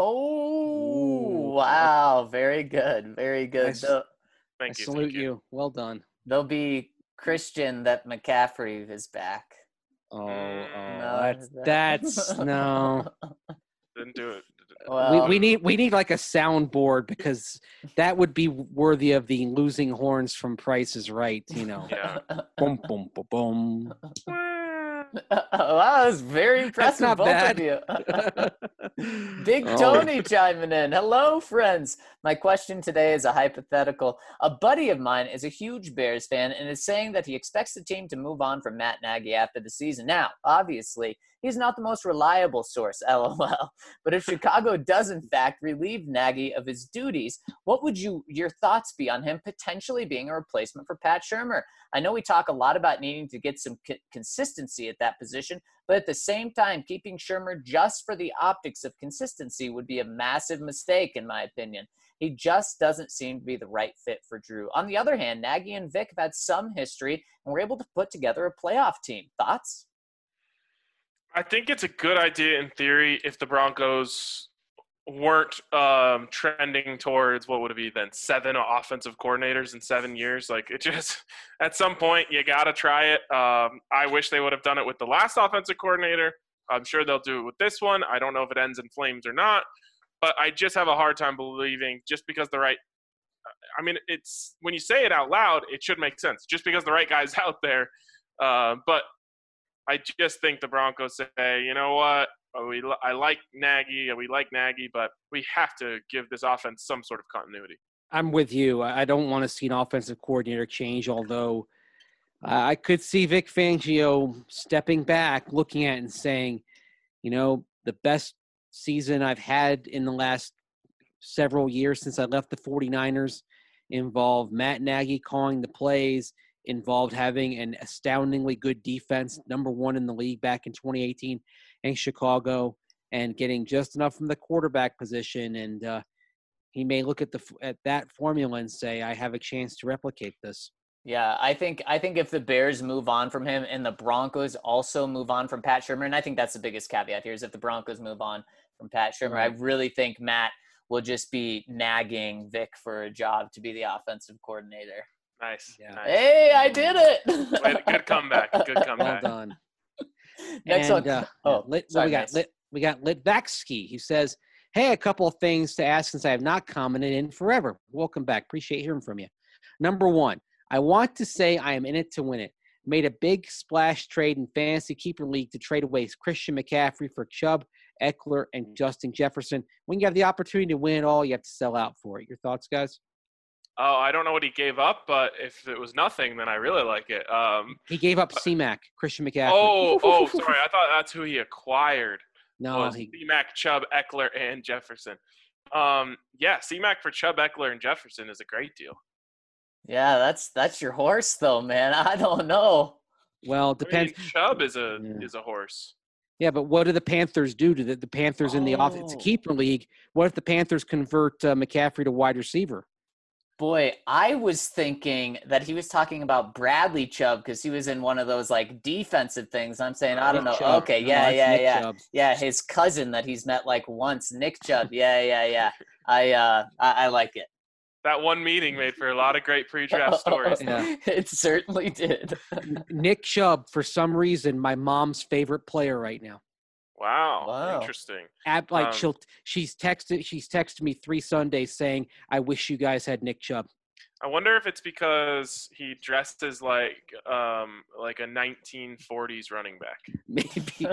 oh wow. Very good. Very good. I, They'll, Thank I you. salute thank you. you. Well done. they'll be Christian that McCaffrey is back. Oh, oh No, that's that- that's no. Didn't do it. Well, we, we need we need like a soundboard because that would be worthy of the losing horns from Price is Right. You know. Yeah. Boom, boom, boom, boom. wow, that was very impressive, not both bad. of you. Big Oh. Tony chiming in. Hello, friends. My question today is a hypothetical. A buddy of mine is a huge Bears fan and is saying that he expects the team to move on from Matt Nagy after the season. Now, obviously, he's not the most reliable source, lol. But if Chicago does, in fact, relieve Nagy of his duties, what would you your thoughts be on him potentially being a replacement for Pat Shurmur? I know we talk a lot about needing to get some c- consistency at that position, but at the same time, keeping Shurmur just for the optics of consistency would be a massive mistake, in my opinion. He just doesn't seem to be the right fit for Drew. On the other hand, Nagy and Vic have had some history and were able to put together a playoff team. Thoughts? I think it's a good idea in theory if the Broncos weren't um, trending towards what would it be then seven offensive coordinators in seven years. Like it just at some point you got to try it. Um, I wish they would have done it with the last offensive coordinator. I'm sure they'll do it with this one. I don't know if it ends in flames or not, but I just have a hard time believing just because the right. I mean, it's when you say it out loud, it should make sense. Just because the right guy's out there, uh, but. I just think the Broncos say, you know what, we I like Nagy, we like Nagy, but we have to give this offense some sort of continuity. I'm with you. I I don't want to see an offensive coordinator change, although uh, I could see Vic Fangio stepping back, looking at it and saying, you know, the best season I've had in the last several years since I left the 49ers involved Matt Nagy calling the plays, involved having an astoundingly good defense, number one in the league back in twenty eighteen in Chicago, and getting just enough from the quarterback position. And uh, he may look at the at that formula and say, I have a chance to replicate this. Yeah, I think I think if the Bears move on from him and the Broncos also move on from Pat Shurmur, and I think that's the biggest caveat here is if the Broncos move on from Pat Shurmur, Right. I really think Matt will just be nagging Vic for a job to be the offensive coordinator. Nice. Yeah. nice. Hey, I did it! Good- good comeback. Good Well comeback. done. Next and, one. Uh, Oh, Lit, sorry, we got Mace. Lit, we got Litvaksky. He says, hey, a couple of things to ask since I have not commented in forever. Welcome back. Appreciate hearing from you. Number one, I want to say I am in it to win it. Made a big splash trade in Fantasy Keeper League to trade away Christian McCaffrey for Chubb, Eckler, and Justin Jefferson. When you have the opportunity to win it all, you have to sell out for it. Your thoughts, guys? Oh, I don't know what he gave up, but if it was nothing, then I really like it. Um, He gave up C-Mac, Christian McCaffrey. oh, oh, sorry. I thought that's who he acquired. no, was he, C-Mac, Chubb, Eckler, and Jefferson. Um, yeah, C-Mac for Chubb, Eckler, and Jefferson is a great deal. Yeah, that's that's your horse though, man. I don't know. well, it I mean, depends. Chubb is a Yeah. is a horse. Yeah, but what do the Panthers do to the, the Panthers in the off? It's a Oh. keeper league. What if the Panthers convert uh, McCaffrey to wide receiver? Boy, I was thinking that he was talking about Bradley Chubb because he was in one of those like defensive things. I'm saying, I don't know. Nick Chubb. Okay, No, yeah, that's yeah, Nick yeah. Chubb. Yeah, his cousin that he's met like once, Nick Chubb. Yeah, yeah, yeah. I uh I, I like it. That one meeting made for a lot of great pre-draft stories. Yeah. It certainly did. Nick Chubb, for some reason, my mom's favorite player right now. Wow, Wow. interesting. Ab, like Um, she'll, she's texted, she's texted me three Sundays saying, "I wish you guys had Nick Chubb." I wonder if it's because he dressed as like um like a nineteen forties running back. Maybe.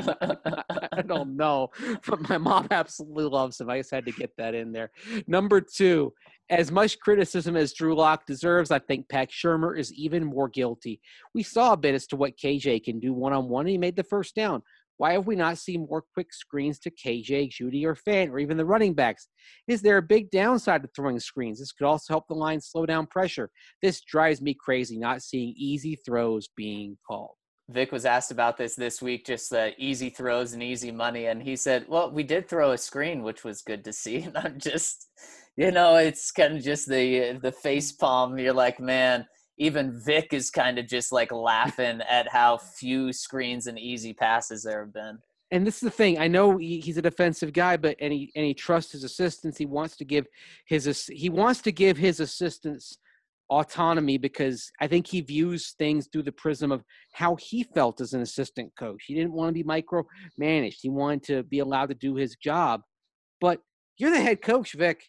I don't know. But my mom absolutely loves him. I just had to get that in there. Number two, as much criticism as Drew Lock deserves, I think Pat Shurmur is even more guilty. We saw a bit as to what K J can do one-on-one, and he made the first down. Why have we not seen more quick screens to K J, Judy, or Fant, or even the running backs? Is there a big downside to throwing screens? This could also help the line slow down pressure. This drives me crazy, not seeing easy throws being called. Vic was asked about this this week, just the easy throws and easy money. And he said, well, we did throw a screen, which was good to see. And I'm just, you know, it's kind of just the the face palm. You're like, man, even Vic is kind of just like laughing at how few screens and easy passes there have been. And this is the thing. I know he, he's a defensive guy, but and he and he trusts his assistants. He wants to give his he wants to give his assistants autonomy because I think he views things through the prism of how he felt as an assistant coach. He didn't want to be micromanaged. He wanted to be allowed to do his job. But you're the head coach, Vic.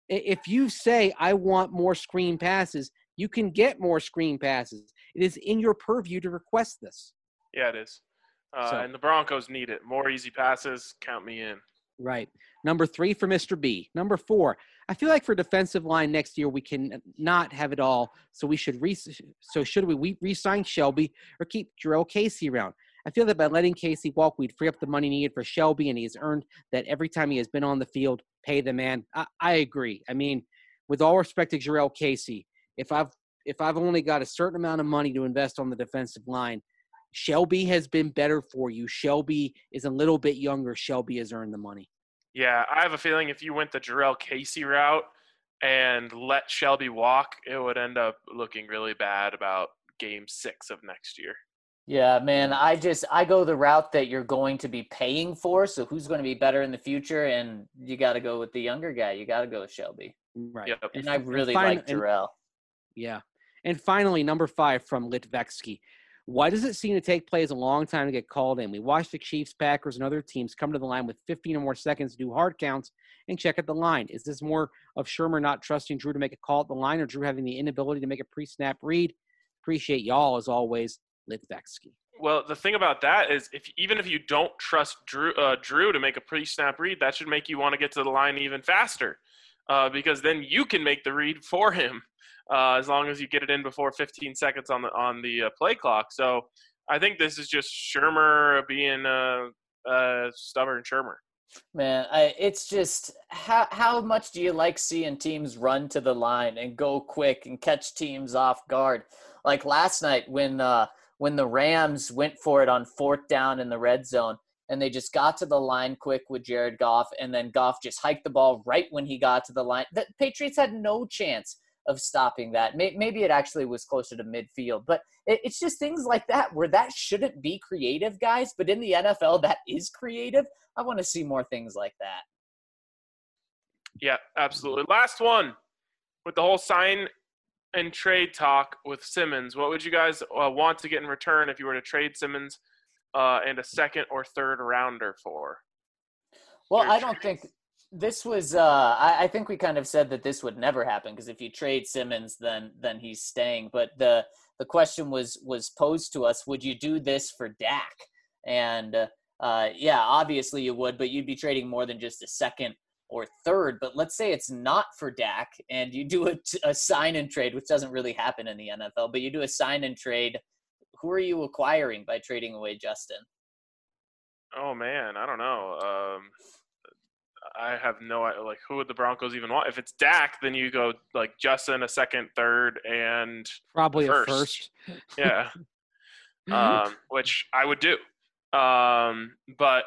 If you say, I want more screen passes, you can get more screen passes. It is in your purview to request this. Yeah, it is. Uh, So- and the Broncos need it. More easy passes, count me in. Right. Number three for Mister B. Number four, I feel like for defensive line next year, we can not have it all. So we should re- so should we, we re-sign Shelby or keep Jarrell Casey around? I feel that by letting Casey walk, we'd free up the money needed for Shelby, and he has earned that every time he has been on the field. Pay the man. I, I agree. I mean, with all respect to Jarrell Casey, if I've if I've only got a certain amount of money to invest on the defensive line, Shelby has been better for you. Shelby is a little bit younger. Shelby has earned the money. Yeah, I have a feeling if you went the Jarrell Casey route and let Shelby walk, it would end up looking really bad about game six of next year. Yeah, man, I just I go the route that you're going to be paying for. So who's going to be better in the future? And you got to go with the younger guy. You got to go with Shelby. Right. Yep. And I really fin- like and- Jarrell. Yeah. And finally, number five from Litvetsky. Why does it seem to take players a long time to get called in? We watch the Chiefs, Packers, and other teams come to the line with fifteen or more seconds to do hard counts and check at the line. Is this more of Shurmur not trusting Drew to make a call at the line or Drew having the inability to make a pre-snap read? Appreciate y'all, as always, Litvetsky. Well, the thing about that is, if even if you don't trust Drew, uh, Drew to make a pre-snap read, that should make you want to get to the line even faster, uh, because then you can make the read for him, uh, as long as you get it in before fifteen seconds on the on the uh, play clock. So I think this is just Shurmur being a uh, uh, stubborn Shurmur. Man, I, it's just how how much do you like seeing teams run to the line and go quick and catch teams off guard? Like last night when uh, when the Rams went for it on fourth down in the red zone and they just got to the line quick with Jared Goff, and then Goff just hiked the ball right when he got to the line. The Patriots had no chance of stopping that. Maybe it actually was closer to midfield, but it's just things like that where that shouldn't be creative, guys. But in the N F L, that is creative. I want to see more things like that. Yeah, absolutely. Last one with the whole sign and trade talk with Simmons. What would you guys uh, want to get in return if you were to trade Simmons uh, and a second or third rounder for? Well, Your I don't trades? think this was uh, – I, I think we kind of said that this would never happen because if you trade Simmons, then then he's staying. But the the question was was posed to us, would you do this for Dak? And, uh, yeah, obviously you would, but you'd be trading more than just a second or third. But let's say it's not for Dak and you do a, a sign and trade, which doesn't really happen in the N F L, but you do a sign and trade. Who are you acquiring by trading away Justin? Oh, man, I don't know. Um, I have no idea. Like, who would the Broncos even want? If it's Dak, then you go, like, Justin, a second, third, and Probably first. a first. yeah, um, which I would do. Um, but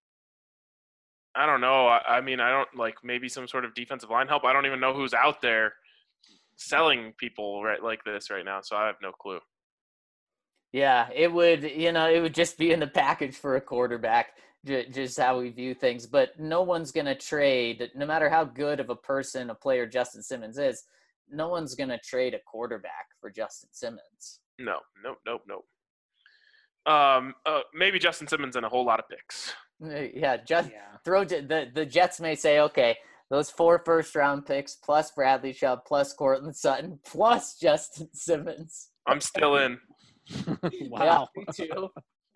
I don't know. I, I mean, I don't like maybe some sort of defensive line help. I don't even know who's out there selling people right like this right now. So I have no clue. Yeah, it would, you know, it would just be in the package for a quarterback, j- just how we view things. But no one's going to trade, no matter how good of a person, a player Justin Simmons is, no one's going to trade a quarterback for Justin Simmons. No, nope, nope, nope. Um, uh, maybe Justin Simmons and a whole lot of picks. Uh, Yeah, just Yeah. throw the the Jets may say, okay, Those four first-round picks, plus Bradley Chubb, plus Cortland Sutton, plus Justin Simmons. I'm still in. Wow. Yeah, me too.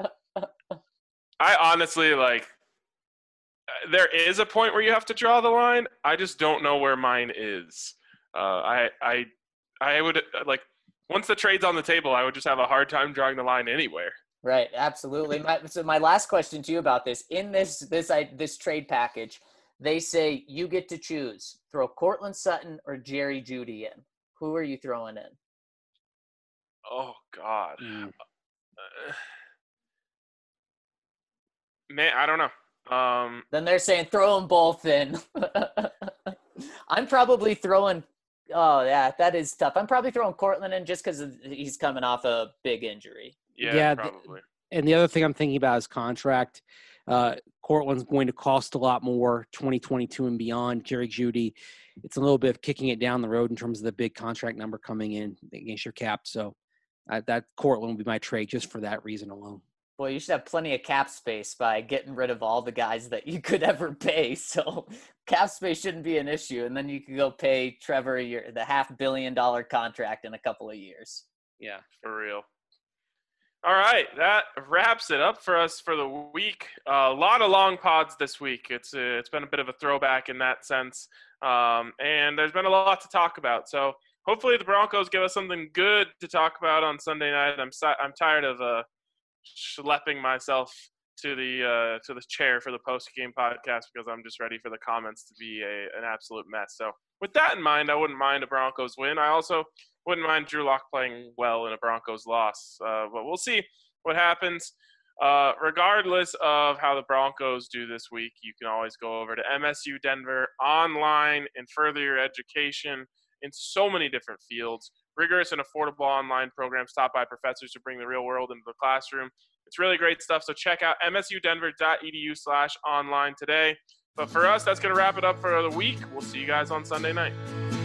I honestly, like, there is a point where you have to draw the line. I just don't know where mine is. Uh, I, I, I would, like, once the trade's on the table, I would just have a hard time drawing the line anywhere. Right, absolutely. My, so my last question to you about this, in this this I, this trade package, they say you get to choose, throw Cortland Sutton or Jerry Jeudy in. Who are you throwing in? Oh, God. Mm. Uh, man, I don't know. Um, Then they're saying throw them both in. I'm probably throwing – oh, yeah, that is tough. I'm probably throwing Cortland in just because he's coming off a big injury. yeah, Yeah, th- probably. And the other thing I'm thinking about is contract. Uh, Cortland's going to cost a lot more, twenty twenty-two and beyond. Jerry Jeudy, it's a little bit of kicking it down the road in terms of the big contract number coming in against your cap. So uh, that Cortland would be my trade just for that reason alone. Boy, you should have plenty of cap space by getting rid of all the guys that you could ever pay. So cap space shouldn't be an issue. And then you could go pay Trevor your, the half billion dollar contract in a couple of years. Yeah. For real. All right, that wraps it up for us for the week. Uh, a lot of long pods this week. It's uh, it's been a bit of a throwback in that sense, um, and there's been a lot to talk about. So hopefully the Broncos give us something good to talk about on Sunday night. I'm si- I'm tired of uh, schlepping myself to the uh, to the chair for the post game podcast because I'm just ready for the comments to be a, an absolute mess. So with that in mind, I wouldn't mind a Broncos win. I also wouldn't mind Drew Lock playing well in a Broncos loss, uh, but we'll see what happens. Uh, regardless of how the Broncos do this week, you can always go over to M S U Denver online and further your education in so many different fields. Rigorous and affordable online programs taught by professors who bring the real world into the classroom. It's really great stuff, so check out msudenver.edu slash online today. But for us, that's going to wrap it up for the week. We'll see you guys on Sunday night.